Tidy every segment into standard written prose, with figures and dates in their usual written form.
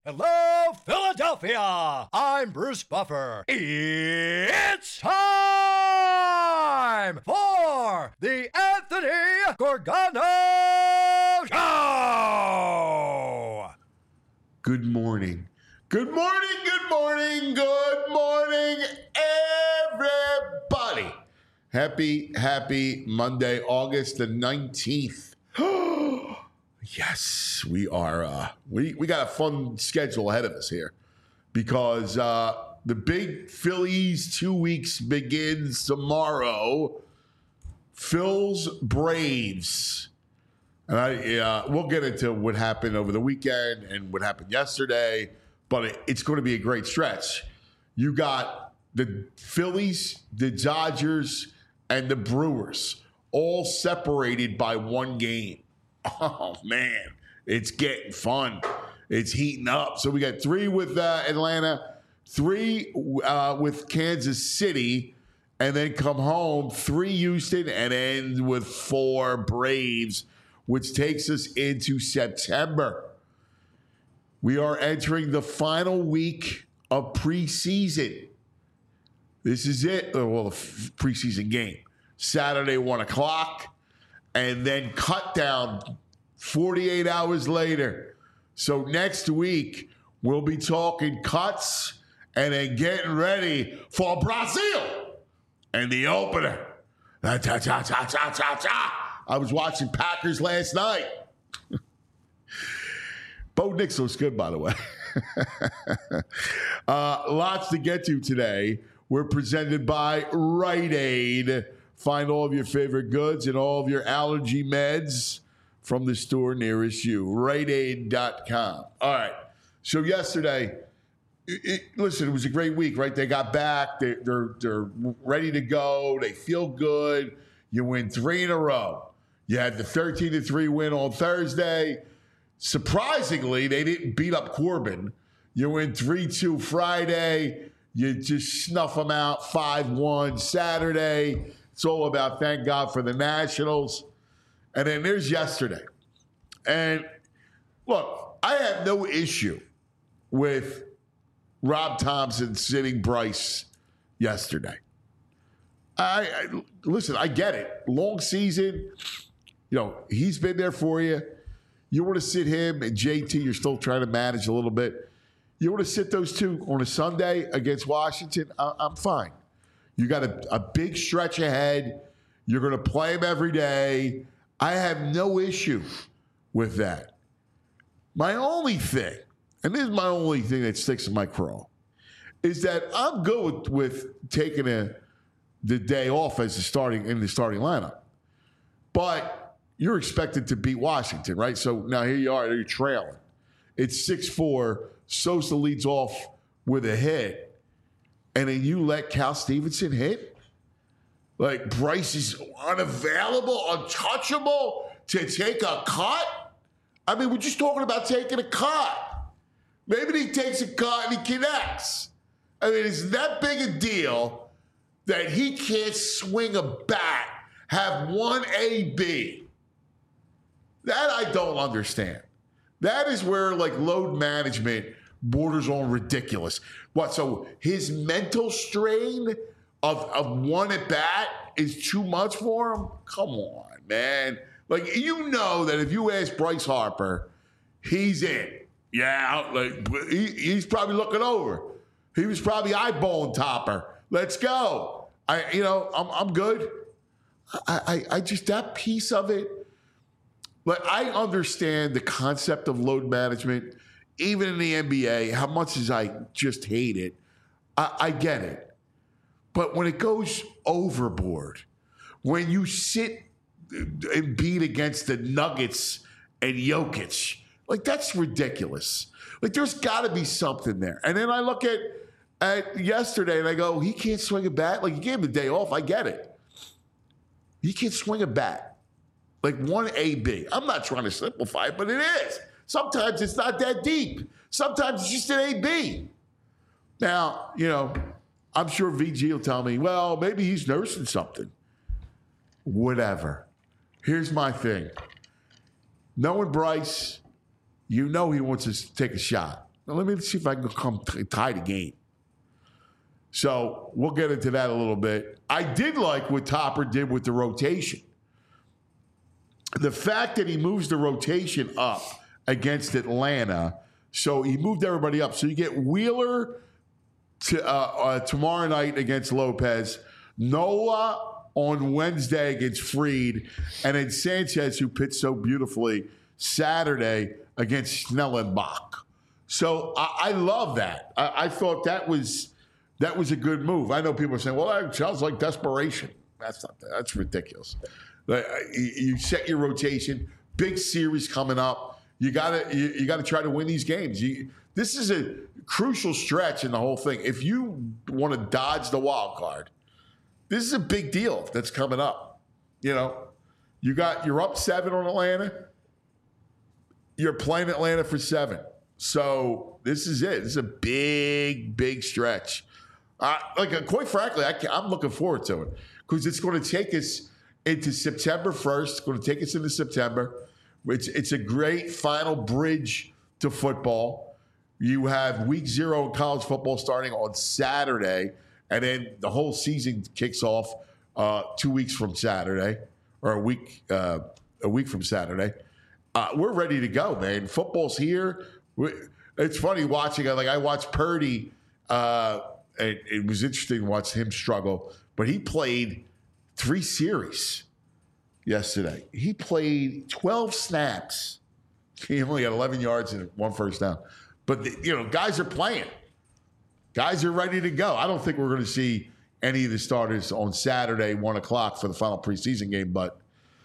Hello, Philadelphia! I'm Bruce Buffer. It's time for the Anthony Gorgano Show! Good morning. Good morning, good morning, good morning, everybody. Happy Monday, August the 19th. Yes, we are. We got a fun schedule ahead of us here because the big Phillies 2 weeks begins tomorrow. Phil's Braves. And we'll get into what happened over the weekend and what happened yesterday, but it's going to be a great stretch. You got the Phillies, the Dodgers, and the Brewers all separated by one game. Oh, man, it's getting fun. It's heating up. So we got 3 with Atlanta, 3 with Kansas City, and then come home, 3 Houston, and end with 4 Braves, which takes us into September. We are entering the final week of preseason. This is it. Well, the preseason game. Saturday, 1 o'clock. And then cut down 48 hours later. So next week, we'll be talking cuts and then getting ready for Brazil and the opener. I was watching Packers last night. Bo Nix looks good, by the way. Lots to get to today. We're presented by Rite Aid. Find all of your favorite goods and all of your allergy meds from the store nearest you. RiteAid.com. All right. So yesterday, listen, it was a great week, right? They got back. They're ready to go. They feel good. You win 3 in a row. You had the 13-3 win on Thursday. Surprisingly, they didn't beat up Corbin. You win 3-2 Friday. You just snuff them out 5-1 Saturday. It's all about thank God for the Nationals. And then there's yesterday. And look, I have no issue with Rob Thompson sitting Bryce yesterday. Listen, I get it. Long season. You know, he's been there for you. You want to sit him and JT, you're still trying to manage a little bit. You want to sit those two on a Sunday against Washington, I'm fine. You got a big stretch ahead. You're going to play them every day. I have no issue with that. My only thing, and this is my only thing that sticks in my craw, is that I'm good with taking the day off as in the starting lineup. But you're expected to beat Washington, right? So now here you are, you're trailing. It's 6-4. Sosa leads off with a hit. And then you let Cal Stevenson hit? Like Bryce is unavailable, untouchable to take a cut? I mean, we're just talking about taking a cut. Maybe he takes a cut and he connects. I mean, it's that big a deal that he can't swing a bat, have one AB. That I don't understand. That is where, like, load management borders on ridiculous. What, so his mental strain of one at bat is too much for him? Come on, man. Like, you know that if you ask Bryce Harper, he's in. Yeah, like he's probably looking over. He was probably eyeballing Topper. Let's go. I'm good. I just, that piece of it, like, I understand the concept of load management, even in the NBA, how much as I just hate it, I get it. But when it goes overboard, when you sit and beat against the Nuggets and Jokic, like, that's ridiculous. Like, there's got to be something there. And then I look at yesterday and I go, he can't swing a bat? Like, you gave him the day off. I get it. He can't swing a bat. Like one AB. I'm not trying to simplify it, but it is. Sometimes it's not that deep. Sometimes it's just an AB. Now, I'm sure VG will tell me, well, maybe he's nursing something. Whatever. Here's my thing. Knowing Bryce, he wants to take a shot. let me see if I can come tie the game. So we'll get into that a little bit. I did like what Topper did with the rotation. The fact that he moves the rotation up against Atlanta, so he moved everybody up. So you get Wheeler tomorrow night against Lopez, Nola on Wednesday against Freed, and then Sanchez, who pitched so beautifully, Saturday against Schnellenbach. So I love that. I thought that was a good move. I know people are saying, well, that sounds like desperation. That's ridiculous. You set your rotation, big series coming up. You gotta try to win these games. This is a crucial stretch in the whole thing. If you want to dodge the wild card, this is a big deal that's coming up. You're up 7 on Atlanta. You're playing Atlanta for 7. So this is it. This is a big, big stretch. Quite frankly, I'm looking forward to it because it's going to take us into September 1st. It's going to take us into September. It's a great final bridge to football. You have week 0 in college football starting on Saturday, and then the whole season kicks off 2 weeks from Saturday, or a week from Saturday. We're ready to go, man. Football's here. It's funny watching. I watched Purdy. It was interesting to watch him struggle, but he played 3 series yesterday. He played 12 snaps. He only got 11 yards and 1 first down. But, guys are playing. Guys are ready to go. I don't think we're going to see any of the starters on Saturday, 1 o'clock for the final preseason game. But,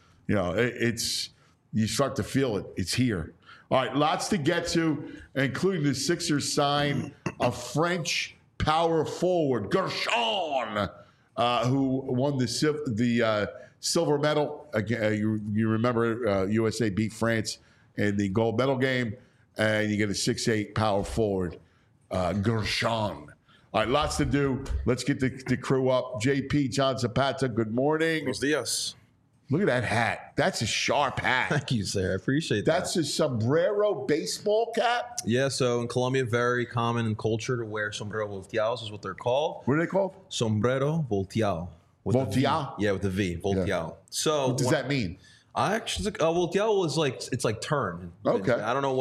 you start to feel it. It's here. All right, lots to get to, including the Sixers sign a French power forward, Gershon, who won the silver medal. You remember USA beat France in the gold medal game, and you get a 6'8" power forward, Gershon. All right, lots to do. Let's get the crew up. JP, John Zapata, good morning. Buenos dias. Look at that hat. That's a sharp hat. Thank you, sir. I appreciate that. That's a sombrero baseball cap? Yeah, so in Colombia, very common in culture to wear sombrero volteados is what they're called. What are they called? Sombrero volteado. Volteado? Yeah, with the V, volteado. Yeah. So what does that mean? I actually, volteado is it's like turn. Okay. I don't know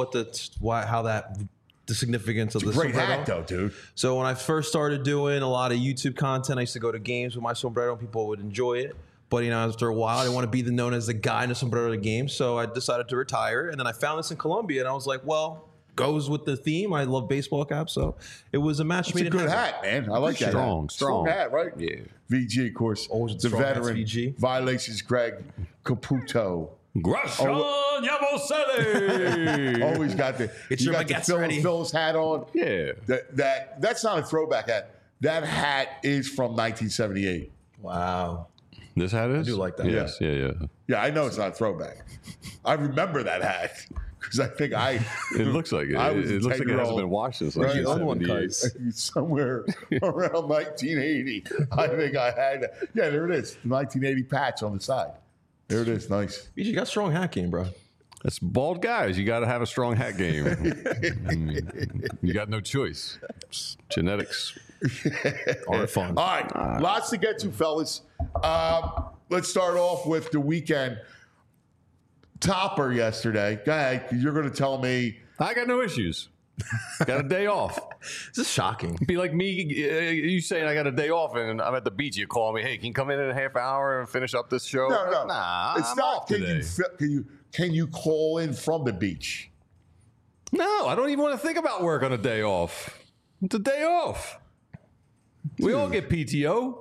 the significance of the great sombrero. hat, though, dude. So when I first started doing a lot of YouTube content, I used to go to games with my sombrero and people would enjoy it. But, after a while, I didn't want to be known as the guy in a sombrero game. So I decided to retire. And then I found this in Colombia. And I was like, well, goes with the theme. I love baseball caps. So it was a match made in heaven. It's a good hat, man. I like that. Strong hat, right? Yeah. VG, of course. Always the veteran. VG. Violations, Greg Caputo. Gershon Yabusele. Always got the. You got the Phil's hat on. Yeah. That's not a throwback hat. That hat is from 1978. Wow. This hat is? I do like that. Yes. Yeah. Yeah, I know it's not a throwback. I remember that hat because I think It looks like it. It looks like it hasn't been washed since like 78. Somewhere around 1980. I think I had. Yeah, there it is. The 1980 patch on the side. There it is. Nice. You got strong hat game, bro. That's bald guys. You got to have a strong hat game. You got no choice. Genetics. All fun. All right. Lots to get to, fellas. Let's start off with the weekend. Topper yesterday. Go ahead. You're going to tell me. I got no issues. Got a day off. This is shocking. It'd be like me, you saying I got a day off and I'm at the beach. You call me, hey, can you come in a half hour and finish up this show? No. Nah, it's I'm not. off today. Can you call in from the beach? No, I don't even want to think about work on a day off. It's a day off. We all get PTO.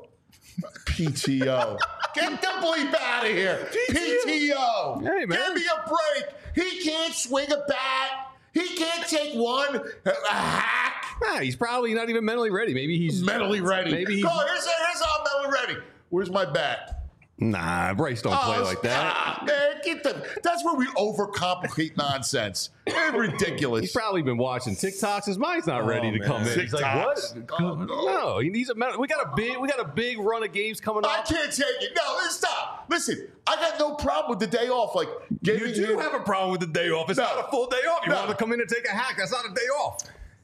PTO. Get the bleep out of here. PTO. Hey, man. Give me a break. He can't swing a bat. He can't take one. A hack. Nah, he's probably not even mentally ready. Maybe he's mentally ready. Maybe he's. Go, here's how I'm mentally ready. Where's my bat? Nah, Bryce don't play like that. Man, that's where we overcomplicate nonsense. It's ridiculous. He's probably been watching TikToks. His mind's not ready to come in. He's like, what? No, he needs a medal. We got a big run of games coming up. I can't take it. No, let's stop. Listen, I got no problem with the day off. Like, you do have a problem with the day off. It's not a full day off. You want to come in and take a hack. That's not a day off.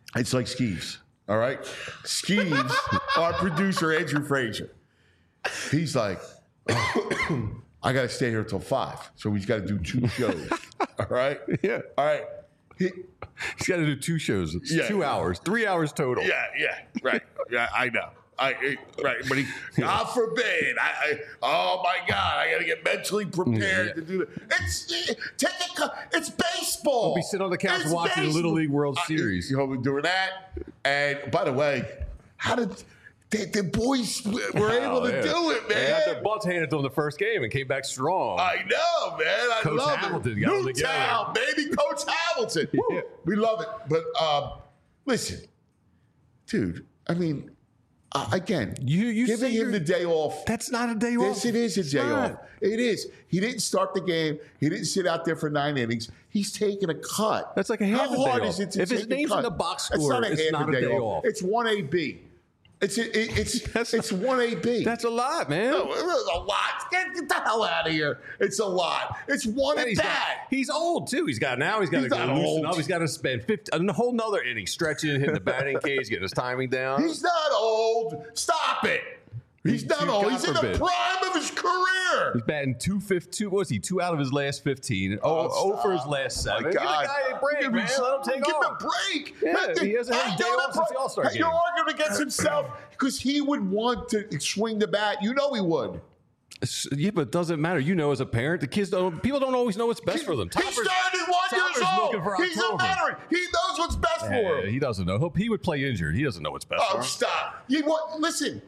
It's like Skeeves. All right? Skeeves, our producer, Andrew Frazier, he's like, I got to stay here till 5. So he's got to do 2 shows. All right? Yeah. All right. He's got to do 2 shows. It's 2 hours, 3 hours total. Yeah, right. Yeah, I know. Right, but God forbid. Oh my God, I got to get mentally prepared to do it. It's baseball. We'll be sitting on the couch watching the Little League World Series. We're doing that. And by the way, how did the boys were able to do it, man? They had their butts handed to them the first game and came back strong. I know, man. I Coach love Hamilton it. got them Newtown, baby, Coach Hamilton. Yeah. We love it. But listen, dude. I mean. Again, you giving him the day off. That's not a day off. Yes, it is a day off. It is. He didn't start the game. He didn't sit out there for 9 innings. He's taking a cut. That's like a half a day off. How hard is it to if his name's in the box score, it's not a day off. It's 1AB. It's 1AB. That's a lot, man. No, it's a lot. Get the hell out of here. It's a lot. It's one at bat. He's old too. He's got to go loosen up. He's got to spend a whole nother inning stretching, hitting the batting cage, getting his timing down. He's not old. Stop it. He's not old. He's in the prime of his career. He's batting 2 was he 2 out of his last 15? Oh, for his last 7. My God. Give the guy a break, man. Let him take Give him off. a break. Yeah, he hasn't had a day off since the All-Star game. You're arguing against himself because he would want to swing the bat. You know he would. Yeah, but it doesn't matter. You know, as a parent, people don't always know what's best for them. He's 31 years old. He's a veteran. He knows what's best for him. He doesn't know. He would play injured. He doesn't know what's best for him. Oh, stop. Listen.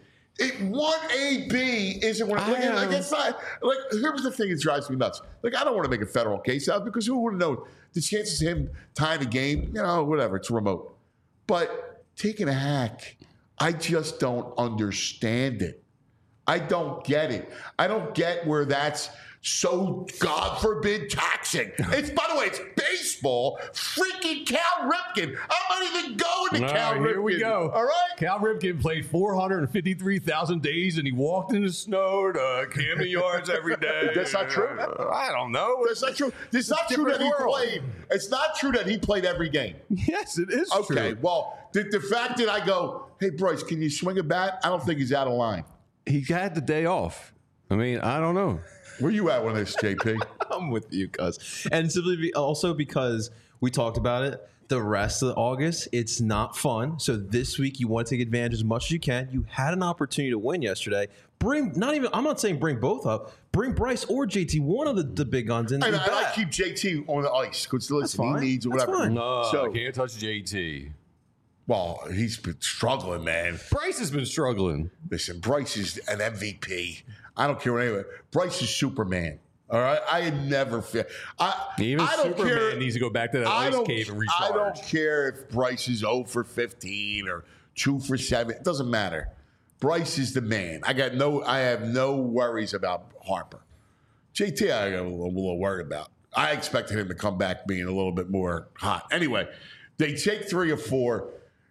1AB isn't what it's not. Like, here's the thing that drives me nuts. Like, I don't want to make a federal case out because who would know the chances of him tying the game? Whatever. It's remote. But taking a hack, I just don't understand it. I don't get it. I don't get where that's so, God forbid, taxing. By the way, it's baseball. Freaking Cal Ripken. I'm not even going to Cal Ripken. Here we go. All right? Cal Ripken played 453,000 days, and he walked in the snow to Camden Yards every day. That's not true. I don't know. That's not true. It's not true that he played. It's not true that he played every game. Yes, it is true. Okay, well, the fact that I go, hey, Bryce, can you swing a bat? I don't think he's out of line. He had the day off. I mean, I don't know. Where you at with this, JP? I'm with you, cuz. And simply also because we talked about it, the rest of August, it's not fun. So this week, you want to take advantage as much as you can. You had an opportunity to win yesterday. I'm not saying bring both up. Bring Bryce or JT, one of the big guns in. And I keep JT on the ice because listen, he needs whatever. No, I can't touch JT. Well, he's been struggling, man. Bryce has been struggling. Listen, Bryce is an MVP. I don't care what anyone. Bryce is Superman. All right, I had never feel. Even Superman needs to go back to that ice cave and recharge. I don't care if Bryce is 0 for 15 or 2 for 7. It doesn't matter. Bryce is the man. I have no worries about Harper. JT, I got a little worried about. I expected him to come back being a little bit more hot. Anyway, they take 3 or 4.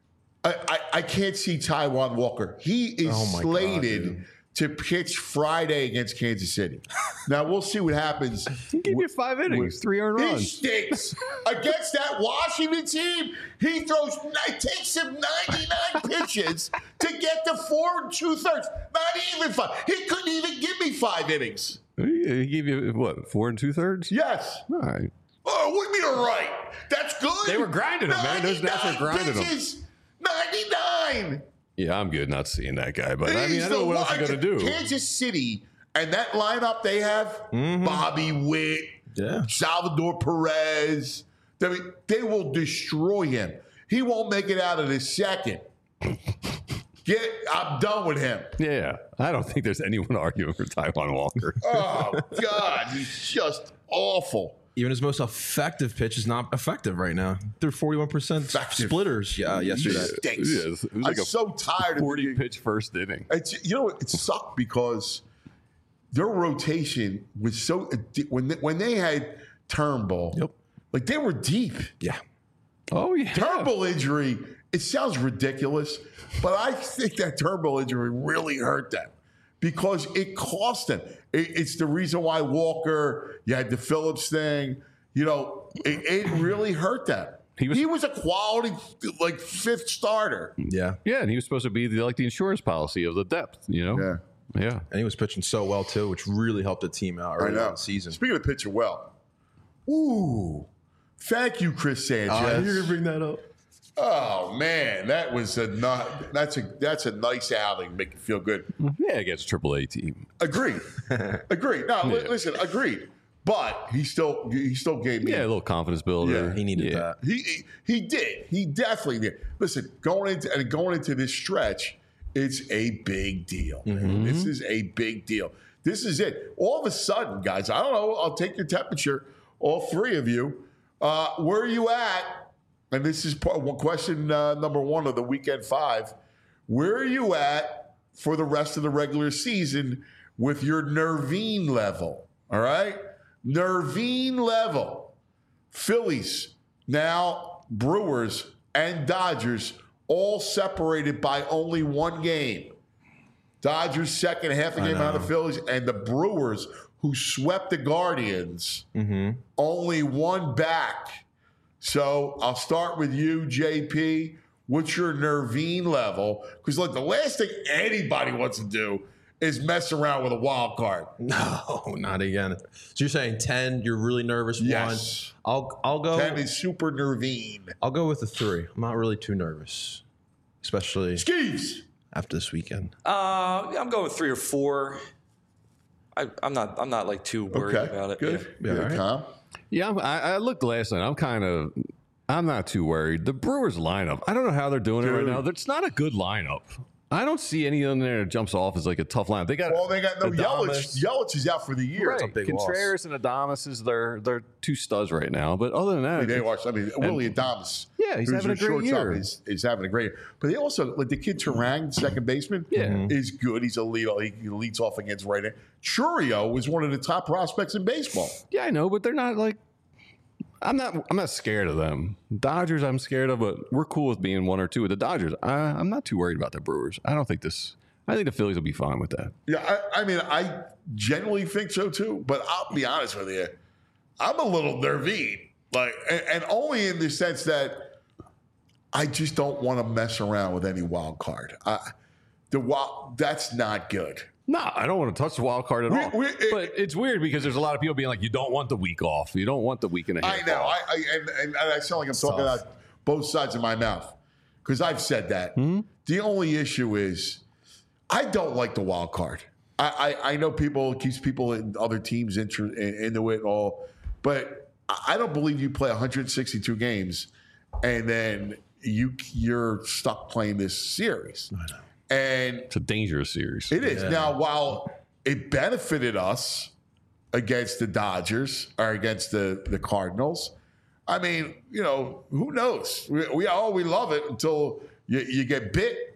I can't see Taijuan Walker. He is slated to pitch Friday against Kansas City. Now, we'll see what happens. He gave you 5 innings, 3 earned runs. He stinks. Against that Washington team, it takes him 99 pitches to get to 4 2/3. Not even 5. He couldn't even give me 5 innings. He gave you, what, 4 2/3? Yes. All right. Oh, what do you mean, all right? That's good. They were grinding him, man. Those Nats were grinding him. 99. Yeah, I'm good not seeing that guy, but I don't know what else he's going to do. Kansas City and that lineup they have, Bobby Witt, Salvador Perez, they will destroy him. He won't make it out of the second. I'm done with him. Yeah, I don't think there's anyone arguing for Taijuan Walker. Oh, God, he's just awful. Even his most effective pitch is not effective right now. They're 41% splitters yesterday. Yes, it was like I'm so tired of 40 pitch first inning. It sucked because their rotation was so when they had Turnbull, like they were deep. Yeah. Oh yeah. Turnbull injury. It sounds ridiculous, but I think that Turnbull injury really hurt them because it cost them. It's the reason why Walker, you had the Phillips thing, it really hurt them. He was a quality, like, 5th starter. Yeah. Yeah, and he was supposed to be the insurance policy of the depth, Yeah. Yeah. And he was pitching so well, too, which really helped the team out early in the season. Speaking of pitching well, thank you, Chris Sanchez. You're going to bring that up? Oh man, that was that's a nice outing. Make you feel good. Yeah, against a AAA team. Agreed. No, listen, agreed. But he still gave me a little confidence builder. Yeah. He needed that. He did. He definitely did. Listen, going into this stretch, it's a big deal. This is a big deal. This is it. All of a sudden, guys, I don't know. I'll take your temperature, all 3 of you. Where are you at? And this is question number 1 of the weekend 5. Where are you at for the rest of the regular season with your Nervine level? All right? Nervine level. Phillies, now Brewers, and Dodgers all separated by only 1 game. Dodgers second, half a game out of the Phillies, and the Brewers, who swept the Guardians, only 1 back. So I'll start with you, JP. What's your Nervine level? Because look, the last thing anybody wants to do is mess around with a wild card. No, not again. So you're saying 10, you're really nervous. Yes. 1. I'll go. 10 is super Nervine. I'll go with a 3. I'm not really too nervous, especially Skeeves. after this weekend. I'm going with 3 or 4. I'm not like too worried about it. Good. Yeah, Good, right. Tom. Yeah, I looked last night. I'm not too worried. The Brewers lineup, I don't know how they're doing it right now. It's not a good lineup. I don't see any in there that jumps off as like a tough lineup. They got no Adames. Yelich. Yelich is out for the year. Right. big Contreras and Adames they're 2 studs right now. But other than that, Willie Adames. Yeah, he's who's having a their great shortstop, year. Is having a great year. But they also, like the kid Turang, second baseman, is good. He's a lead. He leads off against right hand. Churio is one of the top prospects in baseball. yeah, I know, but they're not like. I'm not scared of them. Dodgers, I'm scared of, but we're cool with being 1 or 2 with the Dodgers. I'm not too worried about the Brewers. I think the Phillies will be fine with that. Yeah, I generally think so too. But I'll be honest with you, I'm a little Nervine, and only in the sense that I just don't want to mess around with any wild card. That's not good. No, I don't want to touch the wild card at all. But it's weird because there's a lot of people being like, you don't want the week off. You don't want the week and a half I know. off. And I sound like I'm talking out both sides of my mouth because I've said that. The only issue is I don't like the wild card. I know keeps people in other teams into it all, but I don't believe you play 162 games and then you're stuck playing this series. I know. And It's a dangerous series. it is. Now, while it benefited us against the Dodgers or against the Cardinals, I mean, who knows? We love it until you get bit.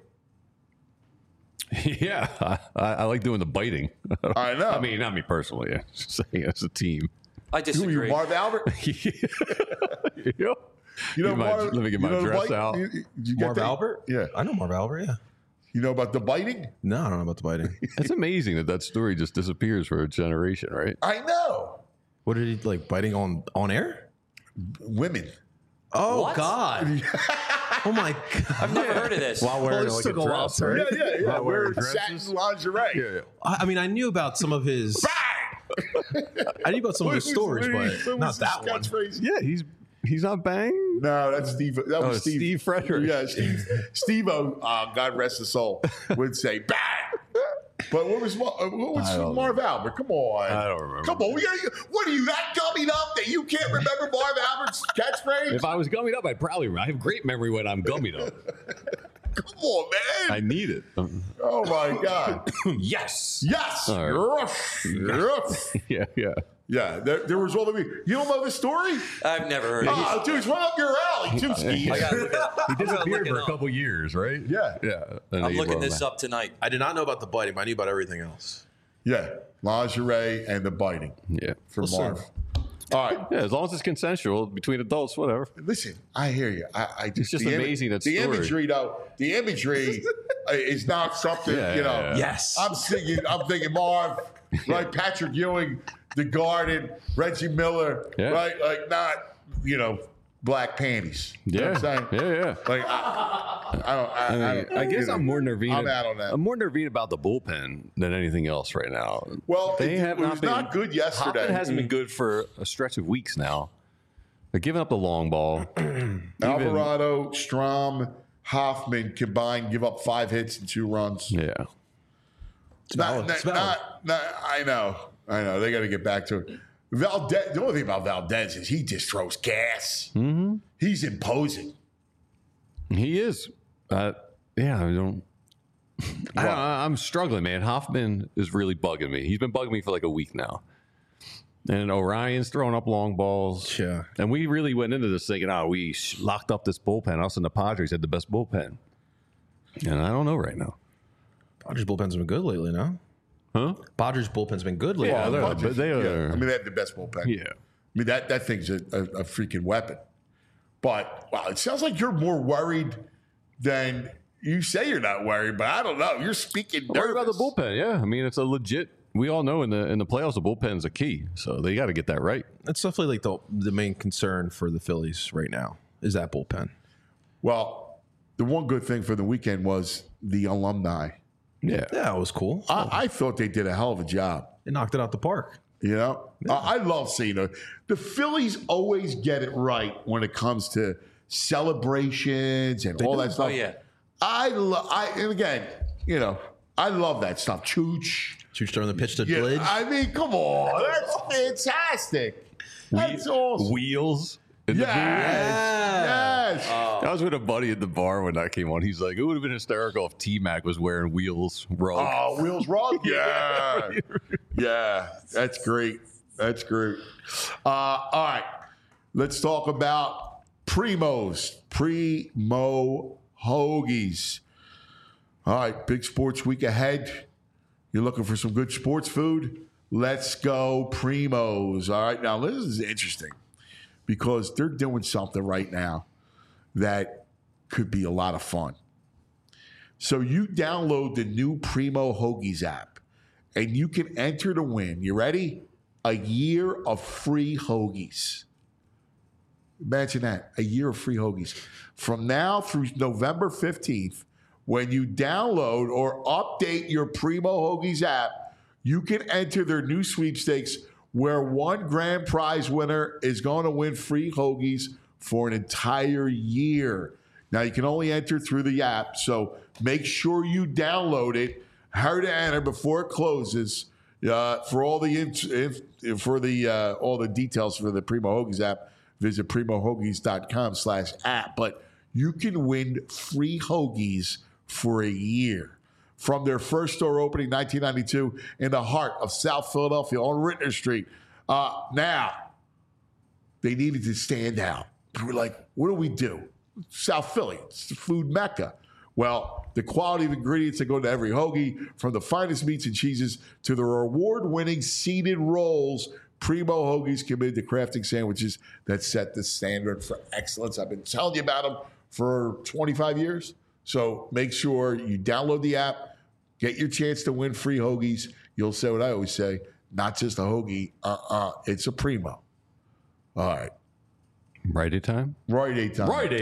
Yeah, I like doing the biting. I know. I mean, not me personally. I'm just saying as a team. I Who are disagree. you, Marv Albert? Yep. Let me get my dress out. You Marv Albert? Yeah. I know Marv Albert, yeah. You know about the biting? No, I don't know about the biting. It's amazing that story just disappears for a generation, right? I know. What did he like biting on air? Women. Oh What? God! Oh my God! I've never heard of this. While wearing this like took a a while, dress, sir. right? Yeah. Not We're wearing satin dresses. lingerie. Yeah. I mean, I knew about some of his. I knew about some of his stories, but not that one. Yeah. Yeah, he's not bang. No, that's Steve. That was Steve Frederick. Yeah, Steve-O, God rest his soul, would say bang. But what was Marv Albert? Come on. I don't remember. Come on. What are you, that gummied up that you can't remember Marv Albert's catchphrase? If I was gummied up, I have great memory when I'm gummied up. Come on, man. I need it. Oh, my God. Yes. Yes. All right. Ruff. Yeah. Yeah, there was all the week. You don't know this story? I've never heard of Oh, it. dude, it's right up your alley, too, Steve. I gotta look it up. He disappeared for it a up. couple years, right? Yeah. I'm looking this up tonight. I did not know about the biting, but I knew about everything else. Yeah, lingerie and the biting Yeah. for Listen. Marv. All right. Yeah, as long as it's consensual between adults, whatever. Listen, I hear you. It's just the amazing that the story. imagery, though. The imagery is not something Yeah. Yes. I'm thinking Marv, right? Patrick Ewing, The Garden, Reggie Miller, Yeah. right? Like not black panties. You know Yeah, what I'm saying? yeah. Like I guess I'm more nervous. I'm out on that. I'm more nervous about the bullpen than anything else right now. Well, they it have was been, not good yesterday. Hoffman hasn't been good for a stretch of weeks now. They're giving up the long ball. Alvarado, Strom, Hoffman combined give up 5 hits and 2 runs. Yeah. I know. They got to get back to it. Valdez. The only thing about Valdez is he just throws gas. Mm-hmm. He's imposing. He is. I'm struggling, man. Hoffman is really bugging me. He's been bugging me for like a week now. And Orion's throwing up long balls. Yeah. And we really went into this thinking, we locked up this bullpen. Us and the Padres had the best bullpen. And I don't know right now. Padres bullpen's been good lately, no? Huh? Padres bullpen's been good lately. Yeah, they are. I mean, they have the best bullpen. Yeah. I mean, that thing's a freaking weapon. But, wow, it sounds like you're more worried than you say you're not worried, but I don't know. You're speaking nervous. Worried about the bullpen, yeah. I mean, it's a legit. We all know in the playoffs, the bullpen's a key, so they got to get that right. That's definitely like the main concern for the Phillies right now is that bullpen. Well, the one good thing for the weekend was the alumni. Yeah. Yeah, it was cool. I thought they did a hell of a job. They knocked it out the park. You know, I love seeing it. The Phillies always get it right when it comes to celebrations and all that stuff. Oh, yeah. And again, you know, I love that stuff. Chooch. Chooch throwing the pitch to Yeah, Blidge. I mean, come on. That's fantastic. That's awesome. Wheels. In the booth. Yes. I was with a buddy at the bar when that came on. He's like, it would have been hysterical if T-Mac was wearing Wheels rug. Oh, Wheels Rug? Yeah. Yeah. That's great. That's great. All right. Let's talk about Primo's. Primo Hoagies. All right. Big sports week ahead. You're looking for some good sports food? Let's go Primo's. All right. Now, this is interesting because they're doing something right now that could be a lot of fun. So you download the new Primo Hoagies app, and you can enter to win. You ready? A year of free hoagies. Imagine that, a year of free hoagies. From now through November 15th, when you download or update your Primo Hoagies app, you can enter their new sweepstakes where one grand prize winner is going to win free hoagies for an entire year. Now, you can only enter through the app, so make sure you download it. Hurry to enter before it closes. For all the all the details for the Primo Hoagies app, visit primohoagies.com/app. But you can win free hoagies for a year. From their first store opening in 1992 in the heart of South Philadelphia on Rittner Street. Now, they needed to stand out. We were like, what do we do? South Philly, it's the food mecca. Well, the quality of ingredients that go to every hoagie, from the finest meats and cheeses to the award-winning seeded rolls, Primo Hoagies committed to crafting sandwiches that set the standard for excellence. I've been telling you about them for 25 years. So make sure you download the app, get your chance to win free hoagies. You'll say what I always say, not just a hoagie, it's a Primo. All right. Rite Aid time? Rite Aid time. Rite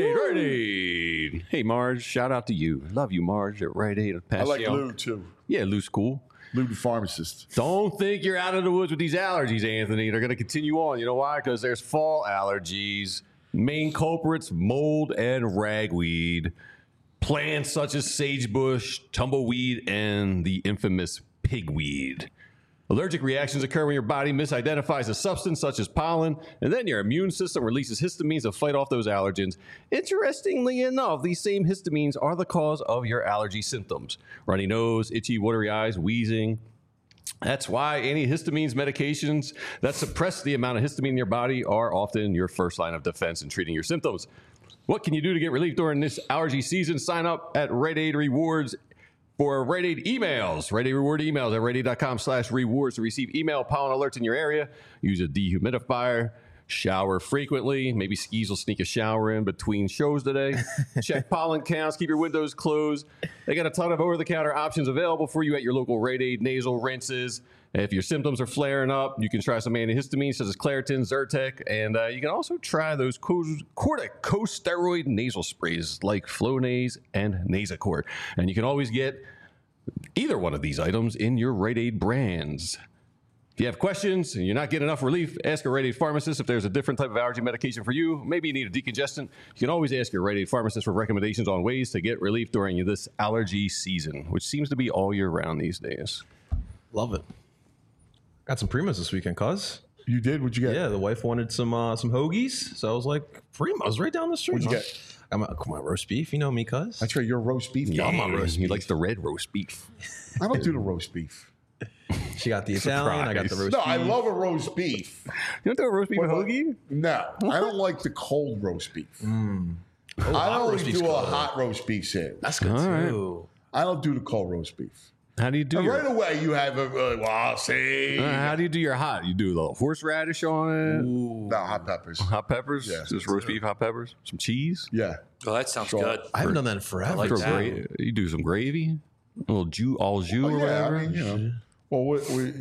Aid. Hey, Marge, shout out to you. Love you, Marge, at Rite Aid. I like Lou, too. Yeah, Lou's cool. Lou the pharmacist. Don't think you're out of the woods with these allergies, Anthony. They're going to continue on. You know why? Because there's fall allergies. Main culprits, mold and ragweed. Plants such as sagebush, tumbleweed, and the infamous pigweed. Allergic reactions occur when your body misidentifies a substance such as pollen, and then your immune system releases histamines to fight off those allergens. Interestingly enough, these same histamines are the cause of your allergy symptoms. Runny nose, itchy, watery eyes, wheezing. That's why antihistamines medications that suppress the amount of histamine in your body are often your first line of defense in treating your symptoms. What can you do to get relief during this allergy season? Sign up at Rite Aid Rewards for Rite Aid emails. Rite Aid Reward emails at RiteAid.com/rewards to receive email pollen alerts in your area. Use a dehumidifier. Shower frequently. Maybe Skis will sneak a shower in between shows today. Check pollen counts. Keep your windows closed. They got a ton of over-the-counter options available for you at your local Rite Aid nasal rinses. If your symptoms are flaring up, you can try some antihistamines such as Claritin, Zyrtec, and you can also try those corticosteroid nasal sprays like Flonase and Nasacort. And you can always get either one of these items in your Rite Aid brands. If you have questions and you're not getting enough relief, ask a Rite Aid pharmacist if there's a different type of allergy medication for you. Maybe you need a decongestant. You can always ask your Rite Aid pharmacist for recommendations on ways to get relief during this allergy season, which seems to be all year round these days. Love it. Got some Primos this weekend, cuz. You did? What'd you get? Yeah, the wife wanted some hoagies, so I was like, Primos right down the street. What'd you get? Come on, roast beef. You know me, cuz. That's right. You're a roast beef guy. I'm a roast He beef. likes the red roast beef. I don't do the roast beef. She got the Italian. I got the roast No, beef. I love a roast beef. You don't do a roast beef hoagie? No, I don't like the cold roast beef. I hot only roast beef's do a good. hot roast beef sandwich. That's good too. I don't do the cold roast beef. How do you do And your right away, you have a see. How do you do your hot? You do a little horseradish on it? No, hot peppers. Hot peppers? Yeah. Just roast beef, hot peppers? Some cheese? Yeah. Oh, that sounds Sure. good. I haven't done that in forever. Throw that. you do some gravy? A little jus, Oh, or yeah, whatever? I mean, well, we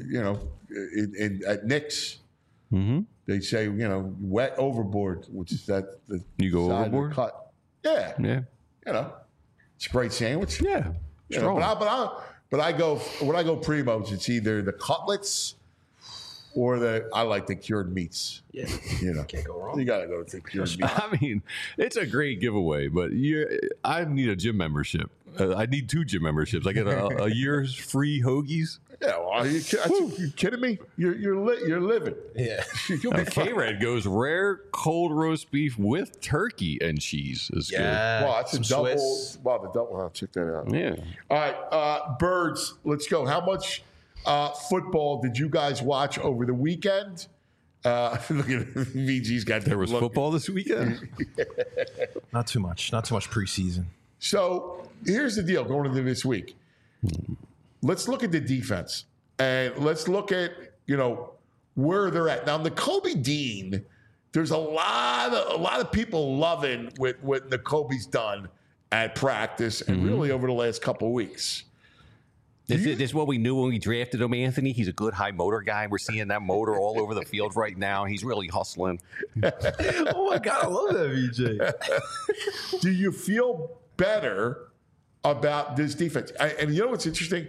at Nick's, they say, wet overboard, which is that the You go side of the overboard? cut. Yeah. Yeah. It's a great sandwich. Yeah. Strong. But I go when I go Primos, it's either the cutlets or I like the cured meats. Yeah. Can't go wrong. You gotta go to the cured meats. I mean, it's a great giveaway, but I need a gym membership. I need 2 gym memberships. I get a year's free hoagies. Yeah, well, are you kidding me? You're living. Yeah. You'll be fine. K-Red goes rare cold roast beef with turkey and cheese is Yeah. Well, that's a Some double. Swiss. Wow, the double. I'll check that out. good. Yeah. All right, Birds, let's go. How much football did you guys watch over the weekend? Look at VG's got There was look. football this weekend. Not too much. Not too much preseason. So here's the deal going into this week. Let's look at the defense and let's look at, where they're at. Now, Nakobe Dean, there's a lot of people loving what Nakobe's done at practice and really over the last couple of weeks. This is what we knew when we drafted him, Anthony. He's a good high motor guy. We're seeing that motor all over the field right now. He's really hustling. Oh my God, I love that, VJ. Do you feel better about this defense? And you know what's interesting?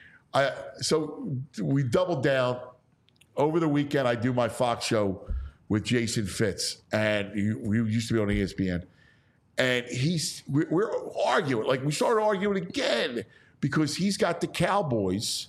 So we doubled down. Over the weekend, I do my Fox show with Jason Fitz, and we used to be on ESPN. And we're arguing. Like, we started arguing again because he's got the Cowboys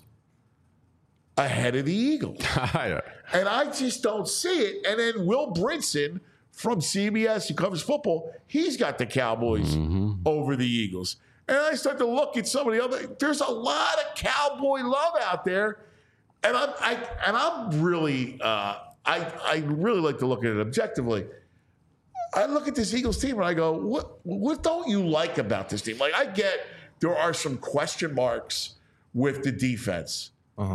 ahead of the Eagles. And I just don't see it. And then Will Brinson from CBS, who covers football, he's got the Cowboys over the Eagles. And I start to look at some of the other. There's a lot of Cowboy love out there, and I'm really I really like to look at it objectively. I look at this Eagles team and I go, what don't you like about this team? Like, I get there are some question marks with the defense,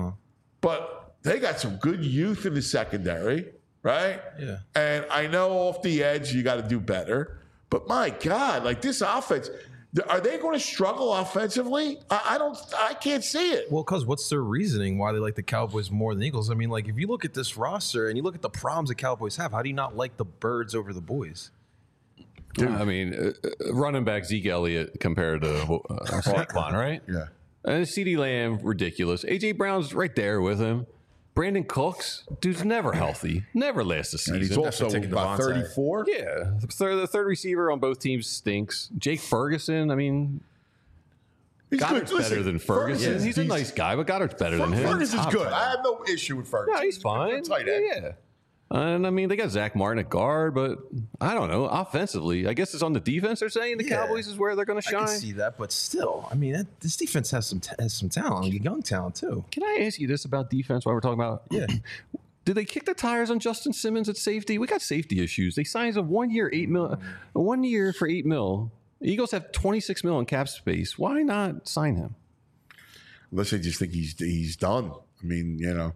but they got some good youth in the secondary, right? Yeah. And I know off the edge you got to do better, but my God, like this offense. Are they going to struggle offensively? I can't see it. Well, because what's their reasoning why they like the Cowboys more than the Eagles? I mean, like, if you look at this roster and you look at the problems the Cowboys have, how do you not like the Birds over the boys? I mean, running back Zeke Elliott compared to Saquon, right? Yeah. And CeeDee Lamb, ridiculous. A.J. Brown's right there with him. Brandon Cooks, dude's never healthy. Never lasts a season. And he's also taking about Devontae. 34. Yeah, the third receiver on both teams stinks. Jake Ferguson, I mean, He's Goddard's good. better Listen, than Ferguson. He's a nice guy, but Goddard's better than him. Ferguson's Top good. tight I end. have no issue with Ferguson. Yeah, he's fine. Tight end. Yeah. And I mean, they got Zach Martin at guard, but I don't know. Offensively, I guess it's on the defense. They're saying the Cowboys is where they're going to I shine. can see that, but still, I mean, this defense has some talent, young talent too. Can I ask you this about defense while we're talking about? Yeah. Did they kick the tires on Justin Simmons at safety? We got safety issues. They signed a 1 year, $8 million, 1 year for $8 million. Eagles have $26 million in cap space. Why not sign him? Unless they just think he's done. I mean,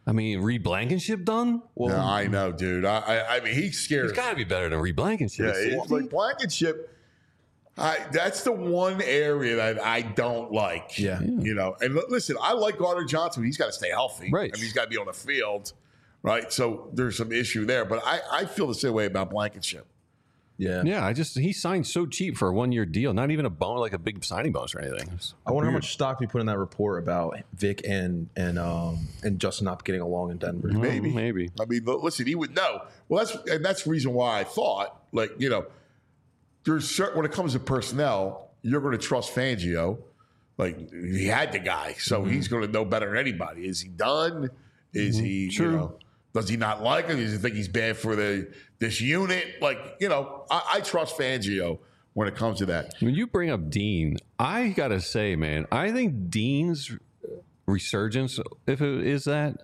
I mean, Reed Blankenship done? Well, no, I know, dude. I mean, he's scared. He's got to be better than Reed Blankenship. Yeah, like Blankenship. That's the one area that I don't like. Yeah. You know, and listen, I like Gardner Johnson. But he's got to stay healthy. Right. I mean, he's got to be on the field. Right. So there's some issue there. But I feel the same way about Blankenship. Yeah. Yeah, he signed so cheap for a 1-year deal. Not even like a big signing bonus or anything. I wonder how much stock we put in that report about Vic and Justin not getting along in Denver. Maybe. Maybe. I mean, listen, he would know. Well, that's the reason why I thought, like, you know, there's certain, when it comes to personnel, you're going to trust Fangio. Like, he had the guy, so he's going to know better than anybody. Is he done? Is he, True. you know, does he not like him? Does he think he's bad for this unit? Like, you know, I trust Fangio when it comes to that. When you bring up Dean, I got to say, man, I think Dean's resurgence, if it is that,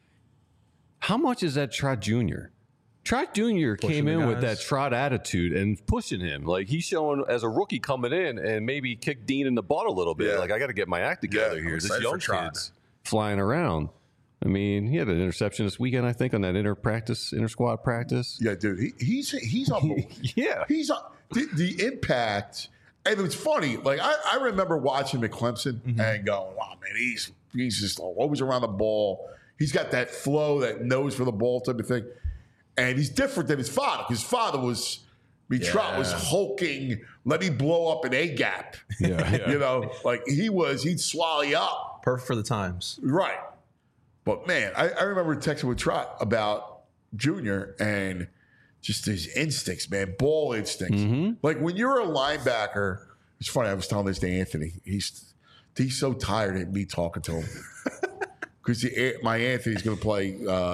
how much is that Trot Jr.? Trot Jr. came in with that Trot attitude and pushing him. Like, he's showing as a rookie coming in and maybe kick Dean in the butt a little bit. Yeah. Like, I got to get my act together Yeah, here. I'm This excited young for Trot. kid's flying around. I mean, he had an interception this weekend, I think, on that inter squad practice. Yeah, dude, he's unbelievable. Yeah. He's the impact. And it's funny. Like, I remember watching McClemson and going, wow, man, he's just always around the ball. He's got that flow, that nose for the ball type of thing. And he's different than his father. His father was, Trot was hulking, let me blow up an A-gap. Yeah. You know, like he'd swallow you up. Perfect for the times. Right. But, man, I remember texting with Trot about Junior and just his instincts, man, ball instincts. Like, when you're a linebacker, it's funny, I was telling this to Anthony. He's so tired of me talking to him. Because my Anthony's going to play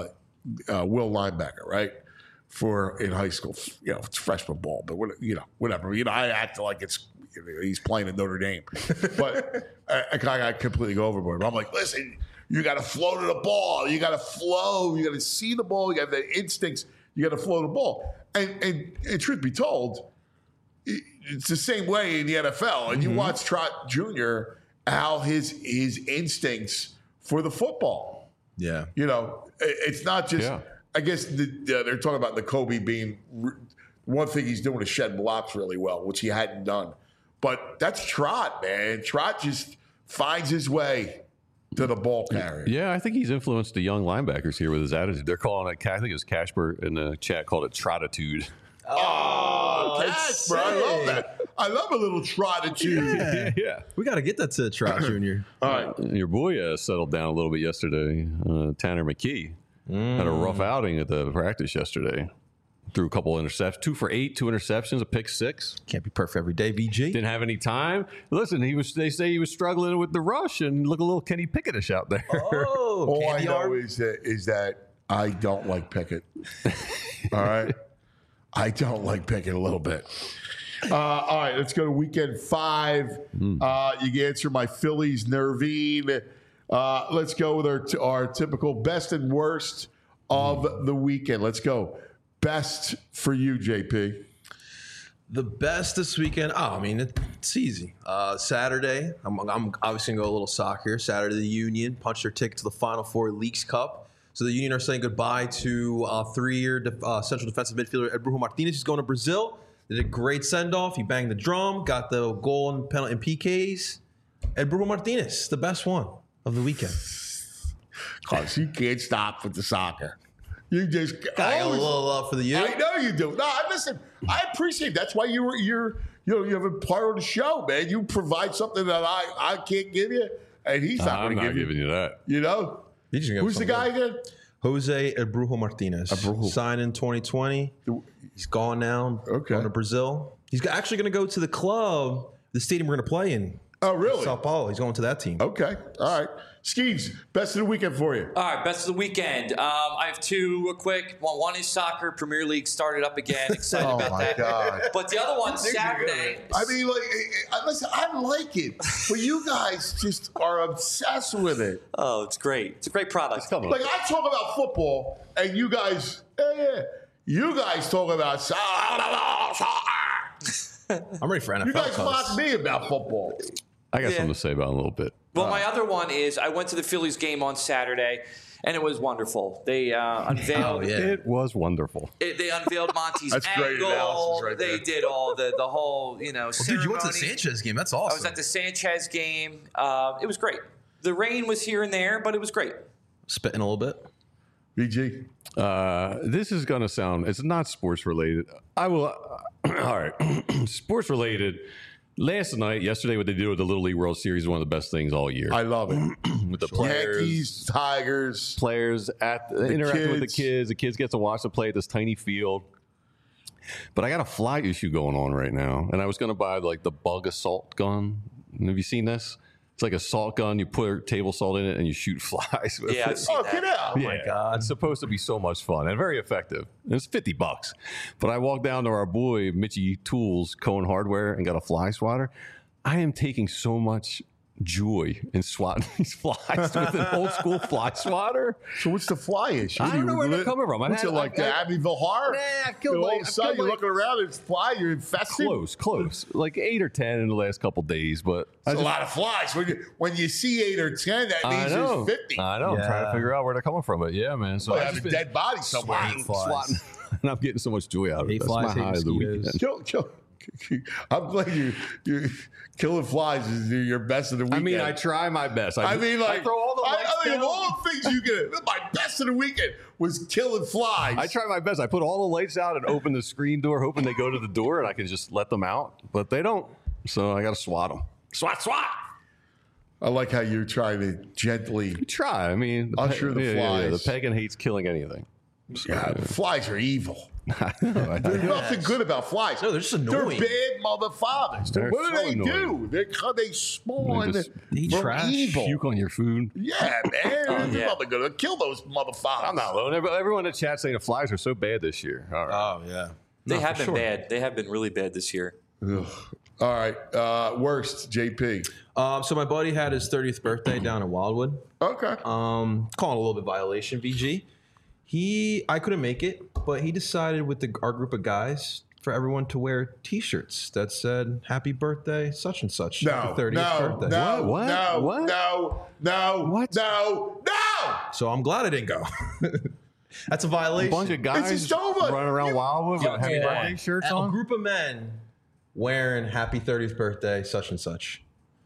will linebacker, right? In high school. You know, it's freshman ball, but, you know, whatever. You know, I act like he's playing at Notre Dame. But I got completely go overboard. But I'm like, listen, you got to flow to the ball. You got to flow. You got to see the ball. You got the instincts. You got to flow the ball. And truth be told, it's the same way in the NFL. And you watch Trot Jr., how his instincts for the football. Yeah. You know, it's not just, I guess they're talking about the Kobe being, one thing he's doing is shed blocks really well, which he hadn't done. But that's Trot, man. Trot just finds his way to the ball carrier. Yeah, I think he's influenced the young linebackers here with his attitude. They're calling it, I think it was Casper in the chat called it Trotitude. Oh, Casper, I love that. I love a little Trotitude. Yeah. We got to get that to Trot Jr. All right. Your boy settled down a little bit yesterday. Tanner McKee had a rough outing at the practice yesterday. Threw a couple interceptions, 2 for 8, 2 interceptions, a pick 6. Can't be perfect every day, VG. Didn't have any time. Listen, they say he was struggling with the rush and look a little Kenny Pickett-ish out there. Oh, All I candy know arm. is that I don't like Pickett. All right? I don't like Pickett a little bit. All right, let's go to weekend 5. You can answer my Phillies Nervine. Let's go with our typical best and worst of the weekend. Let's go. Best for you, JP. The best this weekend. Oh, I mean, it's easy. Saturday, I'm obviously going to go a little soccer. Saturday, the Union punched their ticket to the Final Four Leagues Cup. So the Union are saying goodbye to 3-year central defensive midfielder Ed Brujo Martinez. He's going to Brazil. They did a great send-off. He banged the drum, got the goal and penalty and PKs. Ed Brujo Martinez, the best one of the weekend. Because you can't stop with the soccer. You just Got a little love for the U. I know you do. No, listen, I appreciate it. That's why you have a part of the show, man. You provide something that I can't give you, and he's not I'm going to not give giving you that. You know? Who's the guy again? Jose El Brujo Martinez. Signed in 2020. He's gone now. Okay. Going to Brazil. He's actually going to go to the club, the stadium we're going to play in. Oh, really? Sao Paulo. He's going to that team. Okay. All right. Skeeves, best of the weekend for you. All right, best of the weekend. I have 2 real quick. One is soccer. Premier League started up again. Excited about that. God. But the other one, Saturday. I mean, listen, I like it, but you guys just are obsessed with it. Oh, it's great. It's a great product. Like, I talk about football, and you guys, you guys talk about soccer. I'm ready for NFL. You guys cuz. mock me about football. I got something to say about it in a little bit. Well, my other one is I went to the Phillies game on Saturday, and it was wonderful. They unveiled. Oh, yeah. It was wonderful. They unveiled Monty's That's great angle. analysis right They there. did all the whole Dude, ceremony. you went to the Sanchez game. That's awesome. I was at the Sanchez game. It was great. The rain was here and there, but it was great. Spitting a little bit. BG. This is going to sound, it's not sports related. I will, all right, sports related. Yesterday, what they did with the Little League World Series is one of the best things all year. I love it. With the players, Yankees, Tigers. interacting with the kids. kids. The kids get to watch them play at this tiny field. But I got a fly issue going on right now, and I was going to buy like the bug assault gun. Have you seen this? It's like a salt gun. You put table salt in it, and you shoot flies with Yeah, I've it. seen that. Get out. Oh my God. It's supposed to be so much fun and very effective. And it's $50. But I walked down to our boy, Mitchie Tools, Cohen Hardware, and got a fly swatter. I am taking so much joy in swatting these flies with an old school fly swatter. So what's the fly issue? I don't know where they're coming from. What's it like, the Amityville Horror? Nah, I killed all like- of a I sudden, killed you're like- looking around, it's fly, you're infested. Close. Like 8 or 10 in the last couple days. But That's a lot of flies. When you see 8 or 10, that I means know. there's 50. I know. I'm trying to Yeah. figure out where they're coming from. But yeah, man. So Well, I have just a been dead body somewhere. swatting. And I'm getting so much joy out of it. Hate That's flies, my hate high of the mosquitoes. weekend. Kill. I'm glad you killing flies is your best of the I weekend. mean, I try my best. I mean, like, I throw all the lights I think down. of all the things you get, my best of the weekend was killing flies. I try my best. I put all the lights out and open the screen door, hoping they go to the door and I can just let them out. But they don't. So I got to swat them. Swat. I like how you're trying to gently. Try. I mean, Usher the flies. The pagan hates killing anything. God, flies are evil. I know. There's nothing good about flies. No, they're just annoying. They're bad mother fathers. They're What do so they annoying. do? They spawn They just eat from trash, evil. Puke on your food. Yeah, man. There's yeah. nothing good. Kill those mother fathers. I'm not alone. Everyone in the chat saying the flies are so bad this year. All right. Oh, yeah. They No, have for been sure. bad. They have been really bad this year. Ugh. All right. Worst, JP. So my buddy had his 30th birthday down in Wildwood. Okay. Calling a little bit violation, VG. I couldn't make it, but he decided with our group of guys for everyone to wear T-shirts that said "Happy Birthday, such and such." No, Happy 30th no, birthday. no, What? no, What? no, What? no. So I'm glad I didn't go. That's a A violation. bunch of guys just over. running around Wildwood with happy birthday shirts A on. group of men wearing "Happy 30th birthday, such and such."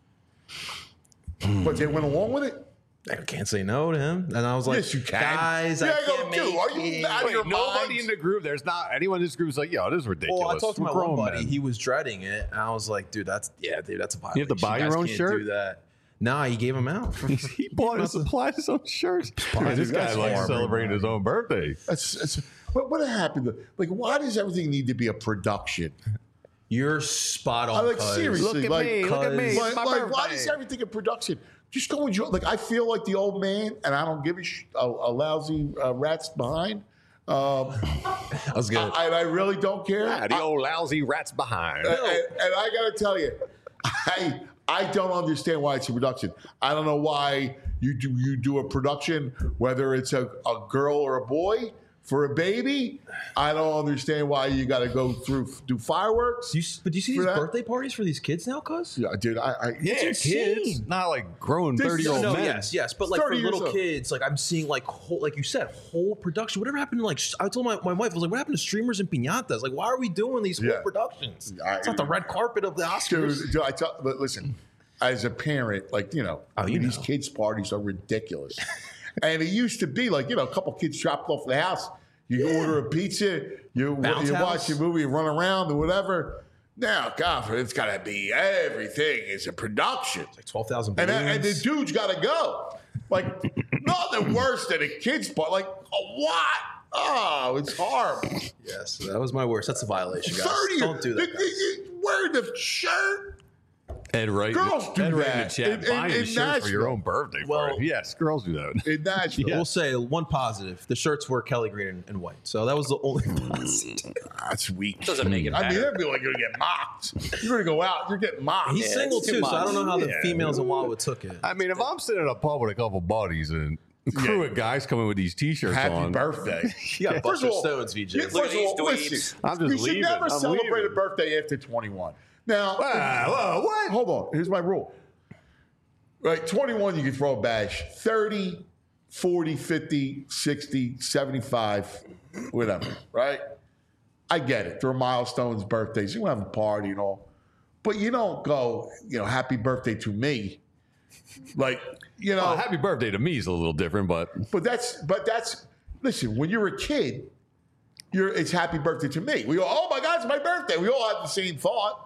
But they went along with it? I can't say no to him. And I was like, Yes, you can. guys, Yeah, I I go, can't dude, make are you it. out of your Nobody minds? in the group. There's not anyone in this group is like, yo, this is ridiculous. Well, I talked to We're my one grown buddy. men. He was dreading it, and I was like, dude, that's a violation. You have to buy your guys own can't shirt? Do that. Nah, he gave him out. He bought and supplied his own shirts. Man, this guy That's likes horrible, celebrating his own birthday. What happened? Like, why does everything need to be a production? You're spot on. I like cuz. seriously. Look at me. Look at me. cuz- It's my Why birthday. is everything a production? Just go enjoy. Like, I feel like the old man, and I don't give a lousy rat's behind. That was good. I really don't care. The old lousy rats behind. And I got to tell you, I don't understand why it's a production. I don't know why you do a production, whether it's a girl or a boy for a baby. I don't understand why you got to go do fireworks. But do you see For these that- birthday parties for these kids now, cuz? Yeah, dude. Yeah, It's kids. insane. Not like grown This- 30-year-old No, men. yes, but like 30 for years little old. kids, like I'm seeing like whole, like you said, whole production. Whatever happened to like I told my wife, I was like, what happened to streamers and piñatas? Like, why are we doing these Yeah. whole productions? I- It's not the red carpet of the Oscars. Dude, but listen, as a parent, like, these kids' parties are ridiculous. And it used to be like, a couple kids dropped off the house. You go order a pizza, you Bounce watch house. a movie, run around or whatever. Now, God, it's got to be everything is a production. Like 12,000 And the balloons. dude's got to go. Like, nothing worse than a kid's party. Like, what? Oh, it's horrible. Yes, that was my worst. That's a violation, guys. 30. Don't do that, guys. Wearing the shirt. Ed Wright, Girls do Ed Wright in the that. chat, buying In a shirt for your Nashville. own birthday. Well- party. Yes, girls do that. In Nashville. We'll say one positive. The shirts were Kelly green and white. So that was the only positive. That's weak. Doesn't make it I mean, better. that'd be like you're gonna get mocked. You're gonna go out, you're getting mocked. He's single it's too too, so I don't know how the Yeah. females in Wildwood took it. I mean, if I'm sitting in a pub with a couple buddies and a crew of guys coming with these T-shirts Happy on, birthday. You got First of Buster all- Stones, VJ. Yeah, Look first at of these all, dweebs. listen, I'm just you should leaving. never I'm celebrate leaving. a birthday after 21. Now, what? hold on. Here's my rule. Right, 21 you can throw a bash. 30, 40, 50, 60, 75, whatever, right? I get it. There are milestones, birthdays. You want to have a party and all. But you don't go, happy birthday to me. Like, Well, happy birthday to me is a little different, but that's listen, when you're a kid, it's happy birthday to me. We go, oh my God, it's my birthday. We all have the same thought,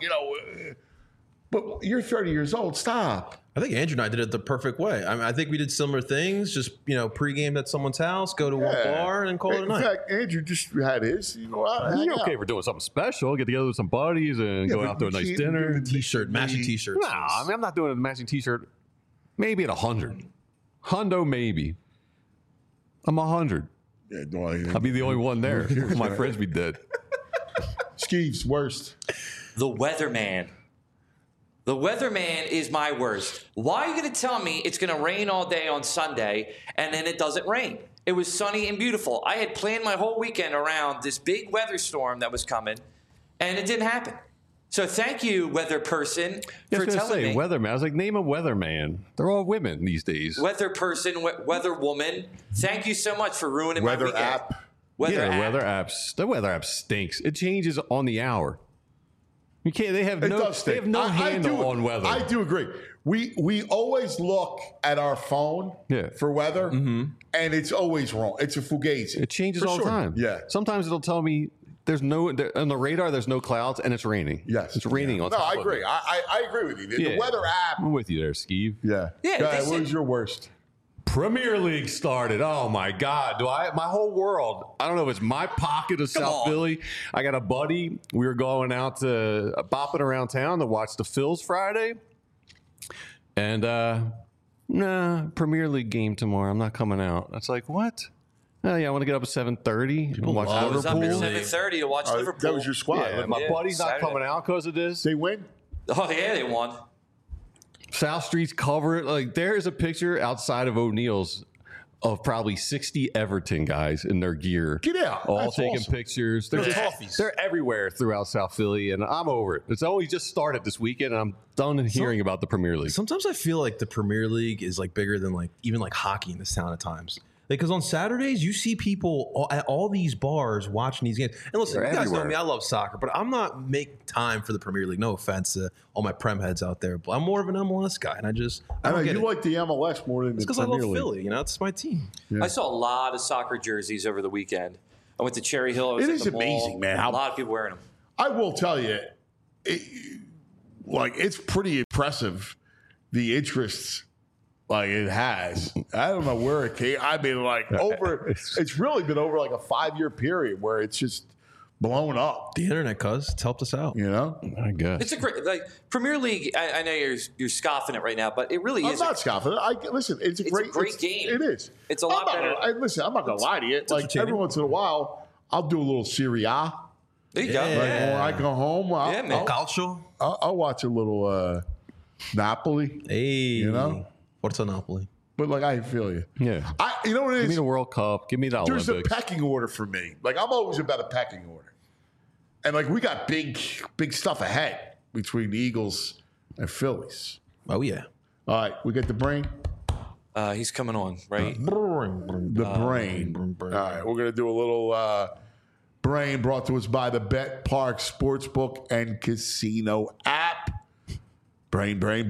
but you're 30 years old. Stop. I think Andrew and I did it the perfect way. I think we did similar things. Just pregame at someone's house, go to one bar, and then call it a In night. fact, Andrew just had his. You go out, hang you're okay out. for doing something special. Get together with some buddies and go but out to a you nice can't dinner. do T-shirt, matching T-shirts. Nah, I mean, I'm not doing a matching T-shirt. Maybe at 100. Hundo, maybe. I'm 100. Yeah, don't want anything. I'll be the only one there. My friends be dead. Skeeves, worst. The weatherman. The weatherman is my worst. Why are you going to tell me it's going to rain all day on Sunday and then it doesn't rain? It was sunny and beautiful. I had planned my whole weekend around this big weather storm that was coming, and it didn't happen. So thank you, weather person, for telling me. Weatherman. I was like, name a weatherman. They're all women these days. Weather person, weather woman, thank you so much for ruining my Weather weekend. app. Weather The app. weather apps. The weather app stinks. It changes on the hour. You can't. They have It no. does They stink. have no handle on weather. I do agree. We always look at our phone for weather, and it's always wrong. It's a fugazi. It changes For all the sure. time. Yeah. Sometimes it'll tell me there's no on the radar. There's no clouds and it's raining. Yes. It's raining on. No, top I of agree. it. I agree with you. The Yeah. weather app. I'm with you there, Skeeve. Yeah. Yeah, Go they ahead, said- what was your worst? Premier League started. Oh my God! My whole world? I don't know if it's my pocket of South on. Philly. I got a buddy. We were going out to bopping around town to watch the Phils Friday, and Premier League game tomorrow. I'm not coming out. It's like what? Oh yeah, I want to get up at 7:30 and watch I was up at Liverpool. 7:30 to watch Liverpool. That was your squad. Yeah, my Yeah, buddy's not Saturday. coming out because of this. They win? Oh, yeah, they won. South Street's covered. Like there's a picture outside of O'Neill's of probably 60 Everton guys in their gear. Get out. All That's taking awesome. pictures. They're, Toffees. they're everywhere throughout South Philly, and I'm over it. It's only just started this weekend, and I'm done hearing about the Premier League. Sometimes I feel like the Premier League is like bigger than like even like hockey in this town at times. Because on Saturdays you see people at all these bars watching these games. And listen, They're you guys know everywhere. me, I love soccer, but I'm not making time for the Premier League. No offense to all my Prem heads out there, but I'm more of an MLS guy, and I I know don't get you it. like the MLS more than the Because I Premier love League. Philly, it's my team. I saw a lot of soccer jerseys over the weekend. I went to Cherry Hill. I was It at is the mall. amazing, man, how- A lot of people wearing them. I will tell you, it's pretty impressive, the interests like it has. I don't know where it came. I mean, like it's really been over like a 5-year period where it's just blown up. The internet, it's helped us out. I guess. It's a great Premier League. I know you're scoffing it right now, but it really I'm is. not scoffing. Listen, it's a great game. It is. It's a lot better. Listen, I'm not gonna lie to you. Like entertaining. every once in a while, I'll do a little Serie A. There you go. Yeah. Like when I go home, Yeah, man. Calcio. I'll watch a little Napoli. Hey. know? Forza Napoli. But like I feel you. Yeah. You know what it Give me is? the World Cup. Give me the There's a Olympics. pecking order for me. Like I'm always about a pecking order. And like we got big stuff ahead between the Eagles and Phillies. Oh, yeah. All right, we get the brain. He's coming on, right? The brain. All right, we're gonna do a little brain brought to us by the Bet Park Sportsbook and Casino app. Brain. Brain,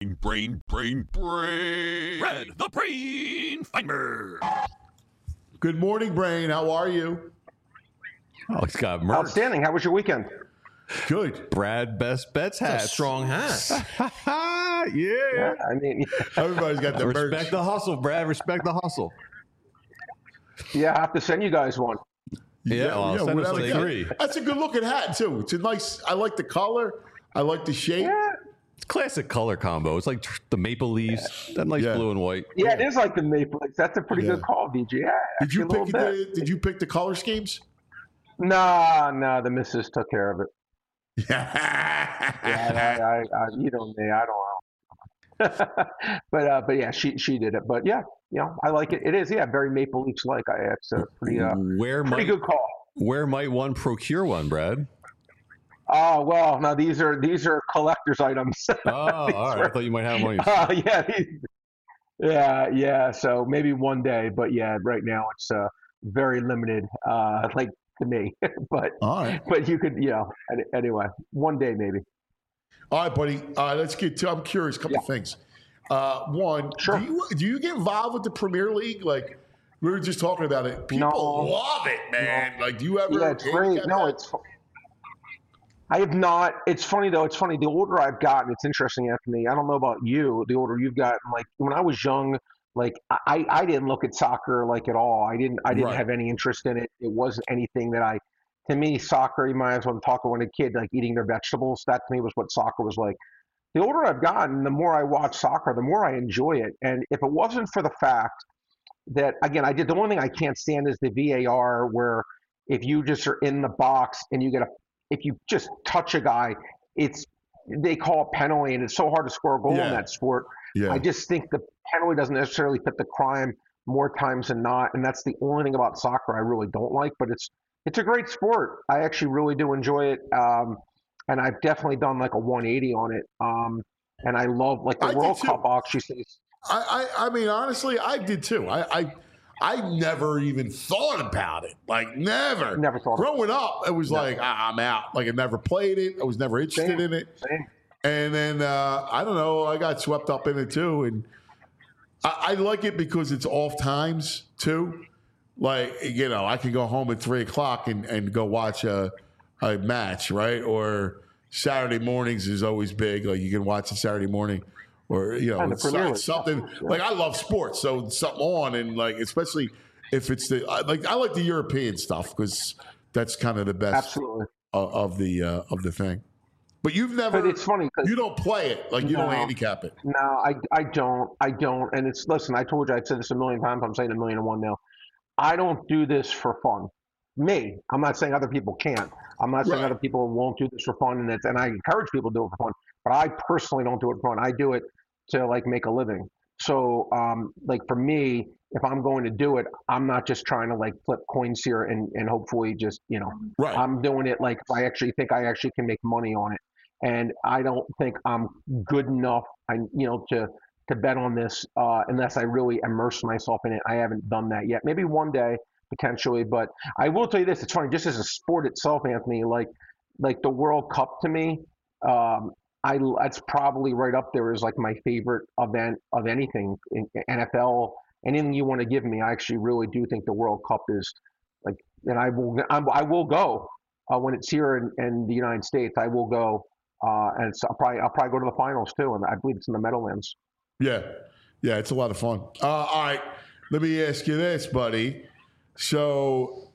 Red, the brain finder. Good morning, brain. How are you? Oh, he's got merch. Outstanding. How was your weekend? Good. Brad Best Bets That's hat. a strong hat. Yeah. I mean, Everybody's got the Respect merch. the hustle, Brad. Respect the hustle. yeah, I have to send you guys one. Yeah, well, I'll send us without like a doubt. 3. That's a good looking hat too. It's a nice. I like the color. I like the shape. Yeah, It's classic color combo. It's like the maple leaves, that nice Yeah. blue and white. yeah, it is like the Maple Leafs. That's a pretty Yeah. good call, VG. Yeah, Did you actually a pick little bit. Did you pick the color schemes? No, the missus took care of it. Yeah. Yeah, you know me, I don't know. but yeah, she did it. But yeah, I like it. It is, very Maple Leafs like. It's a pretty Where pretty might good call. where might one procure one, Brad? Oh well, now these are collector's items. Oh, all right. I thought you might have one. Yeah, Yeah. So maybe one day, but yeah, right now it's very limited, like to me. but All right. but you could, anyway, one day maybe. All right, buddy. Let's get to. I'm curious. A couple things. One, Sure. do you get involved with the Premier League? Like we were just talking about it. People No. love it, man. No. Like, do you ever? Yeah, it's great. No, I have not. It's funny though. It's funny. The older I've gotten, it's interesting, Anthony. I don't know about you. The older you've gotten, like when I was young, like I didn't look at soccer like at all. I didn't Right. have any interest in it. It wasn't anything that to me, soccer, you might as well talk about when a kid, like eating their vegetables. That to me was what soccer was like. The older I've gotten, the more I watch soccer, the more I enjoy it. And if it wasn't for the fact that, again, the only thing I can't stand is the VAR, where if you just are in the box and if you just touch a guy, they call a penalty, and it's so hard to score a goal in that sport. Yeah. I just think the penalty doesn't necessarily fit the crime more times than not, and that's the only thing about soccer I really don't like. But it's a great sport. I actually really do enjoy it, and I've definitely done like a 180 on it. And I love like the World Cup actually. I mean, honestly, I did too. I never even thought about it. Like, never. Never thought. Growing up, it was like, I'm out. Like, I never played it. I was never interested in it. Same. And then, I don't know, I got swept up in it too. And I like it because it's off times too. Like, I can go home at 3 o'clock and go watch a match, right? Or Saturday mornings is always big. Like, you can watch it Saturday morning. Or, it's something like I love sports, so something on, and like especially if it's I like the European stuff because that's kind of the best Absolutely. of the thing. But you've never. But it's funny because you don't play it, like you don't handicap it. No, I don't, and listen. I told you, I've said this a million times. I'm saying 1,000,001 now. I don't do this for fun. I'm not saying other people can't. I'm not saying other people won't do this for fun, and I encourage people to do it for fun. But I personally don't do it for fun. I do it to like make a living. So like for me, if I'm going to do it, I'm not just trying to like flip coins here and hopefully just, Right. I'm doing it like if I actually think I actually can make money on it. And I don't think I'm good enough, to bet on this unless I really immerse myself in it. I haven't done that yet. Maybe one day potentially, but I will tell you this: it's funny. Just as a sport itself, Anthony, like the World Cup to me, that's probably right up there as like my favorite event of anything in NFL. Anything you want to give me, I actually really do think the World Cup is like, and I will go when it's here in the United States. I will go, and I'll probably go to the finals too, and I believe it's in the Meadowlands. Yeah, it's a lot of fun. All right, let me ask you this, buddy. So,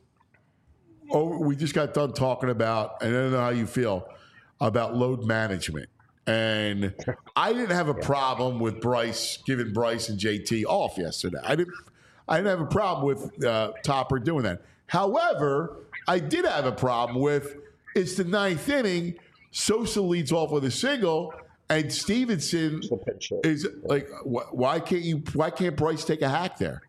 we just got done talking about, and I don't know how you feel about load management. And I didn't have a problem with giving Bryce and JT off yesterday. I didn't have a problem with Topper doing that. However, I did have a problem with it's the ninth inning. Sosa leads off with a single, and Stevenson is like, why can't Bryce take a hack there?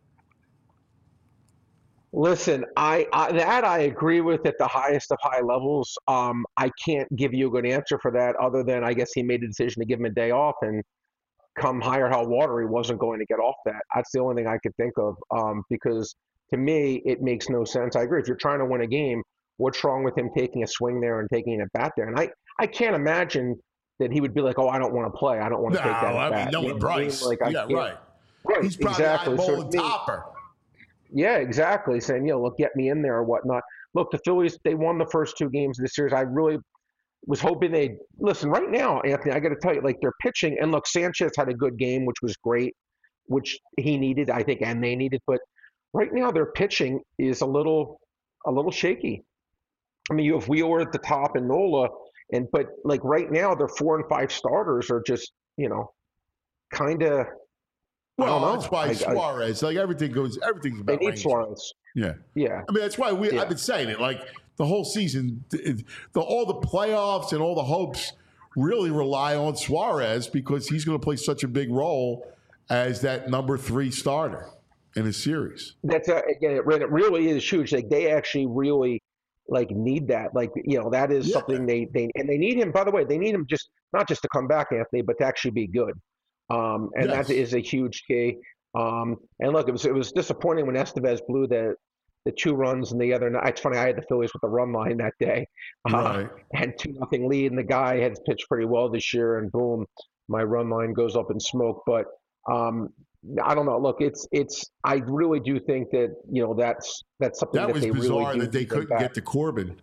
Listen, I agree with at the highest of high levels. I can't give you a good answer for that other than I guess he made a decision to give him a day off, and come high or high water, he wasn't going to get off that. That's the only thing I could think of because to me, it makes no sense. I agree. If you're trying to win a game, what's wrong with him taking a swing there and taking a bat there? And I can't imagine that he would be like, oh, I don't want to play. I don't want to take that bat. No, with Bryce. Like, right. He's probably exactly. eyeballing Topper. Yeah, exactly. Saying, look, get me in there or whatnot. Look, the Phillies, they won the first 2 games of the series. I really was hoping they'd listen right now, Anthony. I got to tell you, like, they're pitching, and look, Sanchez had a good game, which was great, which he needed, I think, and they needed. But right now, their pitching is a little shaky. I mean, you have Wheeler at the top and Nola, but like right now, their 4 and 5 starters are just, kind of. Well, that's why Suarez, like everything's about they need range. Suarez. Yeah. Yeah. I mean, that's why I've been saying it. Like the whole season, all the playoffs and all the hopes really rely on Suarez because he's going to play such a big role as that number 3 starter in a series. That's again, it really is huge. Like they actually really like need that. Like that is something they need him. By the way, they need him not just to come back, Anthony, but to actually be good. And Yes. that is a huge key. And look, it was disappointing when Estevez blew the 2 runs and the other night. It's funny, I had the Phillies with the run line that day. Right. And 2-0 lead, and the guy had pitched pretty well this year, and boom, my run line goes up in smoke. But I don't know. Look, it's. I really do think that that's something That was they bizarre really do that they need couldn't back. get to Corbin.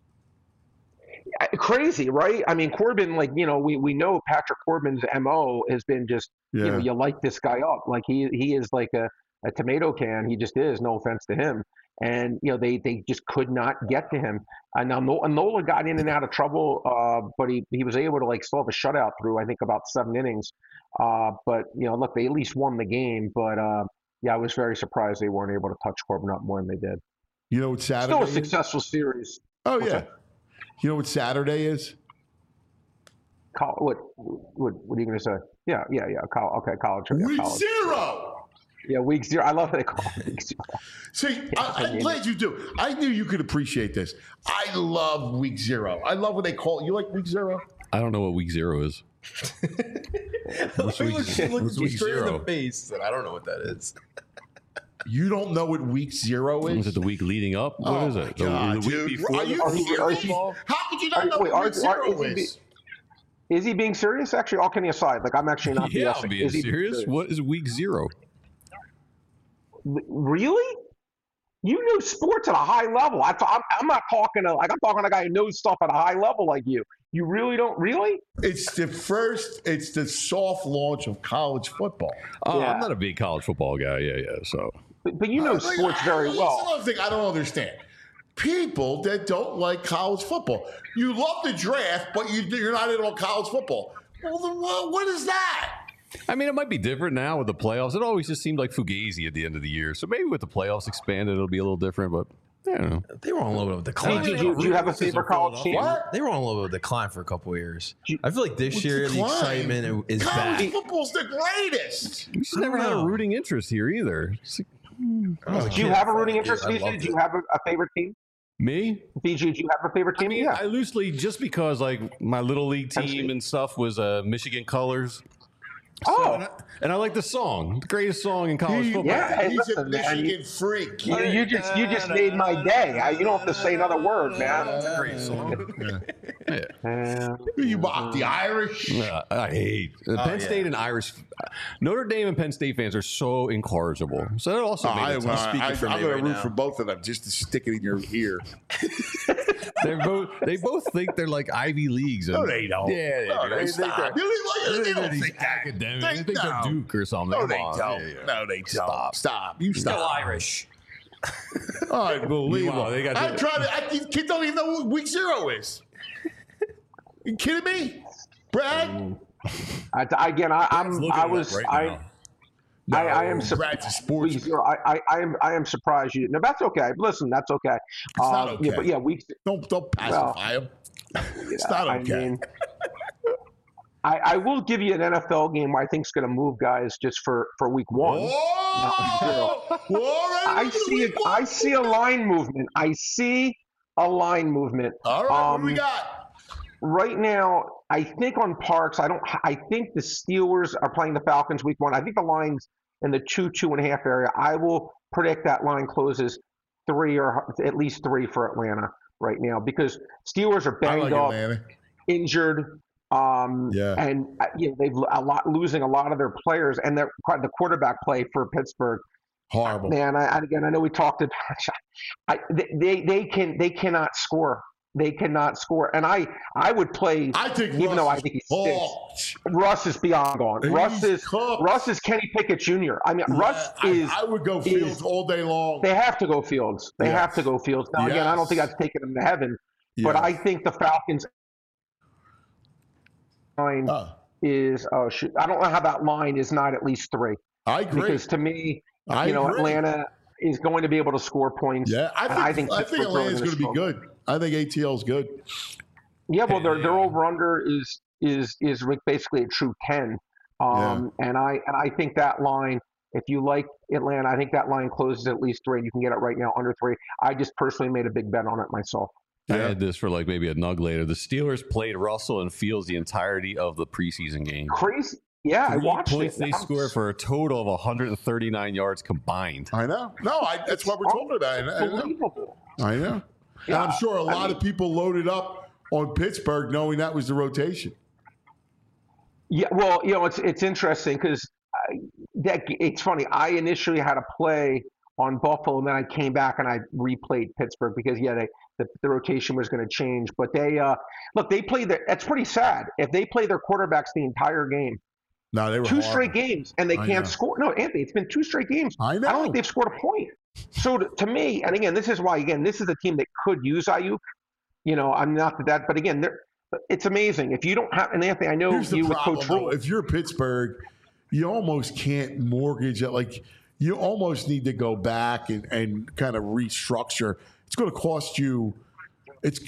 Crazy, right? I mean, Corbin, we know Patrick Corbin's MO has been just, Yeah. you light this guy up. Like he is like a tomato can. He just is, no offense to him. And, they just could not get to him. And now Nola got in and out of trouble, but he was able to still have a shutout through, I think, about 7 innings. But, look, they at least won the game. But, I was very surprised they weren't able to touch Corbin up more than they did. You know what Saturday Still a is? successful series. Oh, What's yeah. that? You know what Saturday is? What are you going to say? Yeah. Okay, college. Yeah, Week college. 0. Yeah, week 0. I love how they call it week 0. See, I'm glad you do. I knew you could appreciate this. I love week 0. I love what they call it. You like week 0? I don't know what week 0 is. Look week you zero? straight in the face, and I don't know what that is. You don't know what week 0 Is is? it the week leading up? What Oh is my it? God, the week dude. before? Are you Are he- serious? are he- How could you not know Wait, what week 0 is he is? Is he being serious? Actually, all kidding aside, I'm actually not Yeah, BSing. I'm being Is he serious. What is week 0? Really? You know sports at a high level. I'm not talking to I'm talking to a guy who knows stuff at a high level like you. You really don't really? It's the soft launch of college football. Oh, Yeah. I'm not a big college football guy. Yeah. So But you know sports very That's well. another thing I don't understand. People that don't like college football. You love the draft, but you're not in on college football. Well, then what is that? I mean, it might be different now with the playoffs. It always just seemed like fugazi at the end of the year. So maybe with the playoffs expanded, it'll be a little different. But I don't know. They were on a little bit of a decline. Hey, do you have a favorite college team? What? They were on a little bit of a decline for a couple of years. I feel like this year the Decline. excitement is College back. football's the greatest. We just never had a know. rooting interest here either. It's like, Do you have a rooting interest, I VG? loved Do you it. have a favorite team? me? VG, do you have a favorite team? I mean, Yeah. I loosely, just because my little league Penn team State. and stuff was Michigan Colors. Oh. And I like the song, the greatest song in college football. yeah. Hey, He's a listen, man, Michigan freak. You just made my day. You don't have to say another word, man. That's a great song. You mock the Irish. I hate Penn State and Irish. Notre Dame and Penn State fans are so incorrigible. So that also made it tough. speaking for I'm me going right to root now. for both of them just to stick it in your ear. They both think they're like Ivy Leagues. And, No, they don't. Yeah, they No, do. they stop. They don't these think that. academics. They They think they're don't. Duke or something. No, Come they on. don't. Yeah, yeah. No, they don't. Stop. Stop. You Go stop. Irish. Unbelievable. Meanwhile, they got I'm the- trying to. These kids don't even know what week 0 is. You kidding me, Brad? Again, Brad's I looking it up was right I. now. I am Brad's a sports. I am surprised you. No, that's okay. Listen, that's okay. It's not okay. Yeah, but yeah, weeks. Don't pacify him. It's not okay. I mean, I will give you an NFL game I think is going to move guys just for week 1. Whoa! I see a line movement. I see a line movement. All right, what do we got? Right now, I think on Parks, I think the Steelers are playing the Falcons week 1. I think the line's in the 2.5 area. I will predict that line closes 3 or at least 3 for Atlanta right now because Steelers are I banged like up, Atlanta. injured, Yeah. and they've losing a lot of their players, and the quarterback play for Pittsburgh. Horrible. Man, I know we talked about. They cannot score. They cannot score, and I would play. I think even Russ though I is think he's cooked. stinks. Russ is beyond gone. He's cooked. Russ is Kenny Pickett Jr. I mean, Russ is. I would go Fields all day long. They have to go Fields. They Yes. have to go Fields. Now again, I don't think Yes. I've taken them to heaven, but Yes. I think the Falcons line is. Oh shoot! I don't know how that line is not at least 3 I agree. because to me, I agree. Atlanta is going to be able to score points. Yeah, I think Pittsburgh's Atlanta's going to be struggle. good. I think ATL's good. Yeah, well, their over under is basically a true 10. And I think that line, if you like Atlanta, I think that line closes at least 3. And you can get it right now under 3. I just personally made a big bet on it myself. I had this for maybe a nug later. The Steelers played Russell and Fields the entirety of the preseason game. Crazy. Yeah, I 3 watched points it. they scored for a total of 139 yards combined. I know. No, that's what we're talking about. I know. Unbelievable. I know. And I'm sure a lot of people loaded up on Pittsburgh knowing that was the rotation. Yeah, well, it's interesting because it's funny. I initially had a play on Buffalo, and then I came back and I replayed Pittsburgh because the rotation was going to change. But they played that's pretty sad. If they play their quarterbacks the entire game, No, they were two horrible. straight games, and they I can't know. score. No, Anthony, it's been 2 straight games. I know. I don't think they've scored a point. So to me, and again, this is why. Again, this is a team that could use Ayuk. I'm not that, but again, it's amazing if you don't have. And Anthony, I know Here's the you with problem, Coach though. Rule. If you're Pittsburgh, you almost can't mortgage it. Like, you almost need to go back and kind of restructure. It's going to cost you. If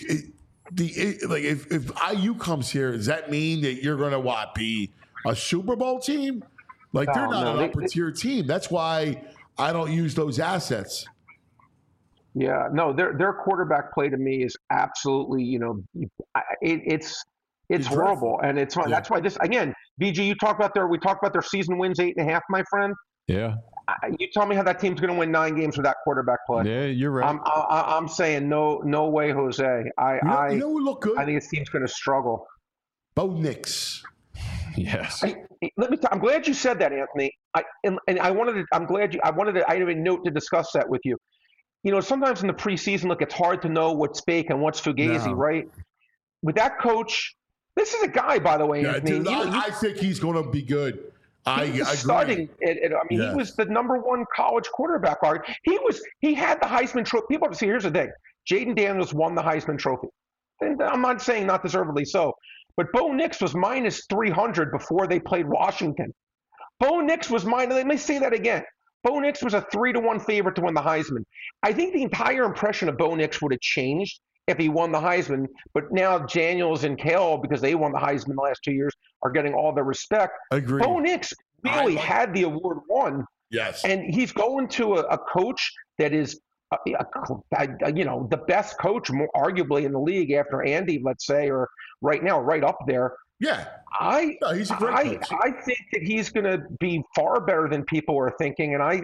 IU comes here, does that mean that you're going to be a Super Bowl team? Like, they're not an upper tier team. That's why I don't use those assets. Yeah, no, their quarterback play to me is absolutely, it's horrible, and it's fun. That's why this again, BG. We talked about their season wins 8.5, my friend. Yeah. You tell me how that team's going to win 9 games with that quarterback play. Yeah, you're right. I'm saying no way, Jose. You know who look good? I think this team's going to struggle. Bo Nix. Yes. I'm glad you said that, Anthony. I have a note to discuss that with you. Sometimes in the preseason, look, it's hard to know what's fake and what's fugazi, right? With that coach, this is a guy, by the way, Anthony. Dude, I think he's going to be good. I agree. He was the #1 college quarterback. He had the Heisman Trophy. People have to see. Here's the thing: Jaden Daniels won the Heisman Trophy. And I'm not saying not deservedly so, but Bo Nix was minus 300 before they played Washington. Bo Nix was minus. Let me say that again. Bo Nix was a 3-1 favorite to win the Heisman. I think the entire impression of Bo Nix would have changed if he won the Heisman. But now Daniels and Kale, because they won the Heisman the last 2 years, are getting all the respect. Agreed. Bo Nix really had the award won. Yes. And he's going to a coach that is, the best coach, more arguably in the league after Andy, let's say, or right now, right up there. Yeah. He's a great coach. I think that he's going to be far better than people are thinking, and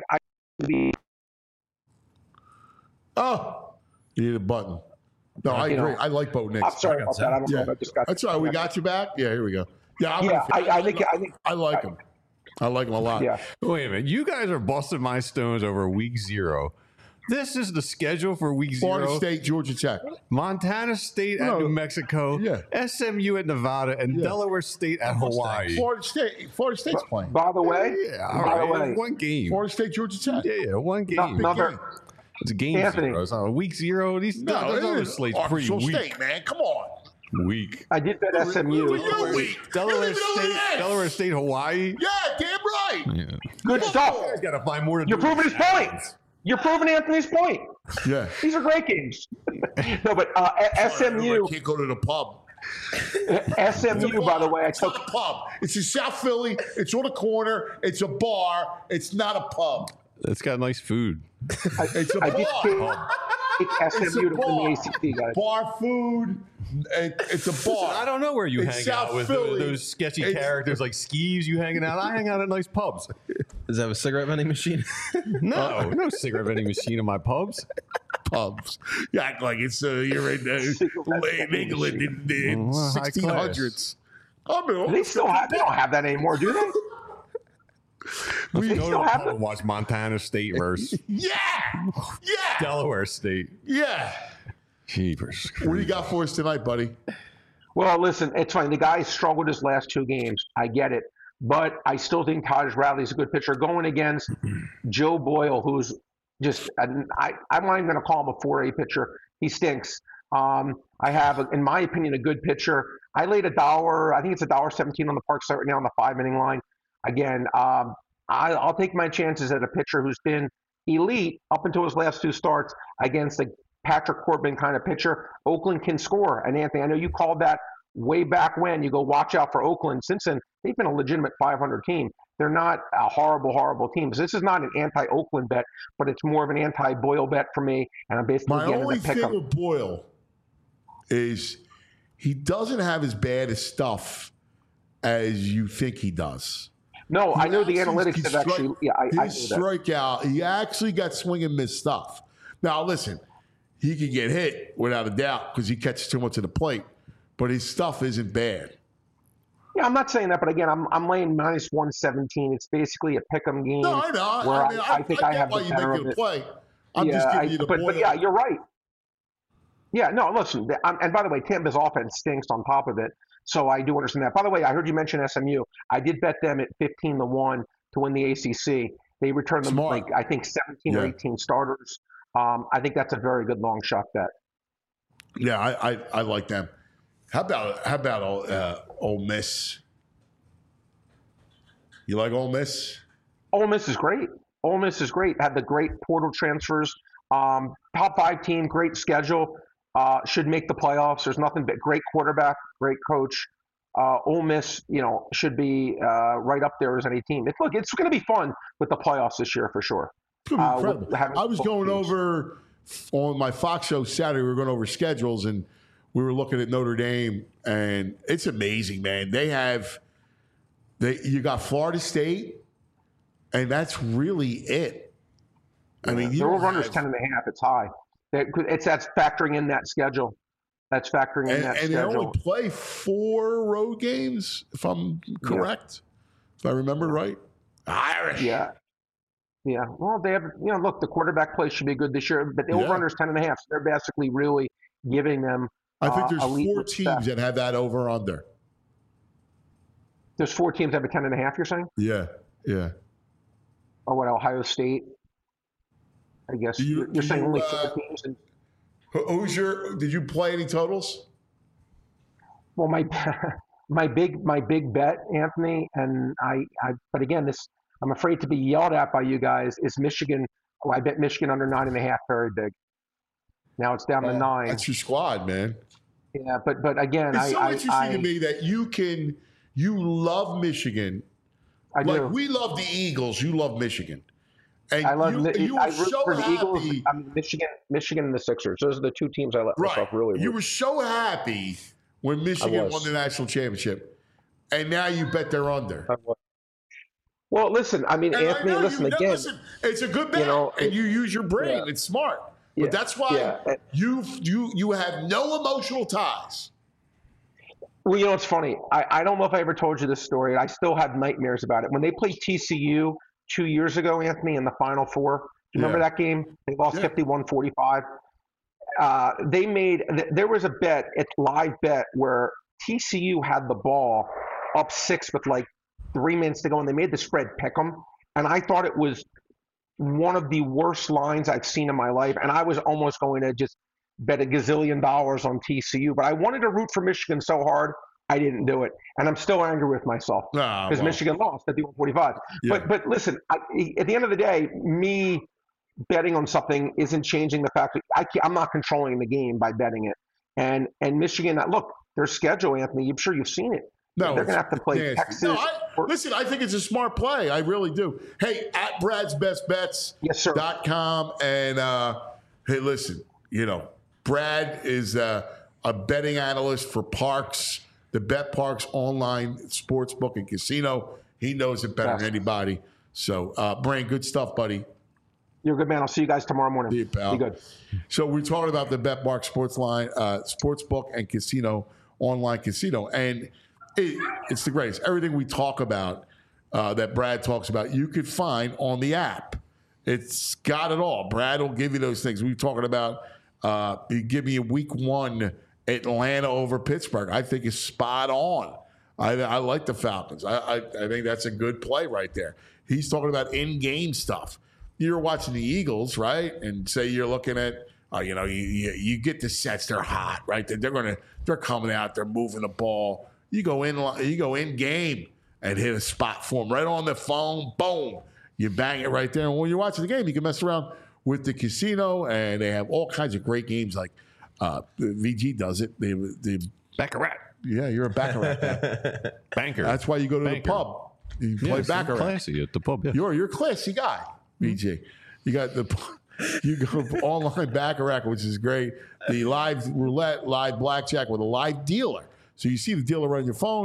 Oh, you need a button. No, I agree. I like Bo Nix. I'm sorry about that. I don't know if I just got. That's all right. We got you back. Yeah, here we go. Yeah, I think I like him. I like him a lot. Yeah. Wait a minute. You guys are busting my stones over week 0. This is the schedule for week 0. Florida State, Georgia Tech. Montana State at New Mexico. Yeah. SMU at Nevada, and Delaware State at Hawaii. Florida State's playing. By the way, Yeah, all right. One game. Florida State, Georgia Tech. Yeah, one game. Game. It's a game Anthony. 0. It's not a week 0. These No, those it other is slates Arkansas pretty weak. State, man. Come on. Weak. I did bet SMU. You're weak. Delaware State, Hawaii. Yeah, damn right. Yeah. Good stuff. You guys got to find more to You're do. proving his point. You're proving Anthony's point. Yeah. These are great games. No, but SMU. I can't go to the pub. SMU, by the way, It's not a pub. It's in South Philly. It's on a corner. It's a bar. It's not a pub. It's got nice food. It's a I did bar. take SMU to win the ACC, guys. Bar food. It's a bar. I don't know where you It's hang South out with Philly. those sketchy It's- characters like Skeeves. You hanging out? I hang out at nice pubs. Does that have a cigarette vending machine? No cigarette vending machine in my pubs. Pubs. You act like it's you're in England in the Well, high 1600s. I mean, They don't have that anymore, do they? Let's They go to still the have pub and watch Montana State versus yeah, Delaware State. yeah. Jeepers. What do you got for us tonight, buddy? Well, listen, it's fine. The guy struggled his last 2 games. I get it. But I still think Taj Radley's a good pitcher going against Joe Boyle, who's just, I'm not even going to call him a 4A pitcher. He stinks. I have, in my opinion, a good pitcher. I laid $1, I think it's $1.17 on the park site right now on the 5-inning line. Again, I'll take my chances at a pitcher who's been elite up until his last 2 starts against a Patrick Corbin kind of pitcher. Oakland can score. And Anthony, I know you called that way back when. You go watch out for Oakland. Since then, they've been a legitimate 500 team. They're not a horrible, horrible team. So this is not an anti-Oakland bet, but it's more of an anti-Boyle bet for me. And I'm basically My getting only to pick thing him. with Boyle is he doesn't have as bad as stuff as you think he does. No, I know the analytics His have actually. Yeah, I know his that. strikeout, he actually got swing and miss stuff. Now, listen, he can get hit without a doubt because he catches too much of the plate, but his stuff isn't bad. Yeah, I'm not saying that, but again, I'm laying minus 117. It's basically a pick'em game. No, I know. Where I think get I have why the you better make of it a it. play. I'm just giving you the point. But yeah, you're right. Yeah, no, listen, and by the way, Tampa's offense stinks on top of it, so I do understand that. By the way, I heard you mention SMU. I did bet them at 15-1 to win the ACC. They returned them Smart. I think 17 or 18 starters. I think that's a very good long shot bet. Yeah, I like them. How about Ole Miss? You like Ole Miss? Ole Miss is great. Ole Miss is great. Had the great portal transfers. Top 5 team, great schedule. Should make the playoffs. There's nothing but great quarterback, great coach. Ole Miss, should be right up there as any team. It's going to be fun with the playoffs this year for sure. It's gonna be incredible. I was going over on my Fox show Saturday. We were going over schedules, and we were looking at Notre Dame, and it's amazing, man. You got Florida State, and that's really it. I mean, the over-under's 10.5. It's high. That's factoring in that schedule. That's factoring in that schedule. And they only play 4 road games, if I'm correct. If I remember right. Irish. Yeah. Yeah. Well, they have, look, the quarterback play should be good this year, but the over-under's 10.5. So they're basically really giving them I think there's 4 respect. teams that have that over-under. There's 4 teams that have a 10.5, you're saying? Yeah. Or what, Ohio State? I guess you're saying only 4 teams. Did you play any totals? Well, my big bet, Anthony, and but again, I'm afraid to be yelled at by you guys, is Michigan. Oh, I bet Michigan under 9.5, very big. Now it's down to 9. That's your squad, man. Yeah, but again, it's so interesting to me that you love Michigan. I do. We love the Eagles. You love Michigan. And I love. you I were root so for the happy. Eagles. I mean, Michigan and the Sixers. Those are the 2 teams I let myself really. You were so happy when Michigan won the national championship, and now you bet they're under. Well, listen. I mean, Anthony. Listen again. Listen, it's a good bet, and you use your brain. Yeah. It's smart, but that's why you have no emotional ties. Well, it's funny. I don't know if I ever told you this story. I still have nightmares about it. When they played TCU 2 years ago, Anthony, in the Final Four. Do you remember that game? They lost 51-45. There was a live bet where TCU had the ball up 6 with like 3 minutes to go, and they made the spread pick 'em. And I thought it was one of the worst lines I've seen in my life. And I was almost going to just bet $1 gazillion on TCU, but I wanted to root for Michigan so hard. I didn't do it, and I'm still angry with myself because Michigan lost at the 45. Yeah. But listen, at the end of the day, me betting on something isn't changing the fact that I'm not controlling the game by betting it. And Michigan, look, their schedule, Anthony, I'm sure you've seen it. No, they're going to have to play Texas. No, listen, I think it's a smart play. I really do. Hey, at Brad'sBestBets.com, and hey, listen, Brad is a betting analyst for Parx. The BetParx online sports book and casino. He knows it better than anybody. So, Brain, good stuff, buddy. You're a good man. I'll see you guys tomorrow morning. See you, pal. Be good. So we're talking about the BetParx sports book and casino, online casino. And it's the greatest. Everything we talk about, that Brad talks about, you could find on the app. It's got it all. Brad will give you those things. We're talking about, you give me a week 1 Atlanta over Pittsburgh. I think is spot on. I like the Falcons. I think that's a good play right there. He's talking about in-game stuff. You're watching the Eagles, right? And say you're looking at, you get the sets. They're hot, right? They're coming out. They're moving the ball. You go in game and hit a spot for them right on the phone. Boom, you bang it right there. And when you're watching the game, you can mess around with the casino, and they have all kinds of great games like. VG does it. The Baccarat. Yeah, you're a Baccarat banker. That's why you go to the pub. You play Baccarat. Classy at the pub. Yeah. You're a classy guy, VG. You got you go online Baccarat, which is great. The live roulette, live blackjack with a live dealer. So you see the dealer on your phone,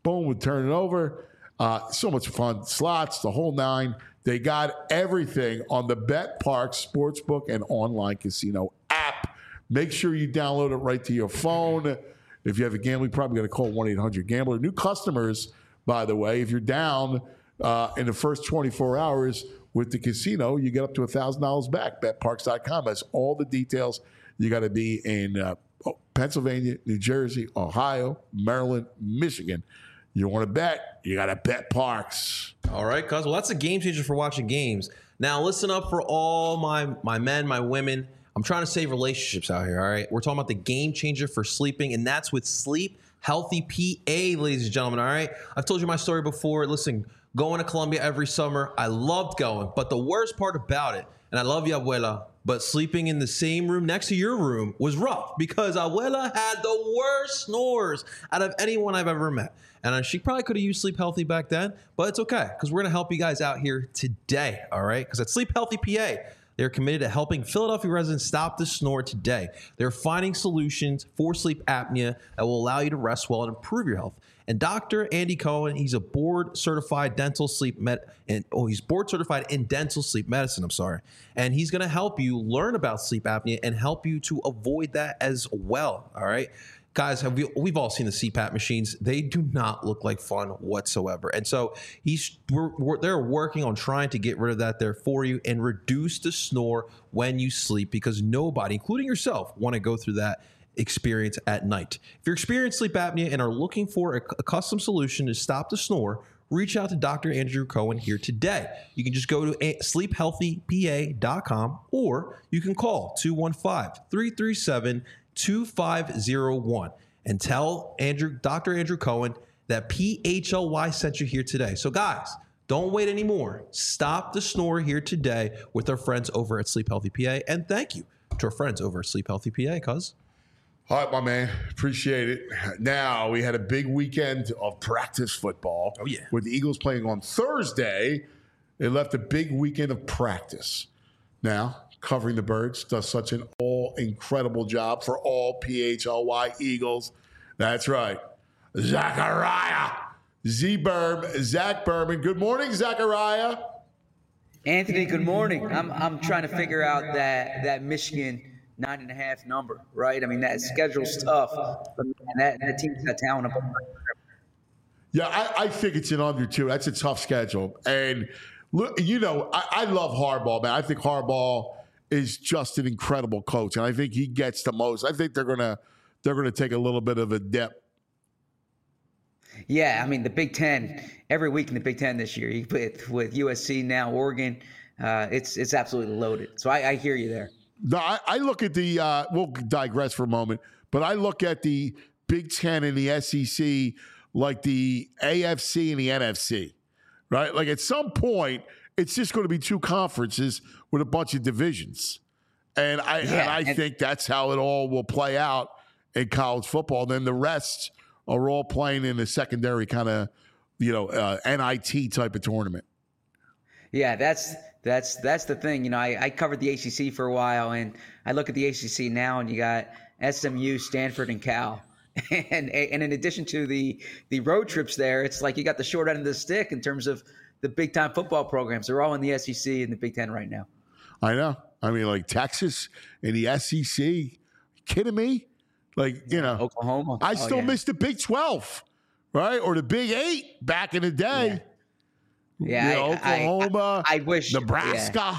Boom, we turn it over. So much fun. Slots, the whole nine. They got everything on the Bet Parks Sportsbook and online casino app. Make sure you download it right to your phone. If you have a gambling problem, you got to call 1-800-GAMBLER. New customers, by the way, if you're down in the first 24 hours with the casino, you get up to $1,000 back. BetParks.com has all the details. You got to be in Pennsylvania, New Jersey, Ohio, Maryland, Michigan. You want to bet, you got to bet Parks. All right, cuz. Well, that's a game changer for watching games. Now, listen up for all my men, my women. I'm trying to save relationships out here, all right? We're talking about the game changer for sleeping, and that's with Sleep Healthy PA, ladies and gentlemen, all right? I've told you my story before. Listen, going to Colombia every summer, I loved going. But the worst part about it, and I love you, Abuela, but sleeping in the same room next to your room was rough because Abuela had the worst snores out of anyone I've ever met. And she probably could have used Sleep Healthy back then, but it's okay because we're going to help you guys out here today, all right? Because at Sleep Healthy PA, they're committed to helping Philadelphia residents stop the snore today. They're finding solutions for sleep apnea that will allow you to rest well and improve your health. And Dr. Andy Cohen, he's a board-certified he's board-certified in dental sleep medicine, And he's going to help you learn about sleep apnea and help you to avoid that as well, all right? Guys, we've all seen the CPAP machines. They do not look like fun whatsoever. And so they're working on trying to get rid of that there for you and reduce the snore when you sleep because nobody, including yourself, want to go through that experience at night. If you're experiencing sleep apnea and are looking for a custom solution to stop the snore, reach out to Dr. Andrew Cohen here today. You can just go to sleephealthypa.com or you can call 215-337-2501 and tell Dr. Andrew Cohen that PHLY sent you here today. So guys, don't wait anymore. Stop the snore here today with our friends over at Sleep Healthy PA. And thank you to our friends over at Sleep Healthy PA, cuz. All right, my man. Appreciate it. Now, we had a big weekend of practice football. Oh, yeah. With the Eagles playing on Thursday. They left a big weekend of practice. Now, Covering the Birds does such an incredible job for all PHLY Eagles. That's right. Zachariah. Zach Berman. Good morning, Zachariah. Anthony, good morning. I'm trying to figure out that Michigan 9.5 number, right? I mean, that schedule's tough, but man, that team's got talent. Yeah, I think it's an under too. That's a tough schedule. And look, I love Harbaugh, man. I think Harbaugh is just an incredible coach, and I think he gets the most. I think they're gonna take a little bit of a dip. Yeah, I mean, the Big Ten, every week in the Big Ten this year, with USC now, Oregon, it's absolutely loaded. So I hear you there. No, I look at the we'll digress for a moment, but I look at the Big Ten and the SEC like the AFC and the NFC, right? Like at some point, it's just going to be two conferences with a bunch of divisions. And I think that's how it all will play out in college football. Then the rest are all playing in a secondary kind of, NIT type of tournament. Yeah, that's the thing. I covered the ACC for a while, and I look at the ACC now, and you got SMU, Stanford, and Cal. And in addition to the road trips there, it's like you got the short end of the stick in terms of the big-time football programs. They're all in the SEC and the Big Ten right now. I know. I mean, like Texas and the SEC. You kidding me? Like, Oklahoma. I still miss the Big 12, right? Or the Big 8 back in the day. Yeah, Oklahoma, I wish Nebraska. Yeah.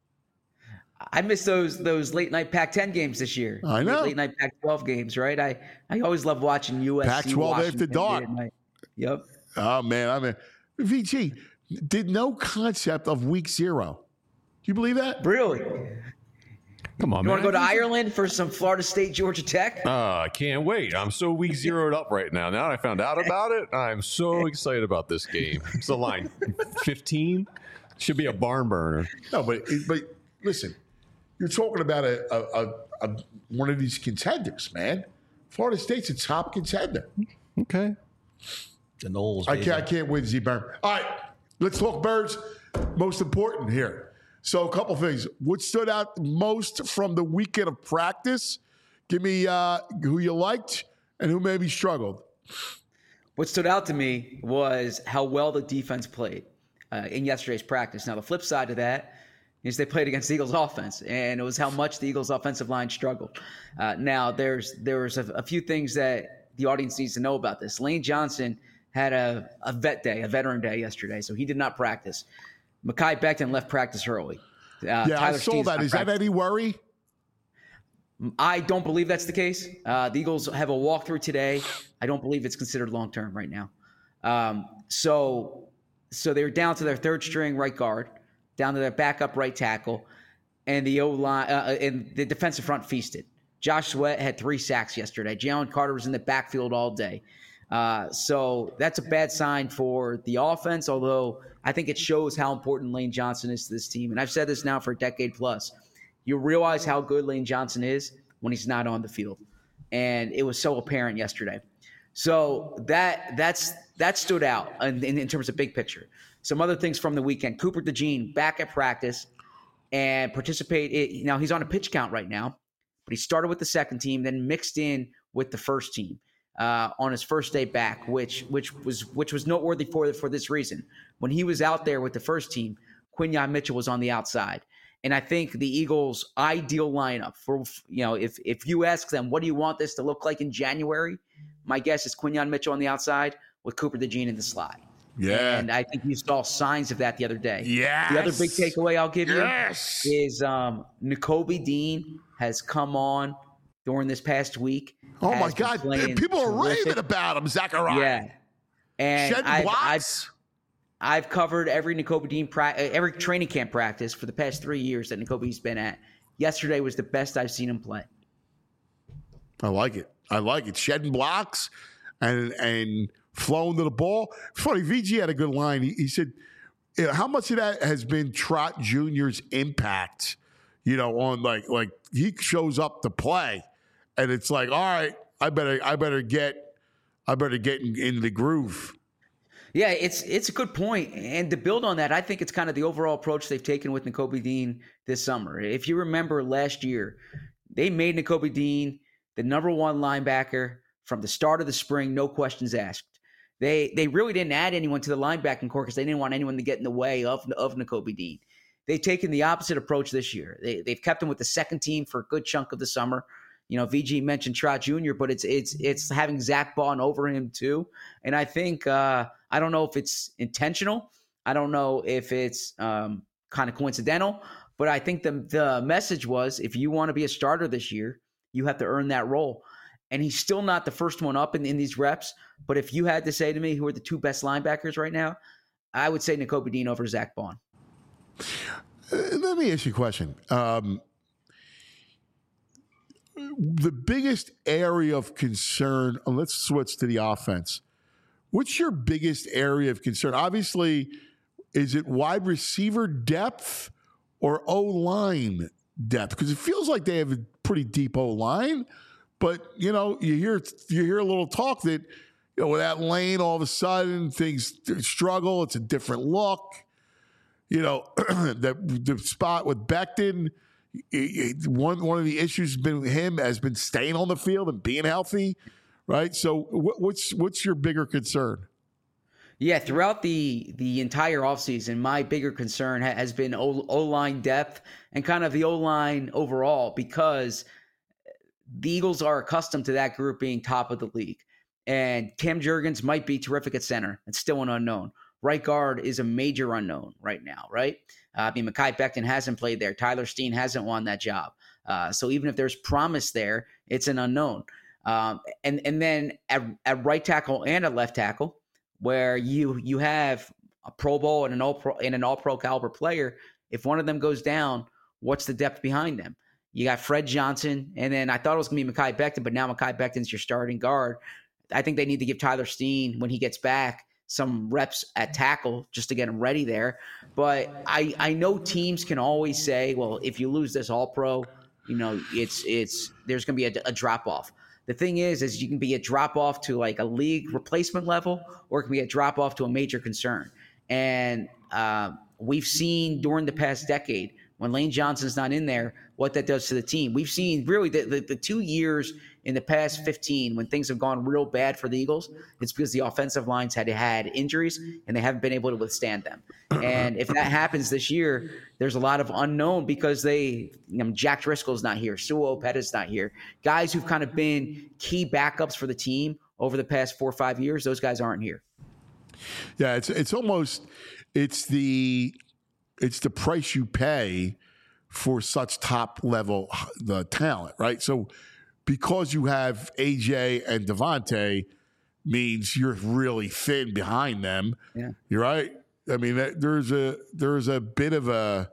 I miss those late night Pac-10 games this year. I know. Late night Pac-12 games, right? I always love watching USC. Pac-12 Washington after dark. Yep. Oh man, I mean, VG did no concept of week 0. Do you believe that? Really? Come on, You man. want to go to Ireland for some Florida State, Georgia Tech? I can't wait. I'm so week 0'd up right now. Now that I found out about it, I'm so excited about this game. It's the line 15. Should be a barn burner. No, but listen, you're talking about a one of these contenders, man. Florida State's a top contender. Okay. The Knowles. I can't win, Z-Burn. All right, let's talk Birds. Most important here. So a couple things. What stood out most from the weekend of practice? Give me who you liked and who maybe struggled. What stood out to me was how well the defense played in yesterday's practice. Now, the flip side of that is they played against the Eagles' offense, and it was how much the Eagles' offensive line struggled. Now, there was a few things that the audience needs to know about this. Lane Johnson had a veteran day yesterday, so he did not practice. Mekhi Becton left practice early. I saw that. Is that any worry? I don't believe that's the case. The Eagles have a walkthrough today. I don't believe it's considered long-term right now. So they're down to their third string right guard, down to their backup right tackle, and the O-line and the defensive front feasted. Josh Sweat had 3 sacks yesterday. Jalen Carter was in the backfield all day. So that's a bad sign for the offense, although I think it shows how important Lane Johnson is to this team. And I've said this now for a decade plus. You realize how good Lane Johnson is when he's not on the field. And it was so apparent yesterday. So that stood out in terms of big picture. Some other things from the weekend. Cooper DeJean back at practice and participate. Now, he's on a pitch count right now, but he started with the second team, then mixed in with the first team on his first day back, which was noteworthy for this reason. When he was out there with the first team, Quinyon Mitchell was on the outside. And I think the Eagles' ideal lineup for, if you ask them, what do you want this to look like in January? My guess is Quinyon Mitchell on the outside with Cooper DeJean in the slot. Yeah. And I think you saw signs of that the other day. Yes. The other big takeaway I'll give you is Nakobe Dean has come on during this past week. Oh, my God. People are raving about him, Zachariah. Yeah. And I've covered every Nakobe Dean every training camp practice for the past 3 years that Nakobe's been at. Yesterday was the best I've seen him play. I like it. Shedding blocks and flowing to the ball. It's funny, VG had a good line. He said, how much of that has been Trot Jr.'s impact, on like he shows up to play and it's like, all right, I better get into the groove. Yeah, it's a good point. And to build on that, I think it's kind of the overall approach they've taken with Nakobe Dean this summer. If you remember last year, they made Nakobe Dean the number 1 linebacker from the start of the spring, no questions asked. They really didn't add anyone to the linebacking core because they didn't want anyone to get in the way of Nakobe Dean. They've taken the opposite approach this year. They've kept him with the second team for a good chunk of the summer. VG mentioned Trot Jr., but it's having Zach Bond over him too. And I think I don't know if it's intentional. I don't know if it's kind of coincidental. But I think the message was, if you want to be a starter this year, you have to earn that role. And he's still not the first one up in these reps. But if you had to say to me who are the 2 best linebackers right now, I would say Nakobe Dean over Zach Bond. Let me ask you a question. The biggest area of concern, let's switch to the offense. What's your biggest area of concern? Obviously, is it wide receiver depth or O-line depth? Because it feels like they have a pretty deep O-line, but you hear a little talk that with that lane, all of a sudden things struggle. It's a different look. The spot with Becton. One of the issues has been staying on the field and being healthy, right? So what's your bigger concern? Yeah, throughout the entire offseason, my bigger concern has been O-line depth and kind of the O-line overall, because the Eagles are accustomed to that group being top of the league. And Cam Jurgens might be terrific at center. It's still an unknown. Right guard is a major unknown right now, right? Mekhi Becton hasn't played there. Tyler Steen hasn't won that job. So even if there's promise there, it's an unknown. And then at right tackle and at left tackle, where you have a Pro Bowl and an All-Pro caliber player, if one of them goes down, what's the depth behind them? You got Fred Johnson, and then I thought it was going to be Mekhi Becton, but now Mekhi Becton's your starting guard. I think they need to give Tyler Steen, when he gets back, some reps at tackle just to get him ready there. But I know teams can always say, well, if you lose this All-Pro, there's going to be a drop-off. The thing is you can be a drop-off to like a league replacement level, or it can be a drop-off to a major concern. And we've seen during the past decade, when Lane Johnson's not in there, what that does to the team. We've seen really the 2 years in the past 15, when things have gone real bad for the Eagles, it's because the offensive lines had injuries and they haven't been able to withstand them. And if that happens this year, there's a lot of unknown because Jack Driscoll's not here, Sua Opeta's not here. Guys who've kind of been key backups for the team over the past 4 or 5 years, those guys aren't here. Yeah, it's almost the price you pay for such top level the talent, right? So because you have AJ and Devontae means you're really thin behind them. Yeah. You're right. I mean, there's a bit of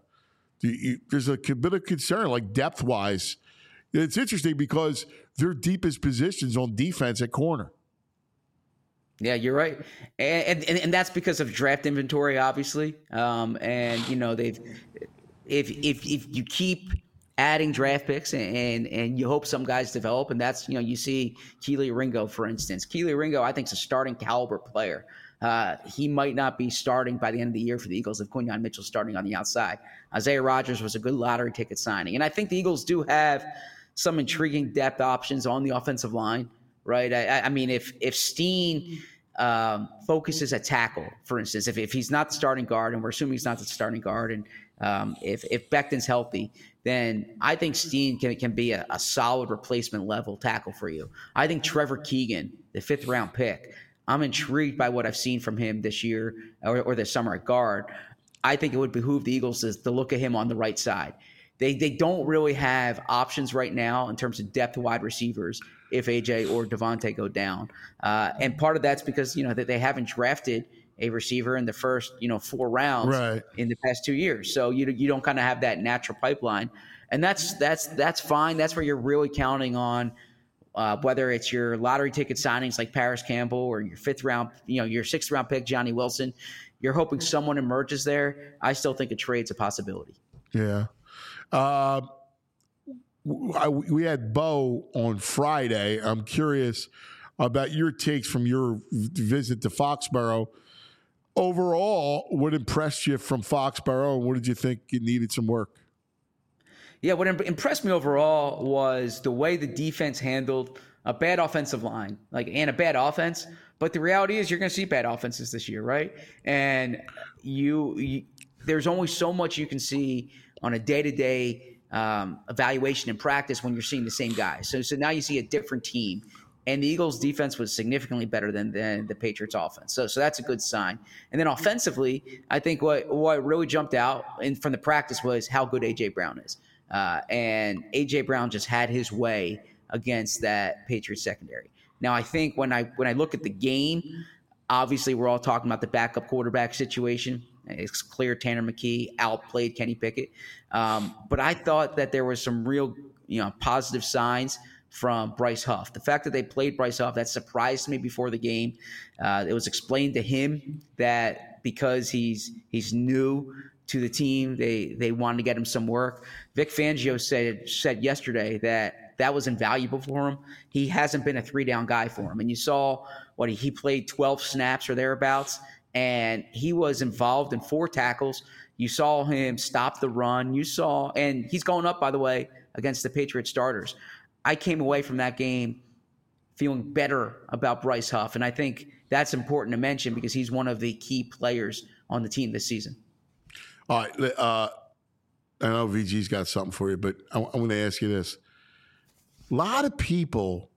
concern, like depth wise. It's interesting because their deepest positions on defense at corner. Yeah, you're right, and that's because of draft inventory, obviously. And they've if you keep adding draft picks and you hope some guys develop, and that's you see Kelee Ringo, for instance. Kelee Ringo, I think, is a starting caliber player. He might not be starting by the end of the year for the Eagles if Quinyon Mitchell's starting on the outside. Isaiah Rodgers was a good lottery ticket signing, and I think the Eagles do have some intriguing depth options on the offensive line. Right. I mean, if Steen focuses at tackle, for instance, if he's not the starting guard, and we're assuming he's not the starting guard, and if Becton's healthy, then I think Steen can be a solid replacement level tackle for you. I think Trevor Keegan, the 5th round pick, I'm intrigued by what I've seen from him this year or this summer at guard. I think it would behoove the Eagles to look at him on the right side. They don't really have options right now in terms of depth wide receivers if AJ or Devontae go down. And part of that's because, that they haven't drafted a receiver in the first, 4 rounds in the past 2 years. So you don't kind of have that natural pipeline. And that's fine. That's where you're really counting on whether it's your lottery ticket signings like Paris Campbell or your 5th round, your 6th round pick, Johnny Wilson. You're hoping someone emerges there. I still think a trade's a possibility. Yeah. We had Bo on Friday. I'm curious about your takes from your visit to Foxborough. Overall, what impressed you from Foxborough, and what did you think it needed some work? Yeah, what impressed me overall was the way the defense handled a bad offensive line, and a bad offense. But the reality is, you're going to see bad offenses this year, right? And there's only so much you can see on a day-to-day evaluation and practice when you're seeing the same guys. So now you see a different team. And the Eagles' defense was significantly better than the Patriots' offense. So that's a good sign. And then offensively, I think what really jumped out from the practice was how good A.J. Brown is. And A.J. Brown just had his way against that Patriots secondary. Now, I think when I look at the game, obviously we're all talking about the backup quarterback situation. It's clear Tanner McKee outplayed Kenny Pickett. But I thought that there was some real positive signs from Bryce Huff. The fact that they played Bryce Huff, that surprised me before the game. It was explained to him that because he's new to the team, they wanted to get him some work. Vic Fangio said yesterday that was invaluable for him. He hasn't been a 3-down guy for him. And you saw he played 12 snaps or thereabouts, and he was involved in 4 tackles. You saw him stop the run. And he's going up, by the way, against the Patriot starters. I came away from that game feeling better about Bryce Huff, and I think that's important to mention because he's one of the key players on the team this season. All right. I know VG's got something for you, but I want to ask you this. A lot of people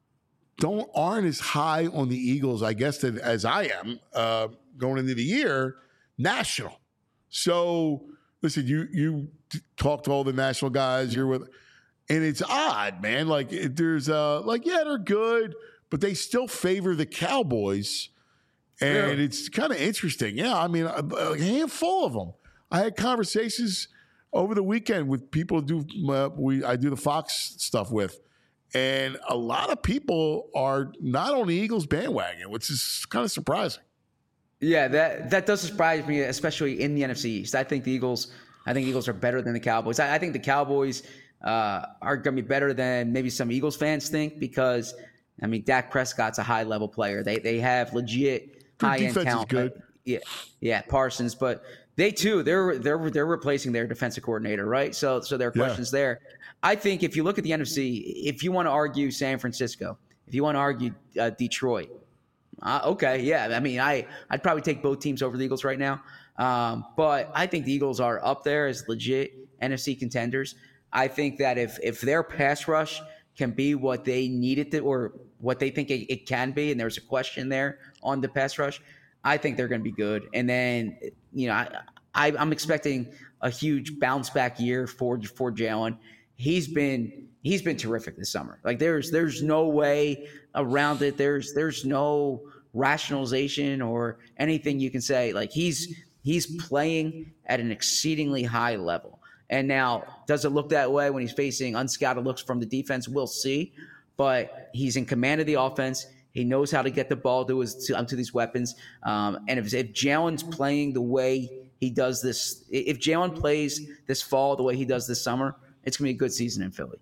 aren't as high on the Eagles, I guess, as I am going into the year, national. So, listen, you talk to all the national guys. You're with – and it's odd, man. There's they're good, but they still favor the Cowboys. And it's kind of interesting. Yeah, I mean, a handful of them. I had conversations over the weekend with people I do the Fox stuff with. And a lot of people are not on the Eagles bandwagon, which is kind of surprising. Yeah, that does surprise me, especially in the NFC East. I think the Eagles are better than the Cowboys. I think the Cowboys are going to be better than maybe some Eagles fans think because, I mean, Dak Prescott's a high-level player. They have legit high-end talent. Defense is good. yeah, Parsons. But they too, they're replacing their defensive coordinator, right? So there are questions there. I think if you look at the NFC, if you want to argue San Francisco, if you want to argue Detroit, okay, yeah. I mean, I'd probably take both teams over the Eagles right now. But I think the Eagles are up there as legit NFC contenders. I think that if their pass rush can be what they need it to, or what they think it can be, and there's a question there on the pass rush, I think they're going to be good. And then, I'm expecting a huge bounce back year for Jalen. He's been terrific this summer. Like there's no way around it. There's no rationalization or anything you can say. Like he's playing at an exceedingly high level. And now, does it look that way when he's facing unscouted looks from the defense? We'll see. But he's in command of the offense. He knows how to get the ball to these weapons. And if Jalen's playing the way he does this, if Jalen plays this fall the way he does this summer, it's going to be a good season in Philly.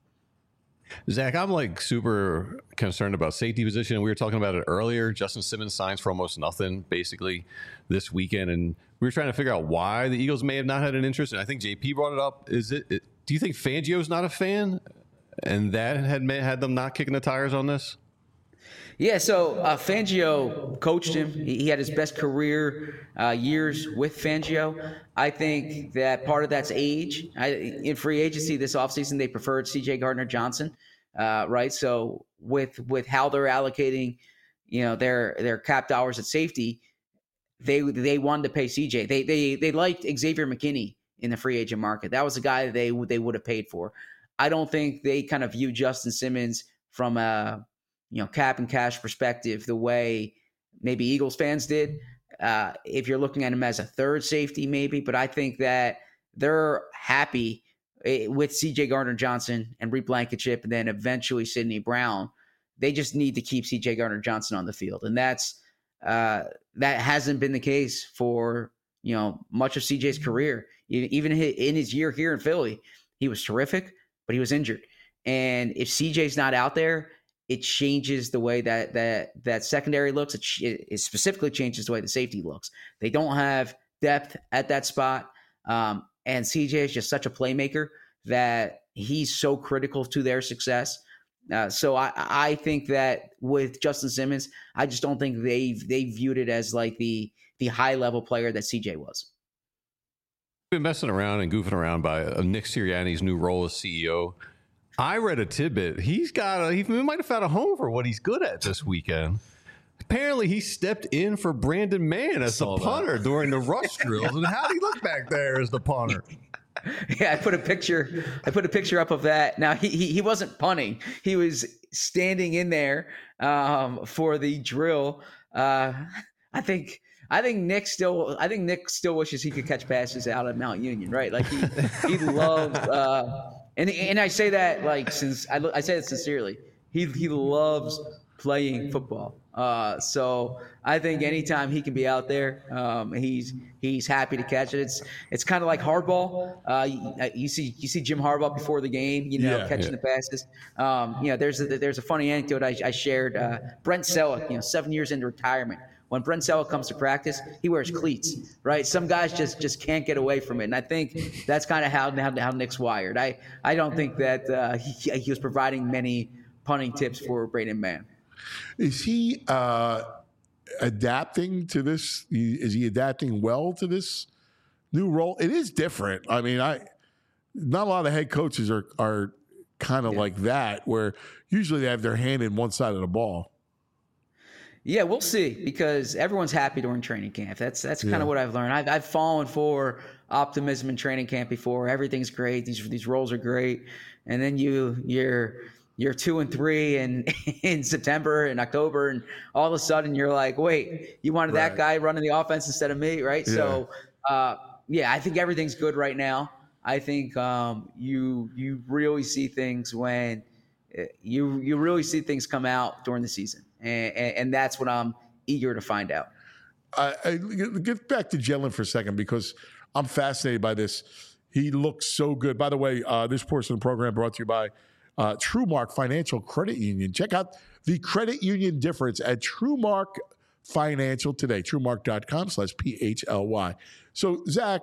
Zach, I'm like super concerned about safety position. We were talking about it earlier. Justin Simmons signs for almost nothing basically this weekend. And we were trying to figure out why the Eagles may have not had an interest. And I think JP brought it up. Do you think Fangio's not a fan? And that had them not kicking the tires on this? Yeah, so Fangio coached him. He had his best career years with Fangio. I think that part of that's age. In free agency this offseason, they preferred C.J. Gardner-Johnson, right? So with how they're allocating, their cap dollars at safety, they wanted to pay C.J. They liked Xavier McKinney in the free agent market. That was the guy they would have paid for. I don't think they kind of view Justin Simmons from a cap and cash perspective the way maybe Eagles fans did. If you're looking at him as a third safety, maybe, but I think that they're happy with CJ Gardner-Johnson and Reed Blankenship, and then eventually Sidney Brown. They just need to keep CJ Gardner-Johnson on the field, and that hasn't been the case for much of CJ's career. Even in his year here in Philly, he was terrific, but he was injured. And if CJ's not out there, it changes the way that secondary looks. It specifically changes the way the safety looks. They don't have depth at that spot. And CJ is just such a playmaker that he's so critical to their success. So I think that with Justin Simmons, I just don't think they viewed it as like the high level player that CJ was. Been messing around and goofing around by Nick Sirianni's new role as CEO. I read a tidbit. He might have found a home for what he's good at this weekend. Apparently, he stepped in for Brandon Mann as the punter during the rush drills. And how did he look back there as the punter? Yeah, I put a picture up of that. Now he wasn't punting. He was standing in there for the drill. I think Nick still wishes he could catch passes out of Mount Union, right? Like he loves and I say that like I say it sincerely. He loves playing football. So I think anytime he can be out there, he's happy to catch it. It's kind of like hardball. You see Jim Harbaugh before the game, catching the passes. There's a funny anecdote I shared. Brent Selleck, 7 years into retirement. When Brent Selleck comes to practice, he wears cleats, right? Some guys just can't get away from it. And I think that's kind of how Nick's wired. I don't think that he was providing many punting tips for Brandon Mann. Is he adapting to this? Is he adapting well to this new role? It is different. I mean, not a lot of head coaches are kind of like that, where usually they have their hand in one side of the ball. Yeah, we'll see, because everyone's happy during training camp. That's kind of what I've learned. I've fallen for optimism in training camp before. Everything's great. These roles are great, and then you're 2-3 in September and October, and all of a sudden you're like, wait, you wanted that guy running the offense instead of me, right? Yeah. So I think everything's good right now. I think you really see things when you really see things come out during the season. And that's what I'm eager to find out. I get back to Jalen for a second, because I'm fascinated by this. He looks so good. By the way, this portion of the program brought to you by TrueMark Financial Credit Union. Check out the credit union difference at TrueMark Financial today. Truemark.com/PHLY. So, Zach,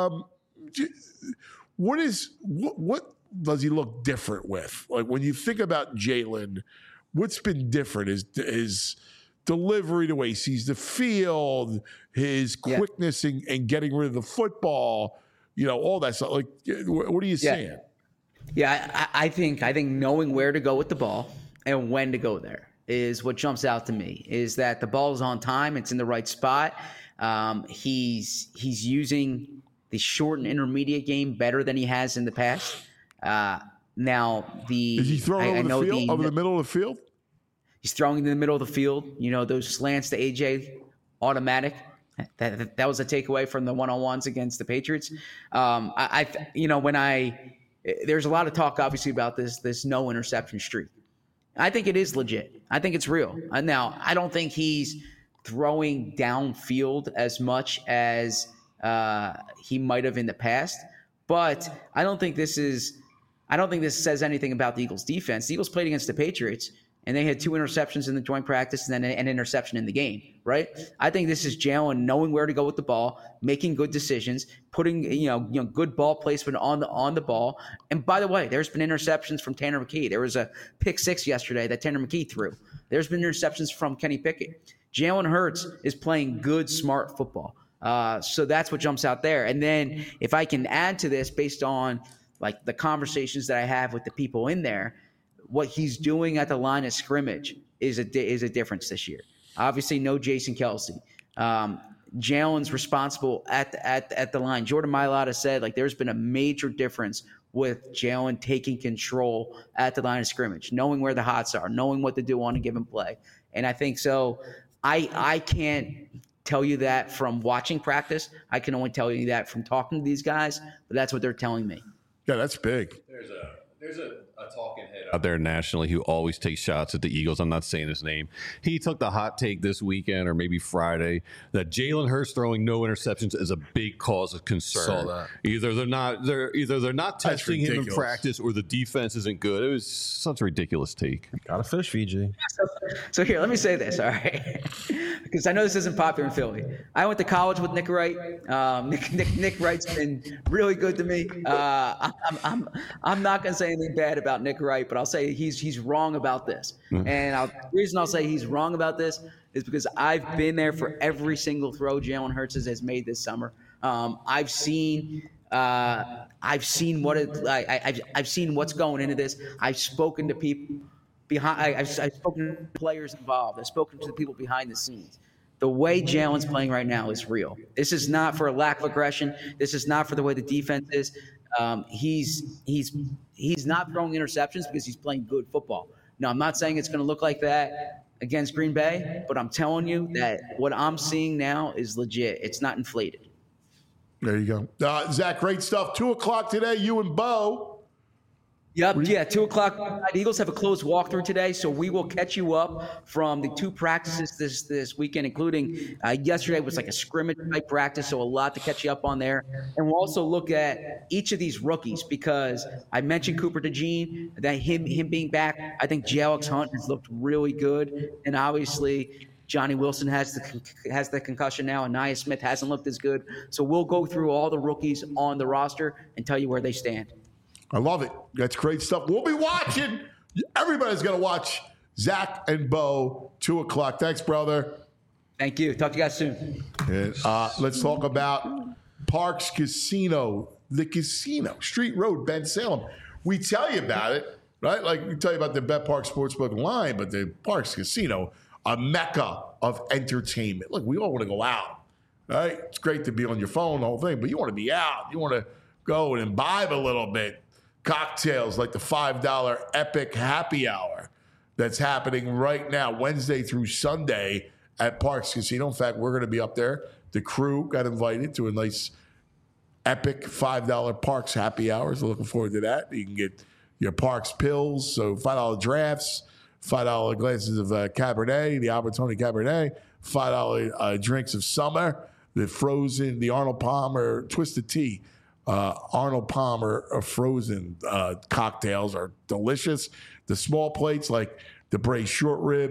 what does he look different with? Like when you think about Jalen, what's been different is his delivery, the way he sees the field, his quickness in getting rid of the football, all that stuff. Like, what are you saying? Yeah, I think knowing where to go with the ball and when to go there is what jumps out to me. Is that the ball is on time, it's in the right spot. He's using the short and intermediate game better than he has in the past. Now is he throwing over the middle of the field? He's throwing in the middle of the field. Those slants to AJ, automatic. That was a takeaway from the one-on-ones against the Patriots. There's a lot of talk, obviously, about this no interception streak. I think it is legit. I think it's real. Now, I don't think he's throwing downfield as much as he might have in the past, but I don't think this says anything about the Eagles' defense. The Eagles played against the Patriots, and they had 2 interceptions in the joint practice and then an interception in the game, right? I think this is Jalen knowing where to go with the ball, making good decisions, putting good ball placement on the ball. And by the way, there's been interceptions from Tanner McKee. There was a pick 6 yesterday that Tanner McKee threw. There's been interceptions from Kenny Pickett. Jalen Hurts is playing good, smart football. So that's what jumps out there. And then if I can add to this based on like the conversations that I have with the people in there, what he's doing at the line of scrimmage is a difference this year. Obviously, no Jason Kelce. Jalen's responsible at the line. Jordan Mailata said there's been a major difference with Jalen taking control at the line of scrimmage, knowing where the hots are, knowing what to do on a given play. And I think so. I can't tell you that from watching practice. I can only tell you that from talking to these guys, but that's what they're telling me. Yeah, that's big. There's a talking head out there nationally who always takes shots at the Eagles. I'm not saying his name. He took the hot take this weekend or maybe Friday that Jalen Hurts throwing no interceptions is a big cause of concern. Saw that. Either they're not testing him in practice or the defense isn't good. It was such a ridiculous take. Got a fish, VG. So here, let me say this, all right? Because I know this isn't popular in Philly. I went to college with Nick Wright. Nick Wright's been really good to me. I'm not going to say anything bad about Nick Wright, but I'll say he's wrong about this. And the reason I'll say he's wrong about this is because I've been there for every single throw Jalen Hurts has made this summer. I've seen what's going into this. I've spoken to people behind. I've spoken to players involved. I've spoken to the people behind the scenes. The way Jalen's playing right now is real. This is not for a lack of aggression. This is not for the way the defense is. He's not throwing interceptions because he's playing good football. Now, I'm not saying it's going to look like that against Green Bay, but I'm telling you that what I'm seeing now is legit. It's not inflated. There you go. Zach, great stuff. 2:00 today, you and Bo. Yep. Yeah. 2:00. The Eagles have a closed walkthrough today, so we will catch you up from the 2 practices this weekend, including yesterday was like a scrimmage type practice, so a lot to catch you up on there. And we'll also look at each of these rookies because I mentioned Cooper DeJean, that him being back. I think Alex Hunt has looked really good, and obviously Johnny Wilson has the concussion now, and Nia Smith hasn't looked as good. So we'll go through all the rookies on the roster and tell you where they stand. I love it. That's great stuff. We'll be watching. Everybody's going to watch Zach and Bo, 2:00. Thanks, brother. Thank you. Talk to you guys soon. And, let's talk about Parx Casino, the casino, Street Road, Ben Salem. We tell you about it, right? Like we tell you about the BetParx Sportsbook line, but the Parx Casino, a mecca of entertainment. Look, we all want to go out, right? It's great to be on your phone, the whole thing, but you want to be out. You want to go and imbibe a little bit. Cocktails like the $5 Epic Happy Hour that's happening right now, Wednesday through Sunday at Parx Casino. In fact, we're going to be up there. The crew got invited to a nice Epic $5 Parx Happy Hour. So looking forward to that. You can get your Parx pills, so $5 drafts, $5 glasses of Cabernet, the Albertoni Cabernet, $5 drinks of summer, the frozen, the Arnold Palmer Twisted Tea. Arnold Palmer frozen cocktails are delicious. The small plates like the braised short rib,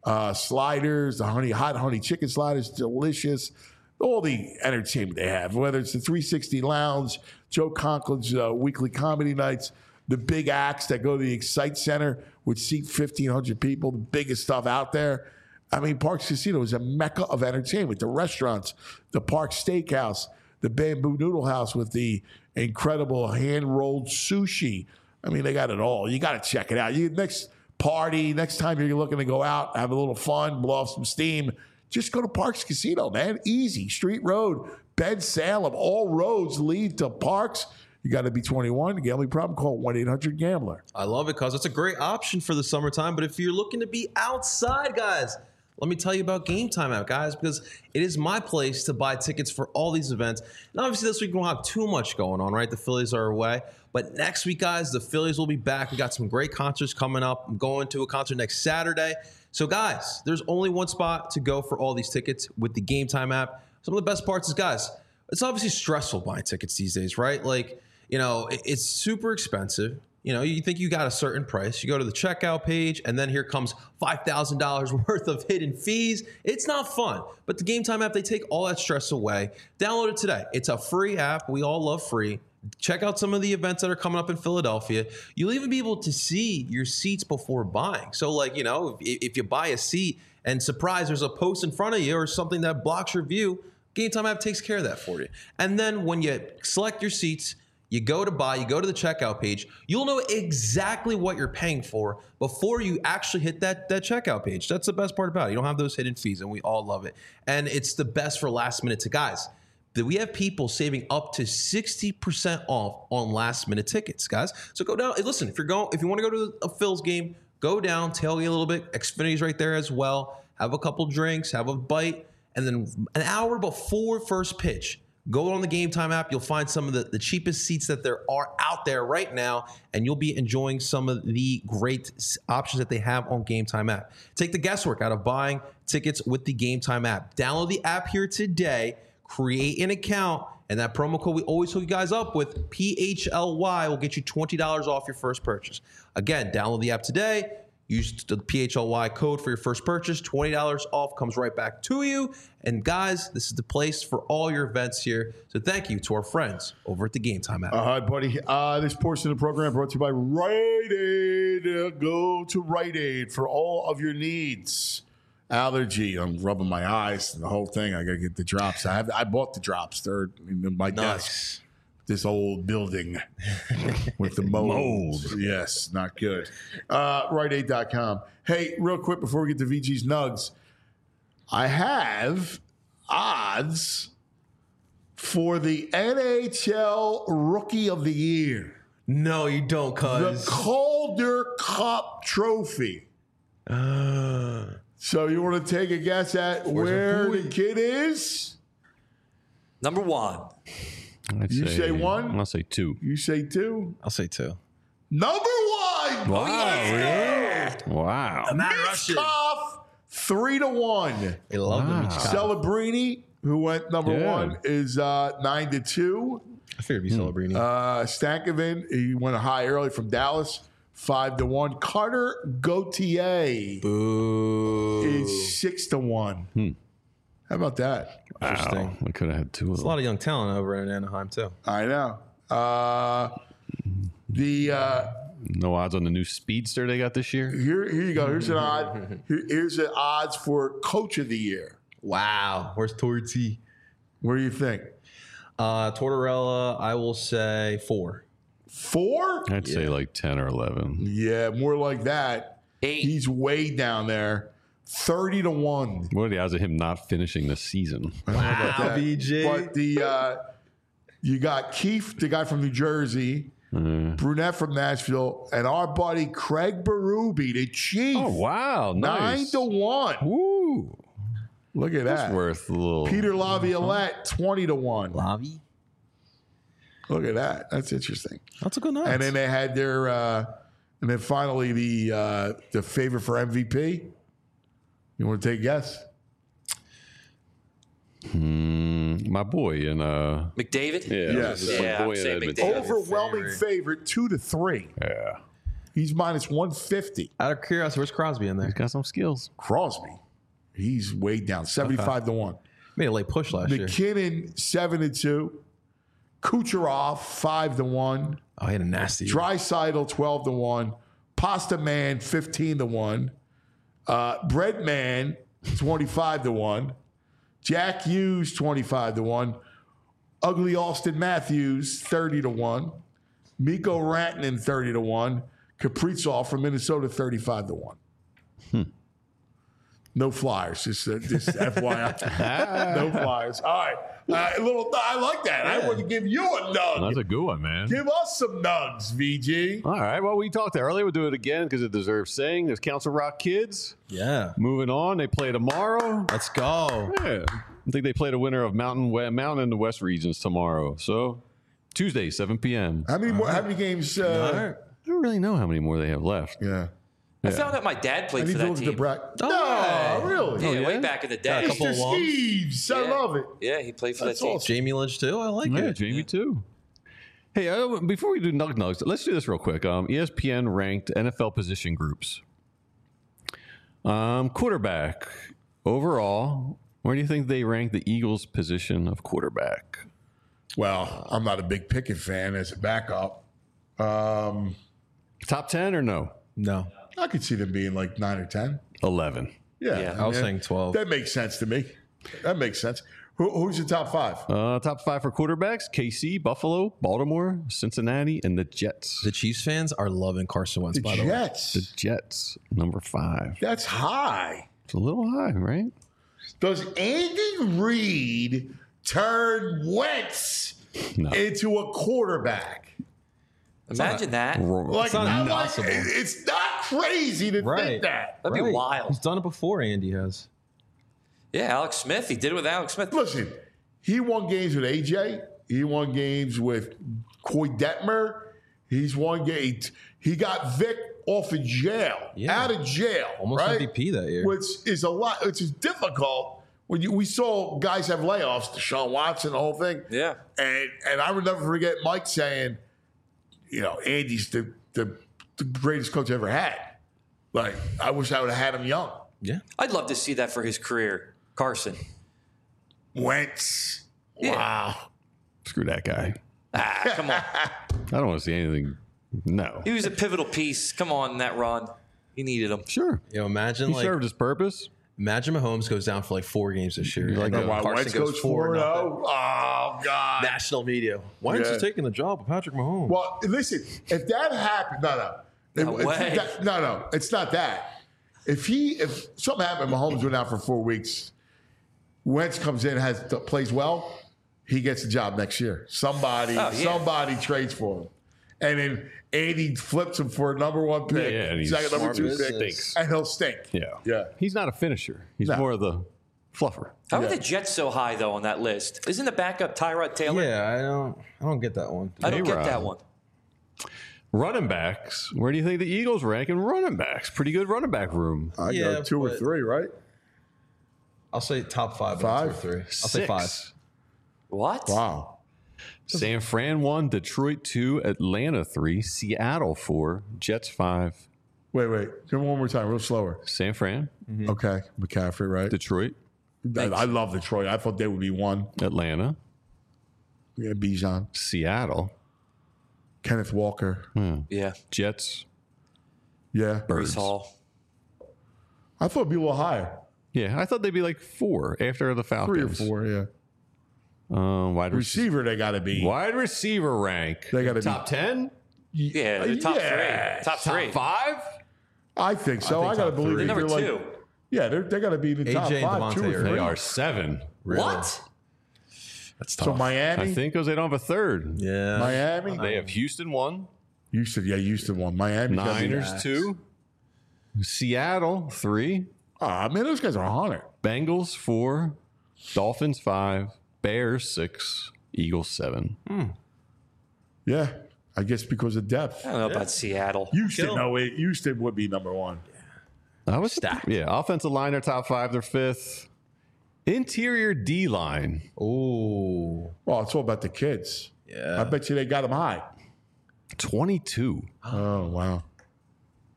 sliders, the hot honey chicken sliders, delicious. All the entertainment they have, whether it's the 360 Lounge, Joe Conklin's weekly comedy nights, the big acts that go to the Excite Center, which seat 1,500 people, the biggest stuff out there. I mean, Parks Casino is a mecca of entertainment. The restaurants, the Park Steakhouse, the Bamboo Noodle House with the incredible hand-rolled sushi. I mean, they got it all. You got to check it out. Next time you're looking to go out, have a little fun, blow off some steam, just go to Parks Casino, man. Easy. Street Road, Ben Salem. All roads lead to Parks. You got to be 21. Gambling problem, call 1-800-GAMBLER. I love it, cuz it's a great option for the summertime. But if you're looking to be outside, guys, let me tell you about Game Time app, guys, because it is my place to buy tickets for all these events. And obviously this week we don't have too much going on, right? The Phillies are away. But next week, guys, the Phillies will be back. We got some great concerts coming up. I'm going to a concert next Saturday. So, guys, there's only one spot to go for all these tickets with the Game Time app. Some of the best parts is, guys, it's obviously stressful buying tickets these days, right? Like, you know, it's super expensive. You know, you think you got a certain price. You go to the checkout page, and then here comes $5,000 worth of hidden fees. It's not fun. But the Game Time app, they take all that stress away. Download it today. It's a free app. We all love free. Check out some of the events that are coming up in Philadelphia. You'll even be able to see your seats before buying. So, like, you know, if you buy a seat and surprise, there's a post in front of you or something that blocks your view, Game Time app takes care of that for you. And then when you select your seats, you go to buy, you go to the checkout page, you'll know exactly what you're paying for before you actually hit that checkout page. That's the best part about it. You don't have those hidden fees, and we all love it. And it's the best for last minute to guys. That we have people saving up to 60% off on last minute tickets, guys. So go down. Listen, if you want to go to a Phil's game, go down, tailgate a little bit. Xfinity's right there as well. Have a couple drinks, have a bite, and then an hour before first pitch, go on the Game Time app. You'll find some of the cheapest seats that there are out there right now, and you'll be enjoying some of the great options that they have on Game Time app. Take the guesswork out of buying tickets with the Game Time app. Download the app here today. Create an account, and that promo code we always hook you guys up with, PHLY, will get you $20 off your first purchase. Again, download the app today. Use the PHLY code for your first purchase. $20 off comes right back to you. And guys, this is the place for all your events here. So thank you to our friends over at the Game Time app. All right, buddy. This portion of the program brought to you by Rite Aid. Go to Rite Aid for all of your needs. Allergy. I'm rubbing my eyes and the whole thing. I got to get the drops. I bought the drops. They're in my desk. This old building with the mold. Yes, not good. Riteaid.com. Hey, real quick before we get to VG's Nugs, I have odds for the NHL Rookie of the Year. No, you don't, cuz. The Calder Cup Trophy. So you want to take a guess at where the kid is? Number one. You say one? I'll say two. You say two? I'll say two. Number one! Wow. Wow. Michkov, 3-1. I love the Michkov. Celebrini, who went number one, is 9-2. I figured it'd be Celebrini. Stankoven, he went high early from Dallas, 5-1. Carter Gauthier is 6-1. How about that? Interesting. Wow. I could have had two of There's them. a lot of young talent over in Anaheim, too. I know. No odds on the new Speedster they got this year? Here you go. Here's an odd. Here's the odds for Coach of the Year. Wow. Where's Torty? What do you think? Tortorella, I will say 4. 4? I'd say like 10 or 11. Yeah, more like that. 8. He's way down there. 30-1. What are the odds of him not finishing the season? Wow, BJ. But you got Keefe, the guy from New Jersey, Brunette from Nashville, and our buddy Craig Berube, the Chief. Oh, wow. Nice. 9-1. Woo. Look at That's that. worth a little. Peter Laviolette, 20-1. Lavi? Look at that. That's interesting. That's a good night. And then they had their, and then finally the favorite for MVP. You want to take a guess? My boy in McDavid? yeah, Yes. my Yeah, boy I'd in say Edmonton. McDavid. Overwhelming favorite 2-3. Yeah. He's minus 150. Out of curiosity, where's Crosby in there? He's got some skills. Crosby, he's way down, 75 to 1. Made a late push last year. McKinnon 7-2. Kucherov 5 to 1. Oh, he had a nasty. Draisaitl 12 to 1. Pasta Man 15 to 1. Bread Man 25 to 1. Jack Hughes 25 to 1. Ugly Austin Matthews 30 to 1. Mikko Rantanen 30 to 1. Kaprizov from Minnesota 35 to 1. No Flyers, just FYI. No Flyers. All right. I like that. I want to give you a nug. That's a good one, man. Give us some nugs, VG. All right. Well, we talked earlier. We'll do it again because it deserves saying. There's Council Rock Kids. Yeah. Moving on. They play tomorrow. Let's go. Yeah. I think they play the winner of Mountain and the West regions tomorrow. So Tuesday, 7 p.m. How many games? I don't really know how many more they have left. Yeah. I found out my dad I played need for to that look at the team. bracket. Oh, No, really? Yeah, way back in the day. couple Mr. of ones. Steves. I Yeah. love it. Yeah, he played for That's that team. awesome. Jamie Lynch too. I like Yeah, it. Jamie too. Hey, before we do Nug Nugs, let's do this real quick. ESPN ranked NFL position groups. Quarterback. Overall, where do you think they rank the Eagles' position of quarterback? Well, I'm not a big Pickett fan as a backup. Top 10 or no? No, I could see them being like 9 or 10. 11. Yeah. I was saying 12. That makes sense to me. That makes sense. Who's your top 5? Top 5 for quarterbacks: KC, Buffalo, Baltimore, Cincinnati, and the Jets. The Chiefs fans are loving Carson Wentz. The by the way, Jets. The Jets, number 5. That's high. It's a little high, right? Does Andy Reid turn Wentz No. into a quarterback? Imagine that. Like, not I'm like, impossible. it's not crazy to Right. think that. That'd be Right. wild. He's done it before. Andy has. Yeah, Alex Smith. He did it with Alex Smith. Listen, he won games with AJ. He won games with Coy Detmer. He's won games. He got Vic off of jail, Yeah. out of jail, Almost right? MVP that year. Which is a lot. Which is difficult when we saw guys have layoffs. Deshaun Watson, the whole thing. Yeah. And I would never forget Mike saying, Andy's the greatest coach I ever had. Like, I wish I would have had him young. Yeah. I'd love to see that for his career. Carson. Wentz. Yeah. Wow. Screw that guy. Come on. I don't want to see anything. No. He was a pivotal piece. Come on, in that run. He needed him. Sure. Imagine He like served his purpose. imagine Mahomes goes down for like 4 games this year. like, And then wow, Carson Wentz goes 4-0. Oh, God. National media. Why aren't Yeah. you taking the job of Patrick Mahomes? Well, listen, if that happened, no. No way. No, it's not that. If something happened, Mahomes went out for 4 weeks, Wentz comes in, plays well, he gets the job next year. Somebody trades for him. And then Andy flips him for a number 1 pick, Yeah, and he's second number 2 smart pick, business. and he'll stink. Yeah. Yeah. He's not a finisher. He's No. more of the fluffer. How Yeah. are the Jets so high though on that list? Isn't the backup Tyrod Taylor? yeah, I don't get that one. I don't get A-Rod. that one. Running backs. Where do you think the Eagles rank in running backs? Pretty good running back room. I Yeah, go 2 or but- 3, right? I'll say top 5. Five? But 2 or 3. I'll say 6. 5. What? Wow. San Fran 1, Detroit 2, Atlanta 3, Seattle 4, Jets 5, Wait. Give me one more time, real slower. San Fran, Okay. McCaffrey, right? Detroit, I love Detroit. I thought they would be 1. Atlanta, Yeah, Bijan. Seattle, Kenneth Walker. Yeah. Jets, Yeah. Birds. Brees Hall. I thought it'd be a little higher. Yeah, I thought they'd be like 4 after the 3 or Falcons. 4, yeah. Wide Receiver, they got to be. Wide receiver rank. They gotta be- top 10, Yeah, the top Yeah. 3. Top 3. top 5. I think so. think I got to top believe three. if Number you're 2. like, yeah, they got to be in the top AJ and 5, 2 Devontae or are- 3. They are 7. What? That's So tough. Miami, I think because they don't have a third. yeah. Miami, They have Houston 1, Houston won. Miami, Niners 2, Seattle 3, Ah, man, those guys are 100. Bengals 4, Dolphins 5, Bears 6, Eagles 7. Yeah, I guess because of depth. I don't know about Seattle. Houston, Kill. no, Houston would be number 1. I was Stacked. Yeah, offensive line are top 5, they're 5th. Interior D line, Ooh. Well, it's all about the kids. Yeah. I bet you they got them high. 22. Oh, wow.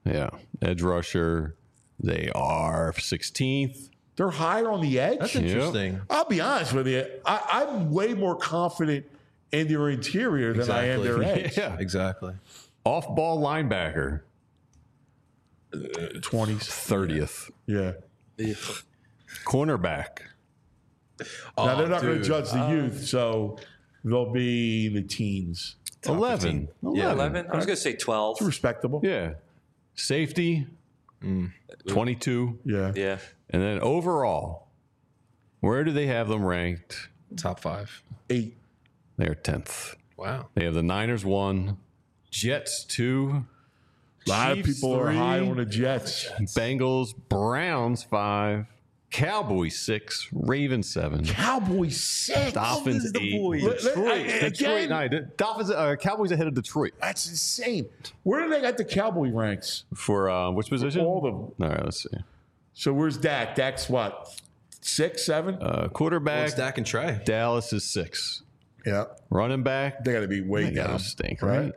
Yeah. Edge rusher, they are 16th. They're higher on the edge. That's interesting. I'll be honest with you. I'm way more confident in their interior than I am their edge. Yeah. Exactly. Off-ball linebacker, 20s. 30th. Yeah. Cornerback, Now, they're not going to dude. judge the youth, so they'll be in the teens. 11. 11. I was going to say 12. It's respectable. Yeah. Safety, 22. Yeah. Yeah. And then overall, where do they have them ranked? Top 5. 8. They're 10th. Wow. They have the Niners 1, Jets 2, A lot of Chiefs people are 3, high on the Jets. Bengals, Browns 5, Cowboys 6, Ravens 7, Cowboys 6. Dolphins 8, Look, Detroit. again, Dolphins, Cowboys ahead of Detroit that's insane. Where do they got the Cowboy ranks? for which position? All of them. All right, let's see. So where's Dak? Dak's what? 6, 7? Quarterback, Dak and Trey. Dallas is 6. Yeah. Running back, They got to be way they gotta down. stink, right?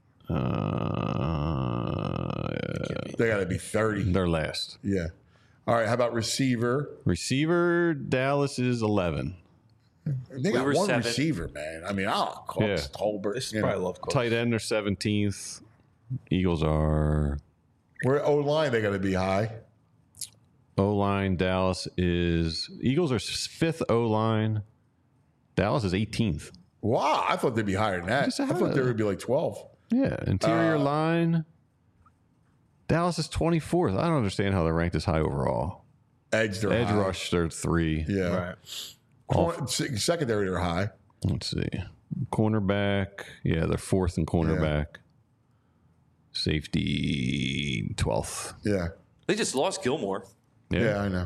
They got to be 30. They're last. Yeah. All right. How about receiver? Receiver, Dallas is 11. They got were one 7. receiver, man. I mean, Cooks, Tolbert. This is you know. probably love Cooks. Tight end are 17th. Eagles are Where O-line, they got to be high. O-line. Dallas is Eagles are 5th O-line. Dallas is 18th. Wow. I thought they'd be higher than that. Just I had thought they a- would be like 12. Yeah. Interior line. Dallas is 24th. I don't understand how they're ranked this high overall. Edge, they're Edge high. rush, they're 3. Yeah. Right. Secondary, they're high. Let's see. Cornerback. Yeah, they're 4th in cornerback. Safety 12th. Yeah. They just lost Gilmore. Yeah, I know.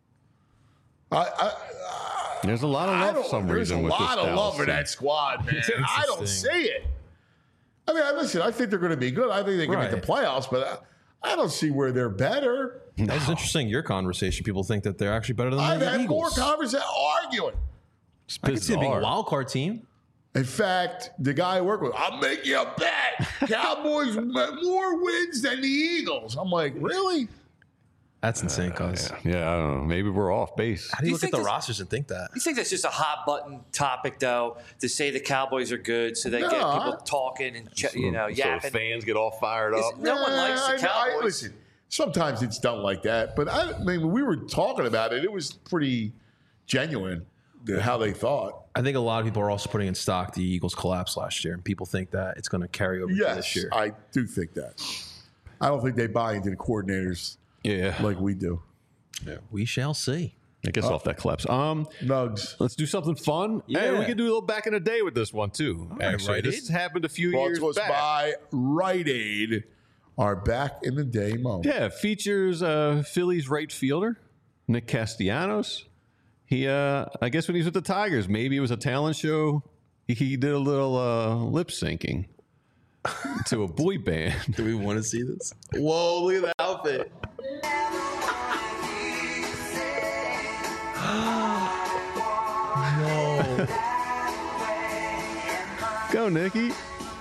There's a lot of love for some There's reason a with this lot of Dallas love for team. that squad, man. I don't see it. I mean, listen, I think they're going to be good. I think they can make the playoffs, but I don't see where they're better. That's interesting. Your conversation. People think that they're actually better than I've the had more Eagles. conversation arguing. I can see it being a Bizarre. wild card team. In fact, the guy I work with, I'll make you a bet. Cowboys more wins than the Eagles. I'm like, really? That's insane, cuz. Yeah, I don't know. Maybe we're off base. How do you You look at think the this- rosters and think that? You think that's just a hot button topic, though, to say the Cowboys are good, so they No, get I- people talking and So yapping. fans get all fired up. No one likes the Cowboys. Listen, sometimes it's done like that, but I mean, when we were talking about it, it was pretty genuine how they thought. I think a lot of people are also putting in stock the Eagles collapse last year, and people think that it's going to carry over to this Yes, year. I do think that. I don't think they buy into the coordinators Yeah. like we do. We shall see. I guess off that collapse. Nugs. Let's do something fun. Hey, Yeah. we can do a little back in the day with this one too. Actually, Rite this Aid. happened a few Brought years to us back. by Rite Aid, our back in the day moment. Yeah, it features Phillies right fielder Nick Castellanos. He, I guess when he was with the Tigers, maybe it was a talent show. He did a little lip syncing to a boy band. Do we want to see this? Whoa, look at the outfit. No. Go, Nicky.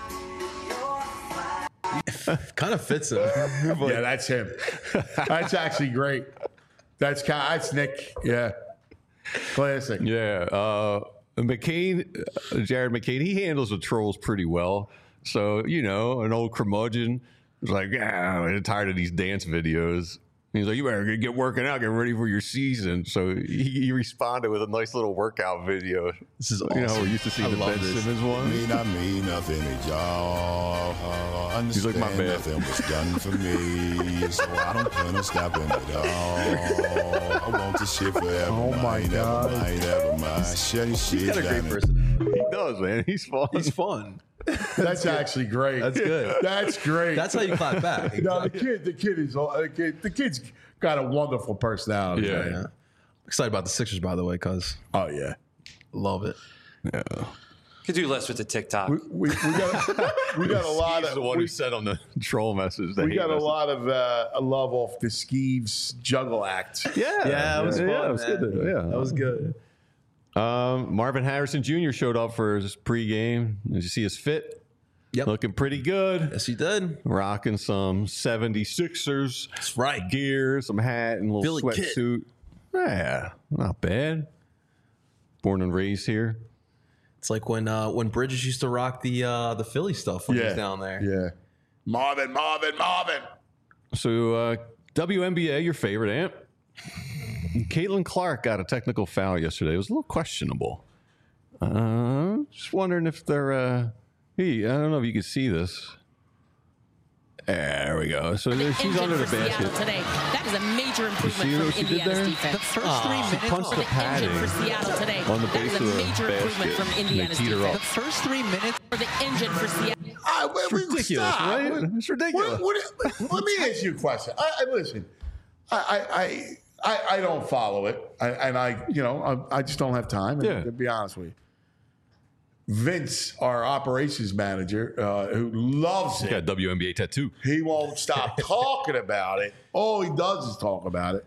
Kind of fits him. Yeah, that's him. That's actually great. That's Nick. Yeah. Classic. Yeah, McCain, Jared McCain, he handles the trolls pretty well. So, you know, an old curmudgeon was like, yeah, I'm tired of these dance videos. He's like, you better get working out, get ready for your season. So he responded with a nice little workout video. This is You know, awesome. we're used to see I the love Ben this. Simmons one. I mean nothing to y'all. He's like, my Understand bad. nothing was done for me, so I don't plan on stopping at all. I want this shit forever. Oh my God. Never mind. Shut your shit He's got a great down. personality. He does, man. He's fun. He's fun. That's actually great. That's good. That's great. That's how you clap back. No, the kid's got a wonderful personality. Yeah. man. Yeah. Excited about the Sixers, by the way, cuz Oh yeah. love it. Could do less with the TikTok. We got a lot He's of the one who sent on the troll message. we got a lot of love off the Skeeves juggle act. Yeah, it was fun, it was man. good. Yeah, That was good. Marvin Harrison Jr. showed up for his pregame. Did you see his fit? Yep. Looking pretty good. Yes, he did. Rocking some 76ers. That's right. Gear, some hat, and a little Philly kid. sweatsuit. Yeah, not bad. Born and raised here. It's like when Bridges used to rock the Philly stuff when he was down there. Yeah. Marvin. So, WNBA, your favorite, Ant. Caitlin Clark got a technical foul yesterday. It was a little questionable. Just wondering if they're... Hey, I don't know if you can see this. There we go. So she's under the basket. Today. That is a major improvement what from she did Indiana's there? defense. The first 3 minutes. She punched the padding For Seattle today. on the That base is of a the major improvement basket. from And they Indiana's teed her defense. up. The first 3 minutes. For the engine for Seattle. It's ridiculous, right? It's ridiculous. Let me ask you a question. Listen, I don't follow it, I just don't have time. Yeah. To be honest with you, Vince, our operations manager, who loves it, Got a WNBA tattoo. he won't stop talking about it. All he does is talk about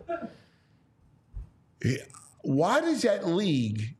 it. Why does that league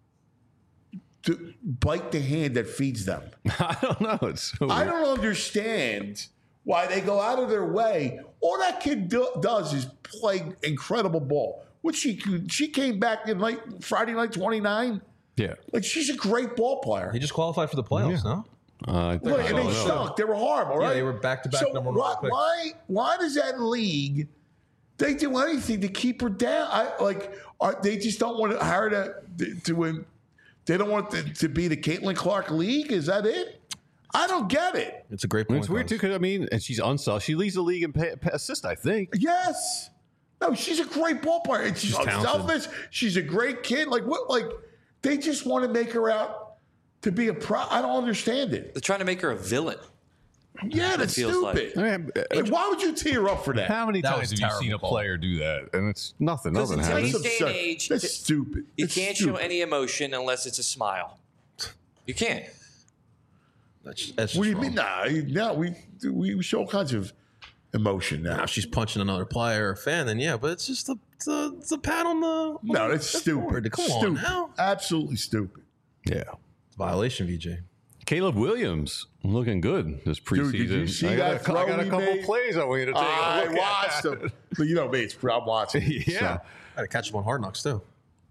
bite the hand that feeds them? I don't know. It's so I weird. don't understand why they go out of their way. All that kid does is play incredible ball. She came back in Friday night 29. Yeah. Like, she's a great ball player. He just qualified for the playoffs, no? I think Look, I and don't they know. sucked. They were horrible, right? Yeah, they were back-to-back So number one picks. why does that league? They do anything to keep her down. They just don't want to hire to win. They don't want it to be the Caitlin Clark League. Is that it? I don't get it. It's a great point. It's weird, too, because, and she's unselfish. She leads the league in assist, I think. Yes. No, she's a great ball player. And she's unselfish. She's a great kid. They just want to make her out to be a pro. I don't understand it. They're trying to make her a villain. Yeah, that's feels stupid. like. Why would you tee her up for that? How many That times was have you seen a terrible. player do that? And it's nothing. Nothing in happens. today's day and age, That's stupid. You It's can't stupid. show any emotion unless it's a smile. You can't. That's What do you mean? Nah, we show all kinds of emotion now. Now she's punching another player or fan, then yeah, but it's just the pat on the. No, that's stupid. board. Come stupid. on now. Absolutely stupid. Yeah. It's a violation, VJ. Caleb Williams looking good this preseason. Dude, did you see I that got throw a he couple made? plays I want you to take a I look watched at. them. But you know me, I'm watching. Yeah. I had to catch him on Hard Knocks too.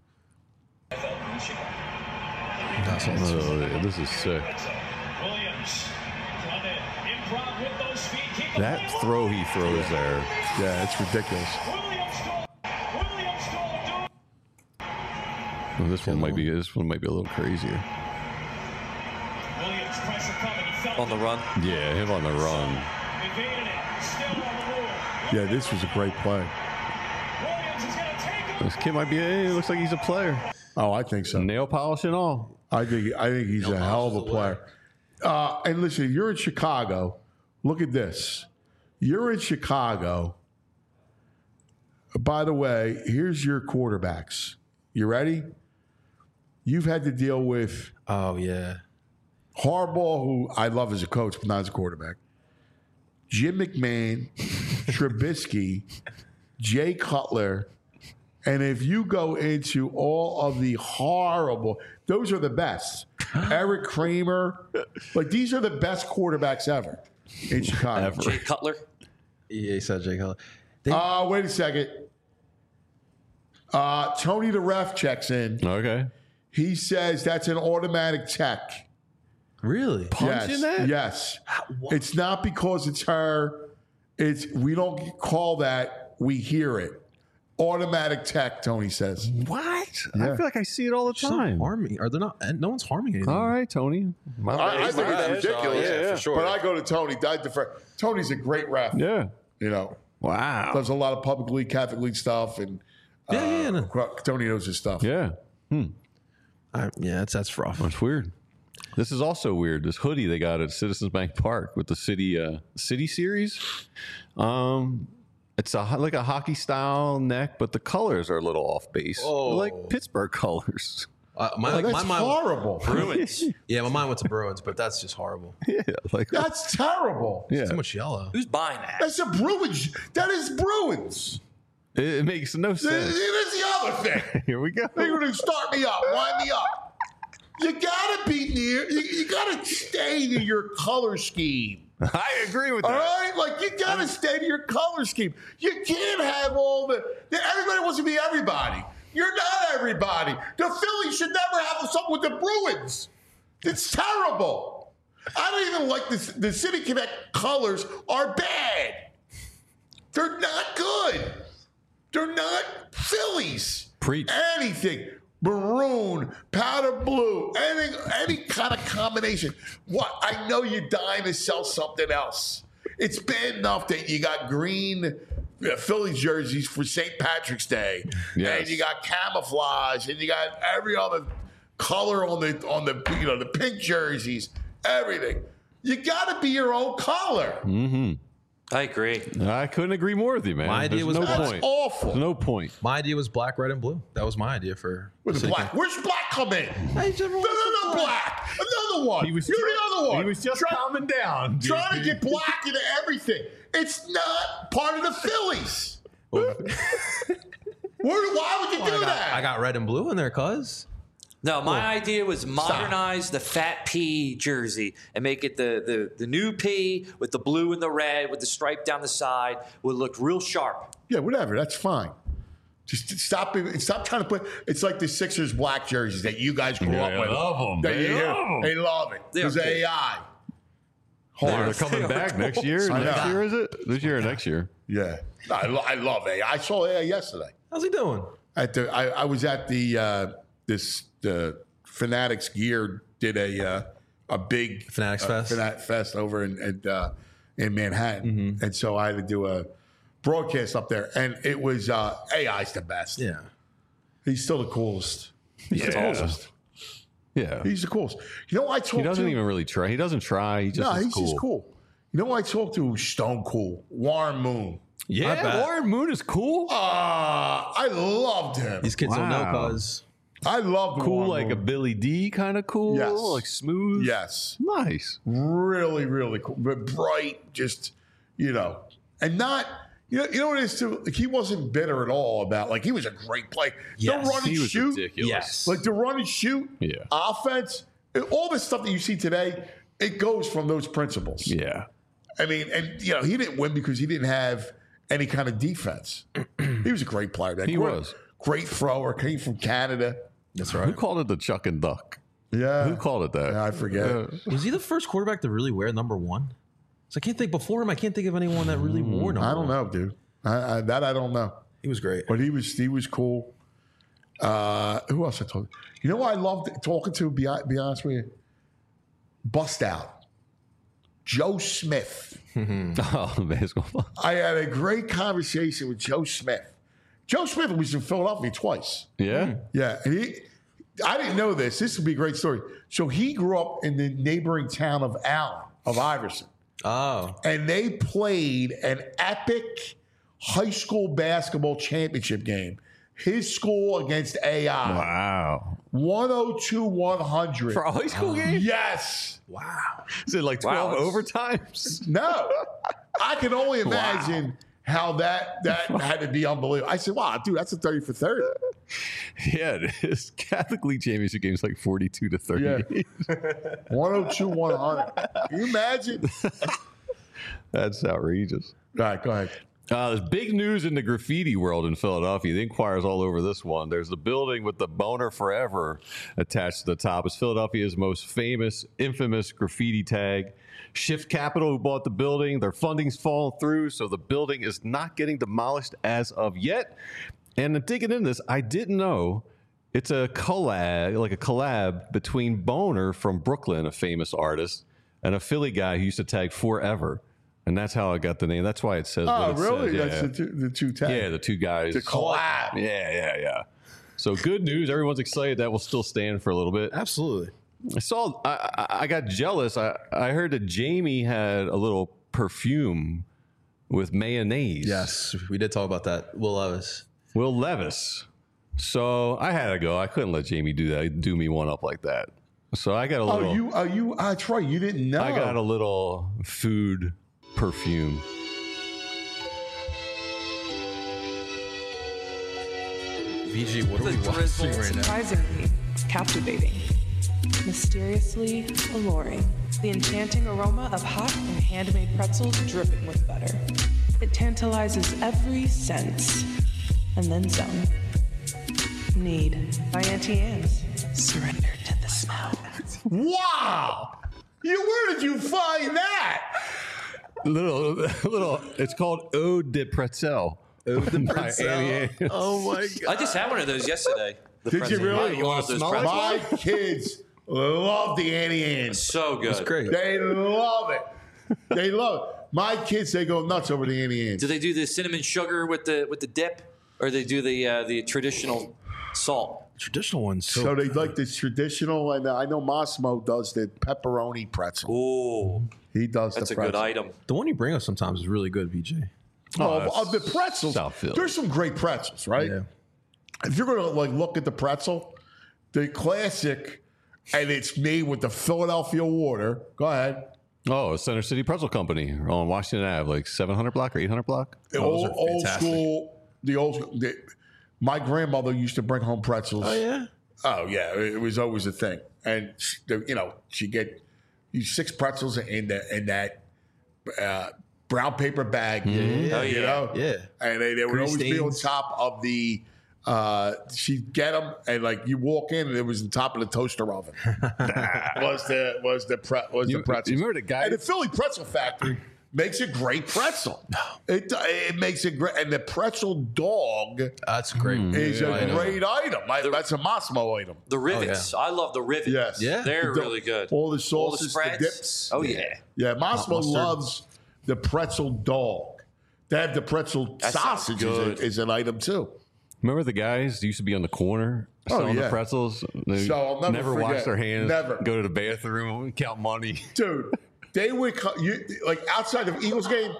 Oh, this is sick. That throw he throws there. Yeah, it's ridiculous. Well, this one might be a little crazier. On the run. Yeah, him on the run. Yeah, this was a great play. This kid might be. He looks like he's a player. Oh, I think so. Nail polish and all. I think he's a hell of a player. And listen, if you're in Chicago, look at this. You're in Chicago. By the way, here's your quarterbacks. You ready? You've had to deal with Oh yeah. Harbaugh, who I love as a coach, but not as a quarterback. Jim McMahon, Trubisky, Jay Cutler. And if you go into all of the horrible, those are the best. Eric Kramer. These are the best quarterbacks ever in Chicago. Jay Cutler. Yeah, he said Jay Cutler. Wait a second. Tony the ref checks in. Okay. He says that's an automatic tech. Really? Punching that? Yes. It's not because it's her. We don't call that. We hear it. Automatic tech, Tony says. What? Yeah. I feel like I see it all the She's not time. harming. Are they not? No one's harming anything. All right, Tony. I think it's ridiculous. Yeah, for sure. But I go to Tony. Tony's a great ref. Yeah. Wow. Does a lot of public league, Catholic league stuff, and Yeah. Tony knows his stuff. Yeah. Yeah, that's rough. That's weird. This is also weird. This hoodie they got at Citizens Bank Park with the City Series. It's like a hockey style neck, but the colors are a little off base. Oh. Like Pittsburgh colors. That's My mind, horrible. Bruins. yeah, my mind went to Bruins, but that's just horrible. Yeah, like That's terrible. yeah. Too much yellow. Who's buying that? That's a Bruins. That is Bruins. It makes no That's sense. the other thing. Here we go. They're going to start me up, wind me up. You gotta be near. You gotta stay to your color scheme. I agree with All that. right, like you gotta stay to your color scheme. You can't have all the. Everybody wants to be everybody. You're not everybody. The Phillies should never have something with the Bruins. It's terrible. I don't even like this. The City Connect colors are bad. They're not good. They're not Phillies. Preach. Anything. Maroon, powder blue, anything, any kind of combination. What? I know you're dying to sell something else. It's bad enough that you got green Phillies jerseys for St. Patrick's Day, Yes. and you got camouflage, and you got every other color on the the pink jerseys, everything. You got to be your own color. Mm-hmm. I agree. I couldn't agree more with you, man. My idea There's was no that's point. Awful. There's no point. My idea was black, red, and blue. That was my idea for With the City black. Where's black come in? No, black. Another one. You're the other one. He was just calming down. Trying to get black into everything. It's not part of the Phillies. Why would you do that? I got red and blue in there, cuz. No, my idea was modernize the fat P jersey and make it the new P with the blue and the red with the stripe down the side would look real sharp. Yeah, whatever. That's fine. Just stop trying to put. It's like the Sixers black jerseys that you guys grew up They with. love 'em. They love 'em. It. They're There's okay. AI. They're coming back next year. I Next know. year, is it? This year or next year? Yeah, I love AI. I saw AI yesterday. How's he doing? I was at the Fanatics Gear did a big Fanatics Fest? Fanatic Fest over in Manhattan, and so I had to do a broadcast up there, and it was AI's the best. Yeah. He's still the coolest. He's the Yeah. coolest. Yeah. He's the coolest. You know, I talked He doesn't to. even really try. He doesn't try. He just No, is he's cool. just cool. You know, I talked to Stone Cool, Warren Moon. I Yeah, bet. Warren Moon is cool. I loved him. These kids don't know, Wow. cuz. I loved Cool, Warren like a Moon. Billy D kind of cool. Yes. Like smooth. Yes. Nice. Really, really cool, but bright. Just and not. You know what it is too. Like, he wasn't bitter at all about. Like, he was a great player. Yes, the run and He was shoot. ridiculous. Yes. Like the run and shoot. Yeah. Offense. All this stuff that you see today, it goes from those principles. Yeah. I mean, and he didn't win because he didn't have any kind of defense. He was a great player. He was. Great thrower. Came from Canada. That's Who right. called it the Chuck and Duck? Yeah. Who called it that? Yeah, I forget. Was he the first quarterback to really wear number 1? So I can't think before him. I can't think of anyone that really wore number 1. I don't know, dude. I don't know. He was great. But he was cool. Who else I told you? You know what I loved talking to, be honest with you? Bust out. Joe Smith. Oh, basketball. I had a great conversation with Joe Smith. Joe Smith was in Philadelphia twice. Yeah. Yeah. And I didn't know this. This would be a great story. So he grew up in the neighboring town of Allen, of Iverson. Oh. And they played an epic high school basketball championship game. His school against AI. Wow. 102-100. For a high school game? Yes. Wow. Is it like 12 Wow. overtimes? No. I can only imagine how that had to be unbelievable. I said, wow, dude, that's a 30 for 30. Yeah, it is. Catholic League Championship game's like 42 to 30. Yeah. 102-100. Can you imagine? That's outrageous. All right, go ahead. There's big news in the graffiti world in Philadelphia. The Inquirer's all over this one. There's the building with the Boner Forever attached to the top. It's Philadelphia's most infamous graffiti tag. Shift Capital, who bought the building, their funding's fallen through, so the building is not getting demolished as of yet. And digging into this, I didn't know it's a collab between Boner from Brooklyn, a famous artist, and a Philly guy who used to tag Forever. And that's how I got the name. That's why it says Oh, what it really? says. That's the two tags. Yeah, the two guys. The collab. Yeah. So good news. Everyone's excited that will still stand for a little bit. Absolutely. I got jealous. I heard that Jamie had a little perfume with mayonnaise. Yes, we did talk about that. Will Levis. So I had to go. I couldn't let Jamie do me one up like that. So I got a little. That's right. You didn't know. I got a little food perfume. VG, what are we watching right now? Surprisingly captivating. mysteriously alluring. The enchanting aroma of hot and handmade pretzels dripping with butter. It tantalizes every sense, and then some. Need by Auntie Anne's. Surrender to the smell. Wow! Where did you find that? Little. It's called Ode de Pretzel. Ode de by Pretzel. Annie Ann. Oh my god! I just had one of those yesterday. The Did you pretzel. really? You want to smell it? My kids love the Annie Ann's. So good. It's great. They love it. They love it. My kids, they go nuts over the Annie Ann's. Do they do the cinnamon sugar with the dip, or they do the traditional salt? Traditional ones. So they like this traditional, and I know Massimo does the pepperoni pretzel. Ooh, He does that's the a good pretzel. item. The one you bring us sometimes is really good, BJ. Of the pretzels, South Philly. there's some great pretzels, right? Yeah. If you're gonna look at the pretzel, the classic, and it's made with the Philadelphia water. Go ahead. Oh, Center City Pretzel Company on Washington Ave, like 700 block or 800 block. those old are fantastic. school. The old school. My grandmother used to bring home pretzels. Oh yeah. Oh yeah, it was always a thing, and she'd get 6 pretzels in that brown paper bag. Oh, yeah. You know, Yeah. and they would Grease always be on stains. top of the. She'd get them, and you walk in, and it was on top of the toaster oven. was the pretzels? You remember the guy? And the Philly Pretzel Factory makes a great pretzel. It makes it great, and the pretzel dog That's great. is I a know. great item. That's a Massimo item. The rivets. I love the rivets. Yes. Yeah. They're The- really good. All the All the sauces, the spreads. dips. Oh yeah. Yeah, Massimo Mustard. loves the pretzel dog. They have the pretzel That sounds sausage good. is an item too. Remember the guys that used to be on the corner Oh, selling yeah. the pretzels? They So I'll never wash forget. their hands. Never. Go to the bathroom and count money. Dude, they would outside of Eagles game.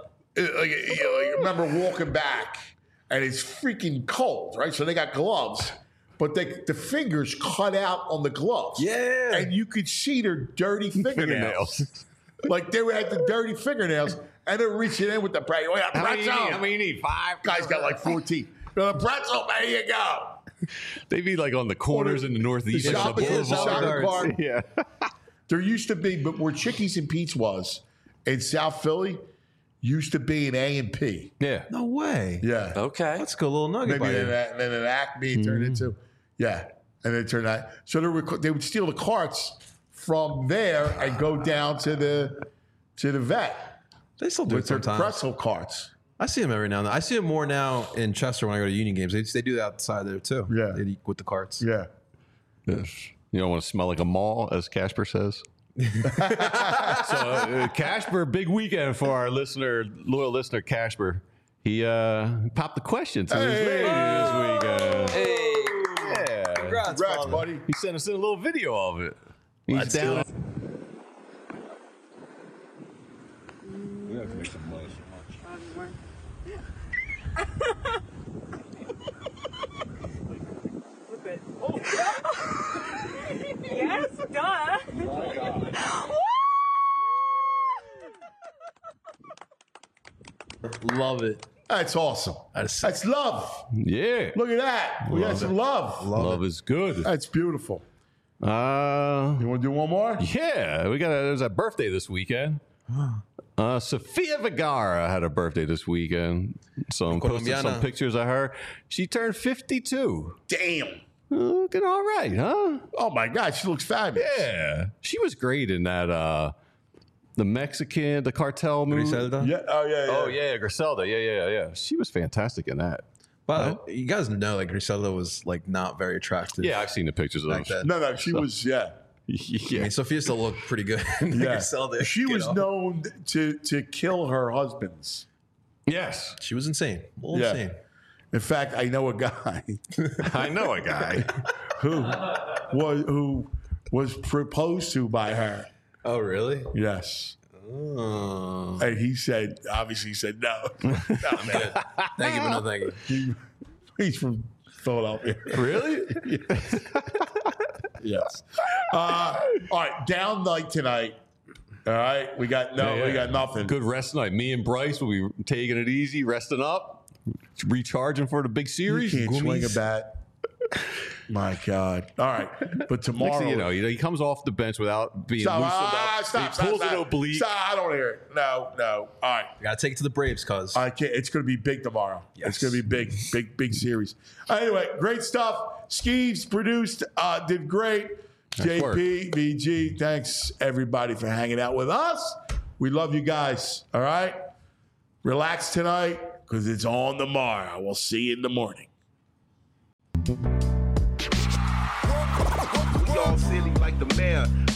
Remember walking back, and it's freaking cold, right? So they got gloves, but the fingers cut out on the gloves. Yeah. and you could see their dirty fingernails. Like they had the dirty fingernails, and they're reaching in with the pretzel. How many you need? 5? Guy's got like 14. The pretzel, there you go. They'd be like on the corners in the Northeast. The shopping, on the shopping boulevards. cart. Yeah. There used to be, but where Chickies and Pete's was in South Philly, used to be an A&P. Yeah. No way. Yeah. Okay. That's a good little nugget. Maybe by then, you. then an Acme turned into, yeah, and then turned out. So they would steal the carts from there and go down to the vet They still do it with their sometimes. pretzel carts. I see them every now and then. I see them more now in Chester when I go to Union games. They do that outside there too. Yeah. They eat with the carts. Yeah. Yes. You don't want to smell like a mall, as Casper says. So Casper, big weekend for our loyal listener Casper. He popped the question to his lady this weekend. Hey. Yeah. Congrats, Congrats, buddy. He sent us in a little video of it. He's Let's down. do it. Yes, duh. Love it. That's awesome. That's love. Yeah. Look at that. We got some love. Love is good. That's beautiful. You want to do one more? Yeah, there's a birthday this weekend. Sofia Vergara had a birthday this weekend. So I'm posting some Colombiana. pictures of her. She turned 52. Damn. Looking all right, huh? Oh my God, she looks fabulous. Yeah. She was great in that the cartel movie. Griselda? Yeah. Oh yeah. Oh yeah, Griselda. Yeah. She was fantastic in that. But you guys know like Griselda was like not very attractive. Yeah, I've seen the pictures of Back those. then. No, she was. Yeah. I Yeah. mean, Sophia still looked pretty good. in Yeah. Griselda, She you was know? known to kill her husbands. Yes. She was insane. A little Yeah. insane. In fact, I know a guy I know a guy. who was proposed to by her. Oh, really? Yes. Oh. And he said, obviously, he said no. I'm good. Thank you, but no thank you. He's from Philadelphia. Really? Yes. All right, down night tonight. All right, we got nothing. Good rest night. Me and Bryce will be taking it easy, resting up, recharging for the big You series. can't swing a bat. My God. All right. But Next tomorrow. thing you know, he comes off the bench without being loosened up. Stop. He pulls an oblique. Stop. I don't hear it. No. All right. You got to take it to the Braves, cuz. I can't. It's going to be big tomorrow. Yes. It's going to be big series. Anyway, great stuff. Skeeves produced, did great. Nice work. JP, VG, thanks everybody for hanging out with us. We love you guys. All right? Relax tonight because it's on tomorrow. We'll see you in the morning. We all silly like the mayor.